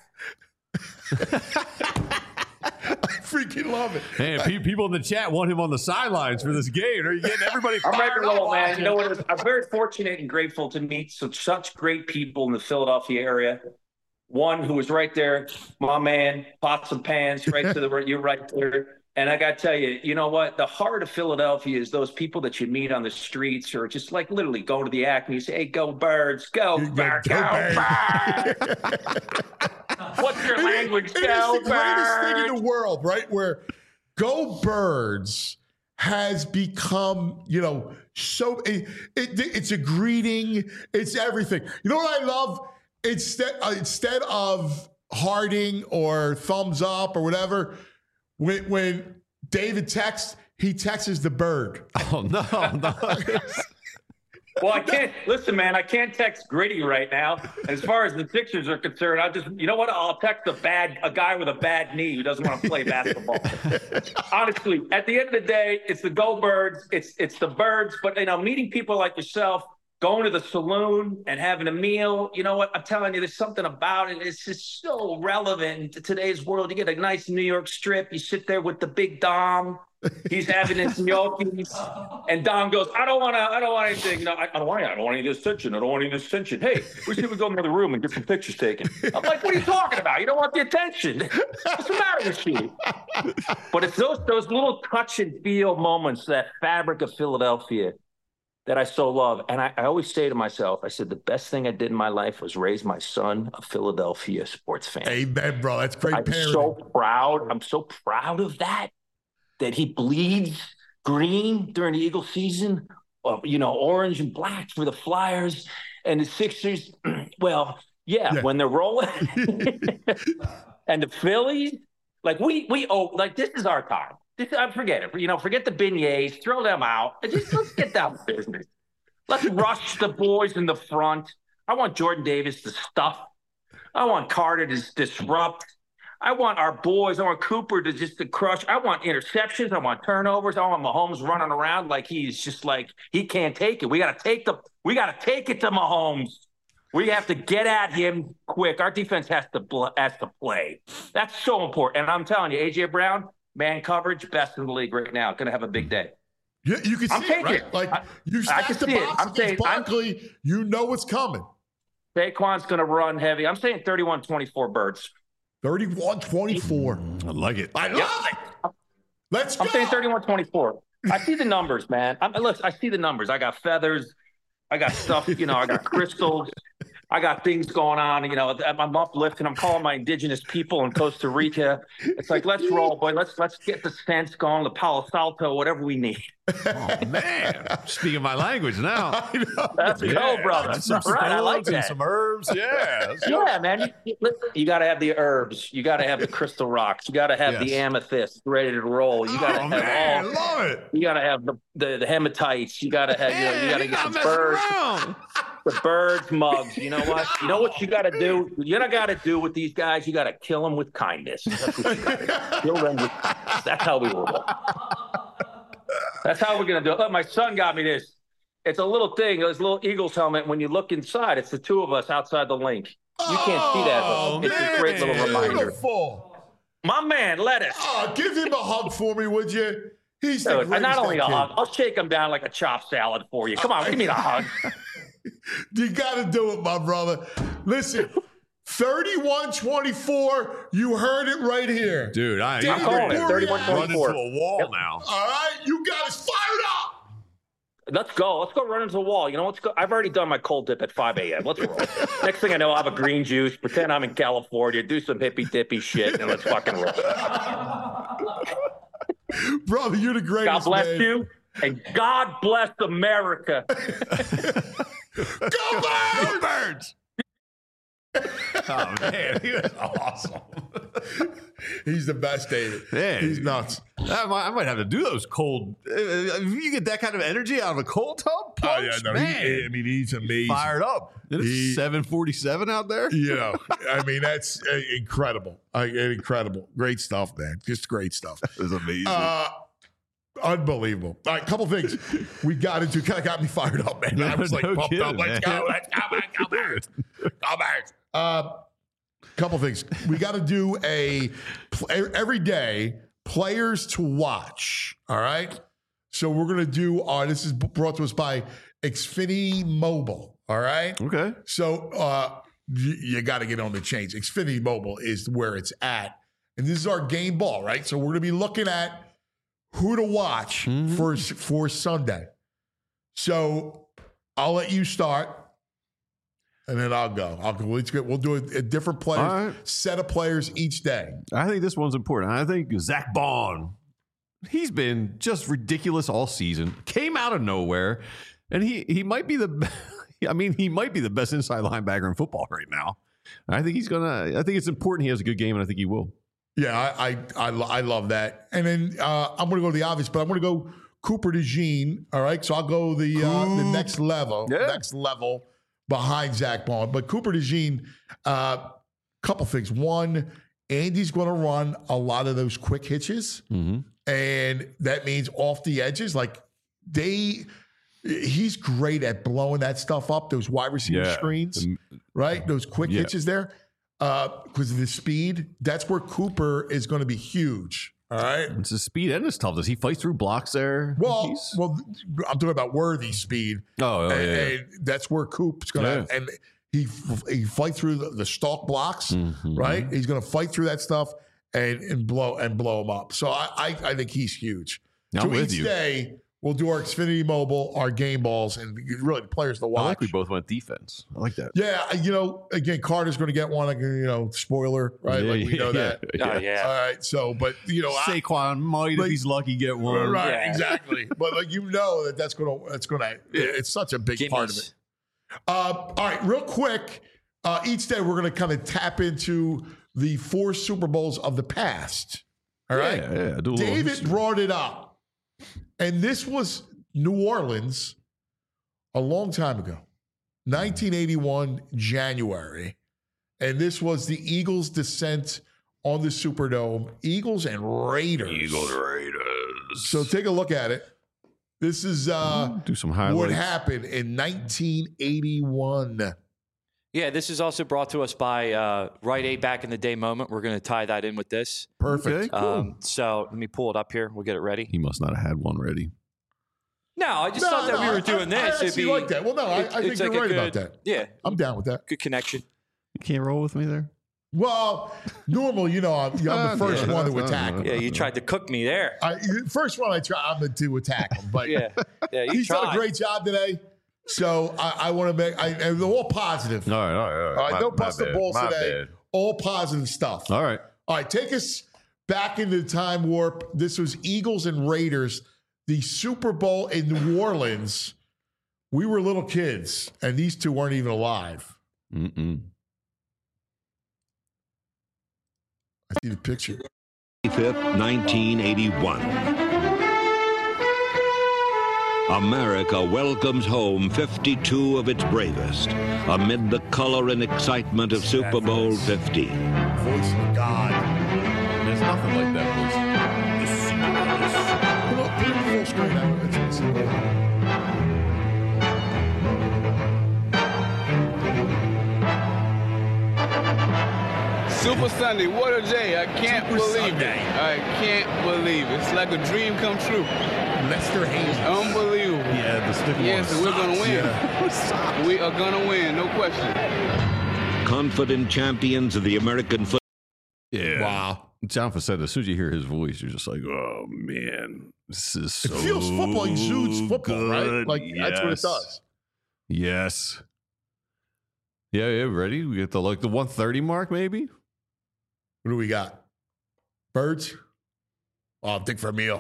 I freaking love it. Hey, people in the chat want him on the sidelines for this game. Are you getting everybody fired I'm ready to roll, up? man. You know what? I'm very fortunate and grateful to meet such great people in the Philadelphia area. One who was right there, my man, Pots and Pans, right to the right. You're right there. And I got to tell you, you know what? The heart of Philadelphia is those people that you meet on the streets or just like literally go to the Acme and say, hey, go Birds, go Birds, go Birds. What's your language? Go Birds. The greatest thing in the world, right? Where Go Birds has become, so it's a greeting. It's everything. You know what I love? Instead of hearting or thumbs up or whatever, when David texts, he texts the bird. Oh, no. Well, I can't listen, man. I can't text Gritty right now. As far as the Sixers are concerned, I'll text a guy with a bad knee who doesn't want to play basketball. Honestly, at the end of the day, it's the Go Birds. It's the Birds. But meeting people like yourself, going to the saloon and having a meal, you know what? I'm telling you, there's something about it. It's just so relevant to today's world. You get a nice New York strip. You sit there with the big Dom. He's having his gnocchis, and Dom goes, I don't want anything. No, I don't want any of this tension. I don't want any of this tension. Hey, we should go in the other room and get some pictures taken. I'm like, what are you talking about? You don't want the attention. What's the matter with you? But it's those little touch and feel moments, that fabric of Philadelphia, that I so love. And I always say to myself, I said, the best thing I did in my life was raise my son a Philadelphia sports fan. Amen, bro. That's great parenting. I'm so proud of that he bleeds green during the Eagle season, orange and black for the Flyers and the Sixers. Well, yeah. When they're rolling. And the Phillies, this is our time. Forget it. Forget the beignets, throw them out. Let's get down to business. Let's rush the boys in the front. I want Jordan Davis to stuff. I want Carter to disrupt. I want our boys. I want Cooper to crush. I want interceptions. I want turnovers. I want Mahomes running around like he's just like he can't take it. We got to take it to Mahomes. We have to get at him quick. Our defense has to play. That's so important. And I'm telling you, AJ Brown, man coverage, best in the league right now. Going to have a big day. Yeah, you can see it, right? Like you stack the box against Barkley, you know what's coming. Saquon's going to run heavy. I'm saying 31-24 Birds. 31-24. I like it. I love it. Let's go. I'm saying 31-24. I see the numbers, man. Look, I see the numbers. I got feathers. I got stuff, I got crystals. I got things going on. I'm uplifting. I'm calling my indigenous people in Costa Rica. It's like, let's roll, boy. Let's get the scents going, the Palo Santo, whatever we need. Oh, man. Speaking my language now. Let's go, brother. Some Right, I like stones and that. some herbs. Yeah. Yeah, man. You got to have the herbs. You got to have the crystal rocks. You got to have the amethyst ready to roll. You got to have man, love it. You got to have the hematites. You got to have. You got to get the birds. The birds mugs. You know what? You know what you got to do? You got to do with these guys. You got to kill them with kindness. That's what you got to do. Kill them with kindness. That's how we will. That's how we're gonna do it. Look, my son got me this. It's a little thing. It's a little Eagles helmet. When you look inside, it's the two of us outside the link. You can't see that. Oh, It's a great little reminder. Beautiful. My man, Lettuce. Oh, give him a hug for me, would you? He's the Dude, greatest. not only a kid. hug, I'll shake him down like a chopped salad for you. Come on, give me the hug. You got to do it, my brother. Listen, 31-24. You heard it right here. Dude, I'm calling it. running 31-24. to a wall now. All right, you got us fired up. Let's go. Let's go run into the wall. Let's go. I've already done my cold dip at 5 a.m. Let's roll. Next thing I know, I'll have a green juice, pretend I'm in California, do some hippy-dippy shit, and let's fucking roll. Brother, you're the greatest. God bless man. you, and God bless America. Go Birds! Birds. Oh, man. He was awesome. He's the best, David. Man. He's nuts. I might have to do those cold. If you get that kind of energy out of a cold tub punch, man. He's amazing. Fired up. It's 7:47 out there. That's incredible. Incredible. Great stuff, man. Just great stuff. It was amazing. Unbelievable. All right, couple things we got into. Kind of got me fired up, man. I was like pumped kidding, up. Let's man. go. Let's go. Go Birds. Go Birds. Couple things. We got to do every day players to watch. All right. So we're going to do this is brought to us by Xfinity Mobile. All right. Okay. So you got to get on the change. Xfinity Mobile is where it's at. And this is our game ball, right? So we're going to be looking at who to watch for Sunday. So I'll let you start. And then I'll go. We'll do a different player, set of players each day. I think this one's important. I think Zach Bond, he's been just ridiculous all season. Came out of nowhere, and he might be the. He might be the best inside linebacker in football right now. I think he's gonna. I think it's important he has a good game, and I think he will. Yeah, I love that. And then I'm going to go to the obvious, but I'm going to go Cooper DeJean. All right, so I'll go the next level. Yeah. Next level. Behind Zach Bond. But Cooper DeJean, couple things. One, Andy's going to run a lot of those quick hitches. Mm-hmm. And that means off the edges. Like he's great at blowing that stuff up, those wide receiver screens, right? Those quick hitches there. Because of the speed, that's where Cooper is going to be huge. All right. It's his speed and his toughness. He fights through blocks there. Well, I'm talking about worthy speed. And that's where Coop's going to and he fight through the stalk blocks, right? He's going to fight through that stuff and blow them up. So I think he's huge. I'm with you. Each day we'll do our Xfinity Mobile, our game balls, and really the players to watch. I like we both went defense. I like that. Yeah, again, Carter's going to get one. Like, spoiler, right? Yeah, we know that. Oh, yeah. All right. So, but Saquon might, if he's lucky, get one. Right, Yeah. exactly. But that's gonna. It's such a big part of it. All right, real quick. Each day we're gonna kind of tap into the 4 Super Bowls of the past. All right. Yeah. Do a little David history. brought it up, and this was New Orleans a long time ago, 1981 January, and this was the Eagles' descent on the Superdome. Eagles and Raiders. So take a look at it. This is do some highlights. what happened in 1981. Yeah, this is also brought to us by Rite Aid Back in the Day Moment. We're going to tie that in with this. Perfect. Okay, cool. So let me pull it up here. We'll get it ready. He must not have had one ready. No, I just thought that we were doing this. I actually like that. Well, no, I think you're right about that. Yeah. I'm down with that. Good connection. You can't roll with me there? Well, normally, I'm the first one to attack him. Yeah, you tried to cook me there. First one I'm to attack him. But yeah, he's done a great job today. So I want to and they're all positive. All right. No busted balls today. Bad. All positive stuff. All right. Take us back into the time warp. This was Eagles and Raiders, the Super Bowl in New Orleans. We were little kids, and these two weren't even alive. Mm-mm. I see the picture. 5th, 1981. America welcomes home 52 of its bravest amid the color and excitement of Super Bowl 50. Voice of God. There's nothing like that voice. Put it full screen. Super Sunday, what a day. I can't believe it. I can't believe it. It's like a dream come true. Lester Hayes. Unbelievable. Yeah, the stick Yes, and we're going to win. Yeah. We are going to win, no question. Confident champions of the American football. Yeah. Wow. John Facetta, as soon as you hear his voice, you're just like, oh, man, this is so It feels football, exudes football, good. right? Like, that's what it does. Yes. Yeah, ready? We get the 130 mark, maybe? What do we got? Birds? Oh, Dick Vermeil.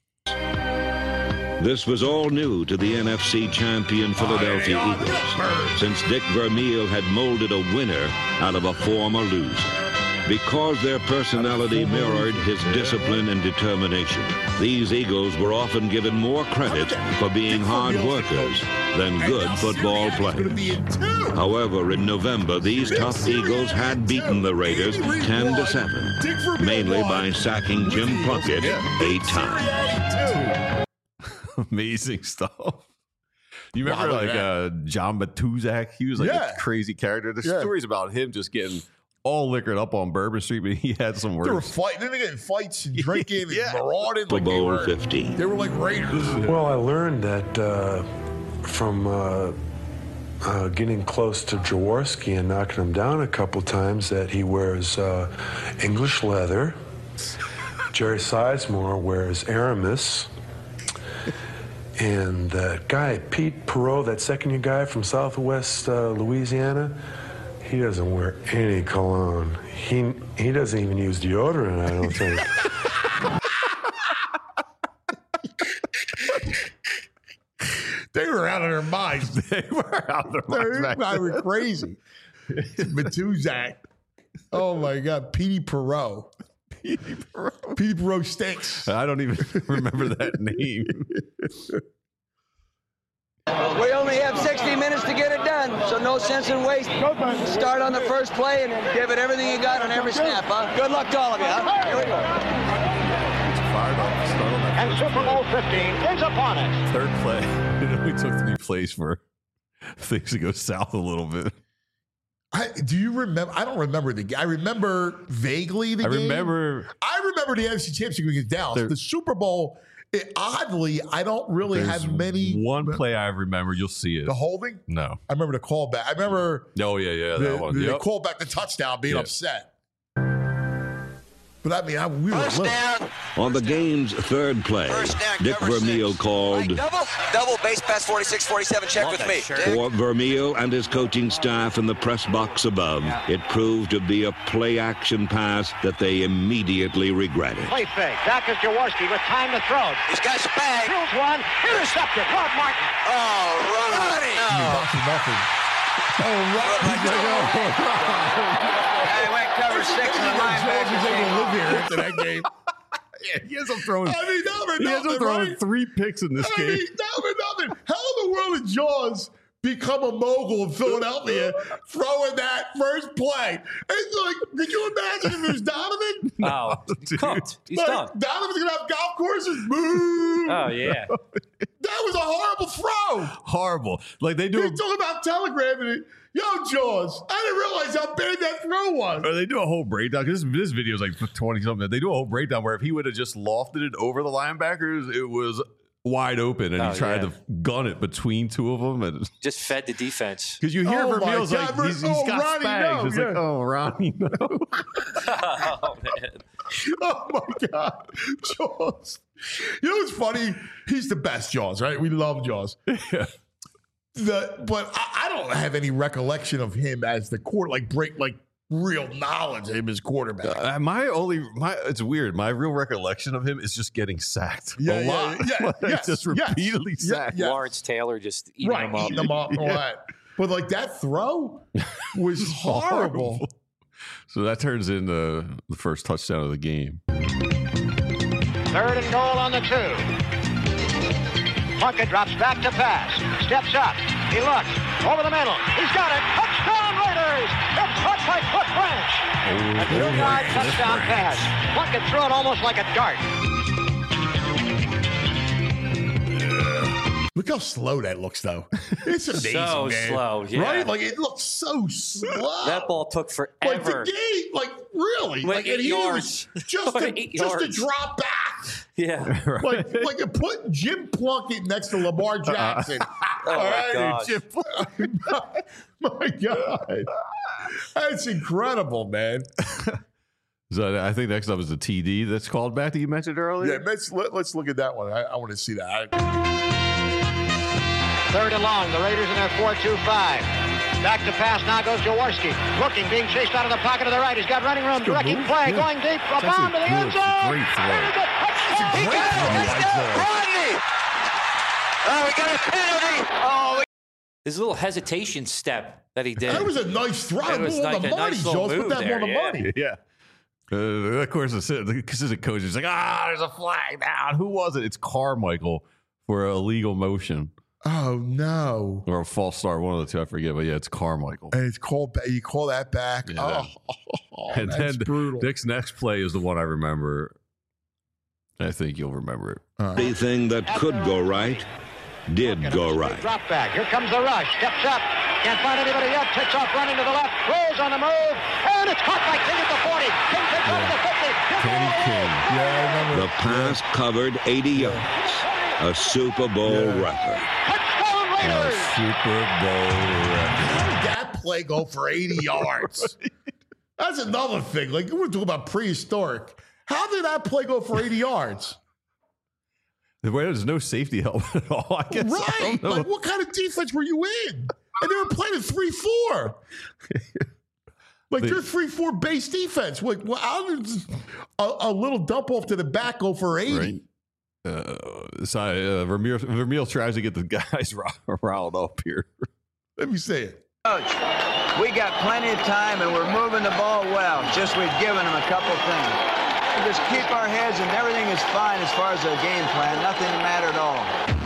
This was all new to the NFC champion Philadelphia Eagles, since Dick Vermeil had molded a winner out of a former loser. Because their personality mirrored his discipline and determination, these Eagles were often given more credit for being hard workers than good football players. However, in November, these tough Eagles had beaten the Raiders 10-7, mainly by sacking Jim Plunkett 8 times. Amazing stuff. You remember John Matuzak? He was a crazy character. There's stories about him just getting all liquored up on Bourbon Street, but he had some words. They were fighting. Then they get in fights and drinking and marauding. Super Bowl 50. They were like Raiders. Well, I learned that from getting close to Jaworski and knocking him down a couple times that he wears English leather. Jerry Sizemore wears Aramis. And that guy, Pete Perot, that second-year guy from Southwest Louisiana, he doesn't wear any cologne. He doesn't even use deodorant, I don't think. They were out of their minds. They were out of their minds. They were crazy. Matuzak. Oh, my God. Petey Perot. Petey Perot stinks. I don't even remember that name. We only have 60 minutes to get it done, so no sense in wasting. Start on the first play and give it everything you got on every snap, huh? Good luck to all of you, huh? Here we go. And Super Bowl 15 is upon us. Third play. We took 3 plays for things to go south a little bit. Do you remember? I don't remember the game. I remember vaguely the game. I remember the NFC Championship against Dallas. The Super Bowl, oddly, I don't really have many. One play I remember. You'll see it. The holding? No. I remember the callback. I remember. Oh, yeah, that one. The callback, the touchdown, being upset. But I mean, we were down. On the game's third play, Dick Vermeil called Double base pass 46-47. Check with me. for Vermeil and his coaching staff in the press box above. It proved to be a play-action pass that they immediately regretted. Play fake. Back is Jaworski with time to throw. He's got some bag. Drills one. Intercepted. Rod Martin. Oh, Ronnie. nothing. Hey, went cover 6 in the linebacker. Live here after that game. Yeah, he ends up throwing. He ends up throwing 3 picks in this game. Nothing. How in the world did Jaws become a mogul in Philadelphia throwing that first play? It's like, could you imagine if it was Donovan? No, he's cooked. He's done. Donovan's gonna have golf courses. Boo! Oh yeah. That was a horrible throw. Horrible. Like they do. He's talking about telegramming it. Yo, Jaws, I didn't realize how big that throw was. Or they do a whole breakdown because this video is like 20 something. They do a whole breakdown where if he would have just lofted it over the linebackers, it was wide open, and he tried to gun it between two of them, and just fed the defense. Because you hear Vermeil's like, he's got Ronnie, Spags. no, It's yeah. like, oh, Ronnie, no. Oh, man. Oh my God, Jaws! You know what's funny? He's the best, Jaws. Right? We love Jaws. Yeah. But I don't have any recollection of him as the real knowledge of him as quarterback. It's weird. My real recollection of him is just getting sacked a lot. Just repeatedly sacked. Lawrence Taylor just eating him up. Eating them up and all that. But like that throw was horrible. So that turns into the first touchdown of the game. 3rd and goal on the 2. Plunkett drops back to pass. Steps up. He looks. Over the middle. He's got it. Touchdown Raiders! It's caught by Cliff Branch. A 2-yard touchdown pass. Plunkett threw it almost like a dart. Look how slow that looks, though. It's amazing, So man. slow, yeah. Right? Like, it looks so slow. That ball took forever. Like, the game, like, really? Went like, 8 and he yards. was just Went to 8 yards. drop back. Yeah. Like you put Jim Plunkett next to Lamar Jackson. Oh, All my right? gosh. Jim my God. That's incredible, man. So I think next up is the TD that's called back that you mentioned earlier. Yeah, let's look at that one. I want to see that. 3rd and long. The Raiders in their 4-2-5. Back to pass. Now goes Jaworski. Looking, being chased out of the pocket to the right. He's got running room. Directing play. Going deep. A bomb to the end zone. Great throw. He got it. Rodney. Oh, we got a penalty. Oh, His little hesitation step that he did. That was a nice throw. It was Put like the a money, nice little Jones. Put move that there, on the yeah. money. Yeah. Of course, the assistant coach is like, there's a flag down. Who was it? It's Carmichael for illegal motion Oh, no. or a false start. One of the two, I forget. But yeah, it's Carmichael. And it's called back. You call that back. Yeah. And That's then brutal. Nick's next play is the one I remember. I think you'll remember it. Anything that could go right did go right. drop back. Here comes the rush. Steps up. Can't find anybody yet. Takes off running to the left. Rolls on the move. And it's caught by King at the 40. King takes over the 50. Kenny King. Yeah, I remember. The pass covered 80 yards. A Super Bowl record. Touchdown Raiders. Super Bowl record. How did that play go for 80 yards? That's another thing. Like, we're talking about prehistoric. How did that play go for 80 yards? There's no safety help at all. I guess. I Right. don't know. Like, what kind of defense were you in? And they were playing a 3-4. Like, they're 3-4 base defense. Like, well, how did a little dump off to the back go for 80? Right. Vermeil tries to get the guys riled up here. Let me say it. Coach, we got plenty of time and we're moving the ball well. Just we've given them a couple things. We just keep our heads and everything is fine as far as the game plan. Nothing to matter at all.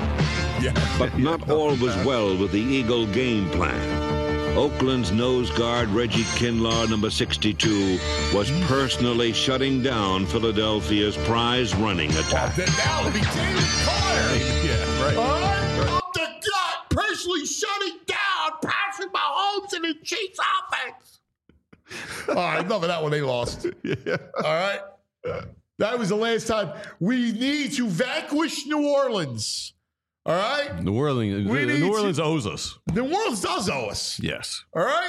But not all was well with the Eagle game plan. Oakland's nose guard, Reggie Kinlaw, number 62, was personally shutting down Philadelphia's prize running attack. Now it became fire. Yeah, right. Up the gut, personally shutting down Patrick Mahomes and the Chiefs offense. All right, enough of that one. They lost. Yeah. All right. That was the last time. We need to vanquish New Orleans. All right? New Orleans owes us. New Orleans does owe us. Yes. All right?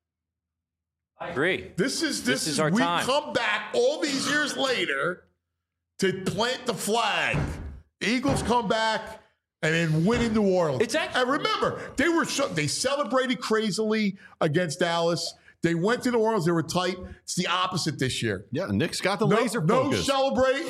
I agree. This is our we time. come back all these years later to plant the flag. Eagles come back and then win in New Orleans. And remember, they celebrated crazily against Dallas. They went to New Orleans. They were tight. It's the opposite this year. Yeah, Nick's got the laser focus. No celebrate.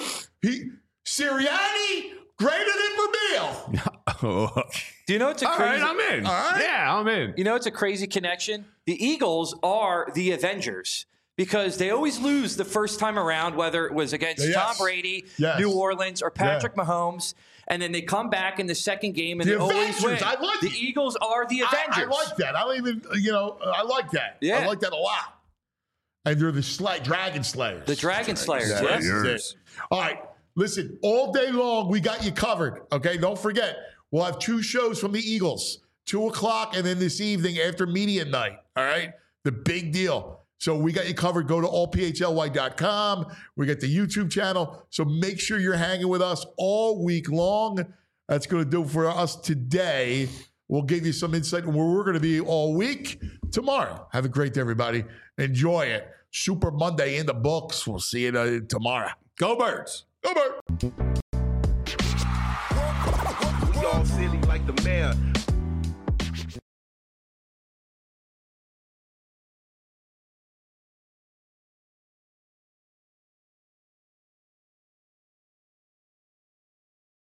Sirianni greater than Vermeil. Do you know it's a All crazy? right, I'm in. All right. Yeah, I'm in. You know it's a crazy connection. The Eagles are the Avengers because they always lose the first time around, whether it was against Yes. Tom Brady, Yes. New Orleans, or Patrick Mahomes. And then they come back in the second game and The they always Avengers. win. I like the it. Eagles are the Avengers. I like that. I don't even, I like that. Yeah. I like that a lot. And they're the Dragon Slayers. The Dragon Slayers, Yeah, yes. that's it. All right. Listen, all day long, we got you covered. Okay. Don't forget, we'll have 2 shows from the Eagles, 2:00, and then this evening after media night. All right. The big deal. So we got you covered. Go to allphly.com. We got the YouTube channel. So make sure you're hanging with us all week long. That's going to do it for us today. We'll give you some insight on where we're going to be all week tomorrow. Have a great day, everybody. Enjoy it. Super Monday in the books. We'll see you tomorrow. Go Birds. Go Birds.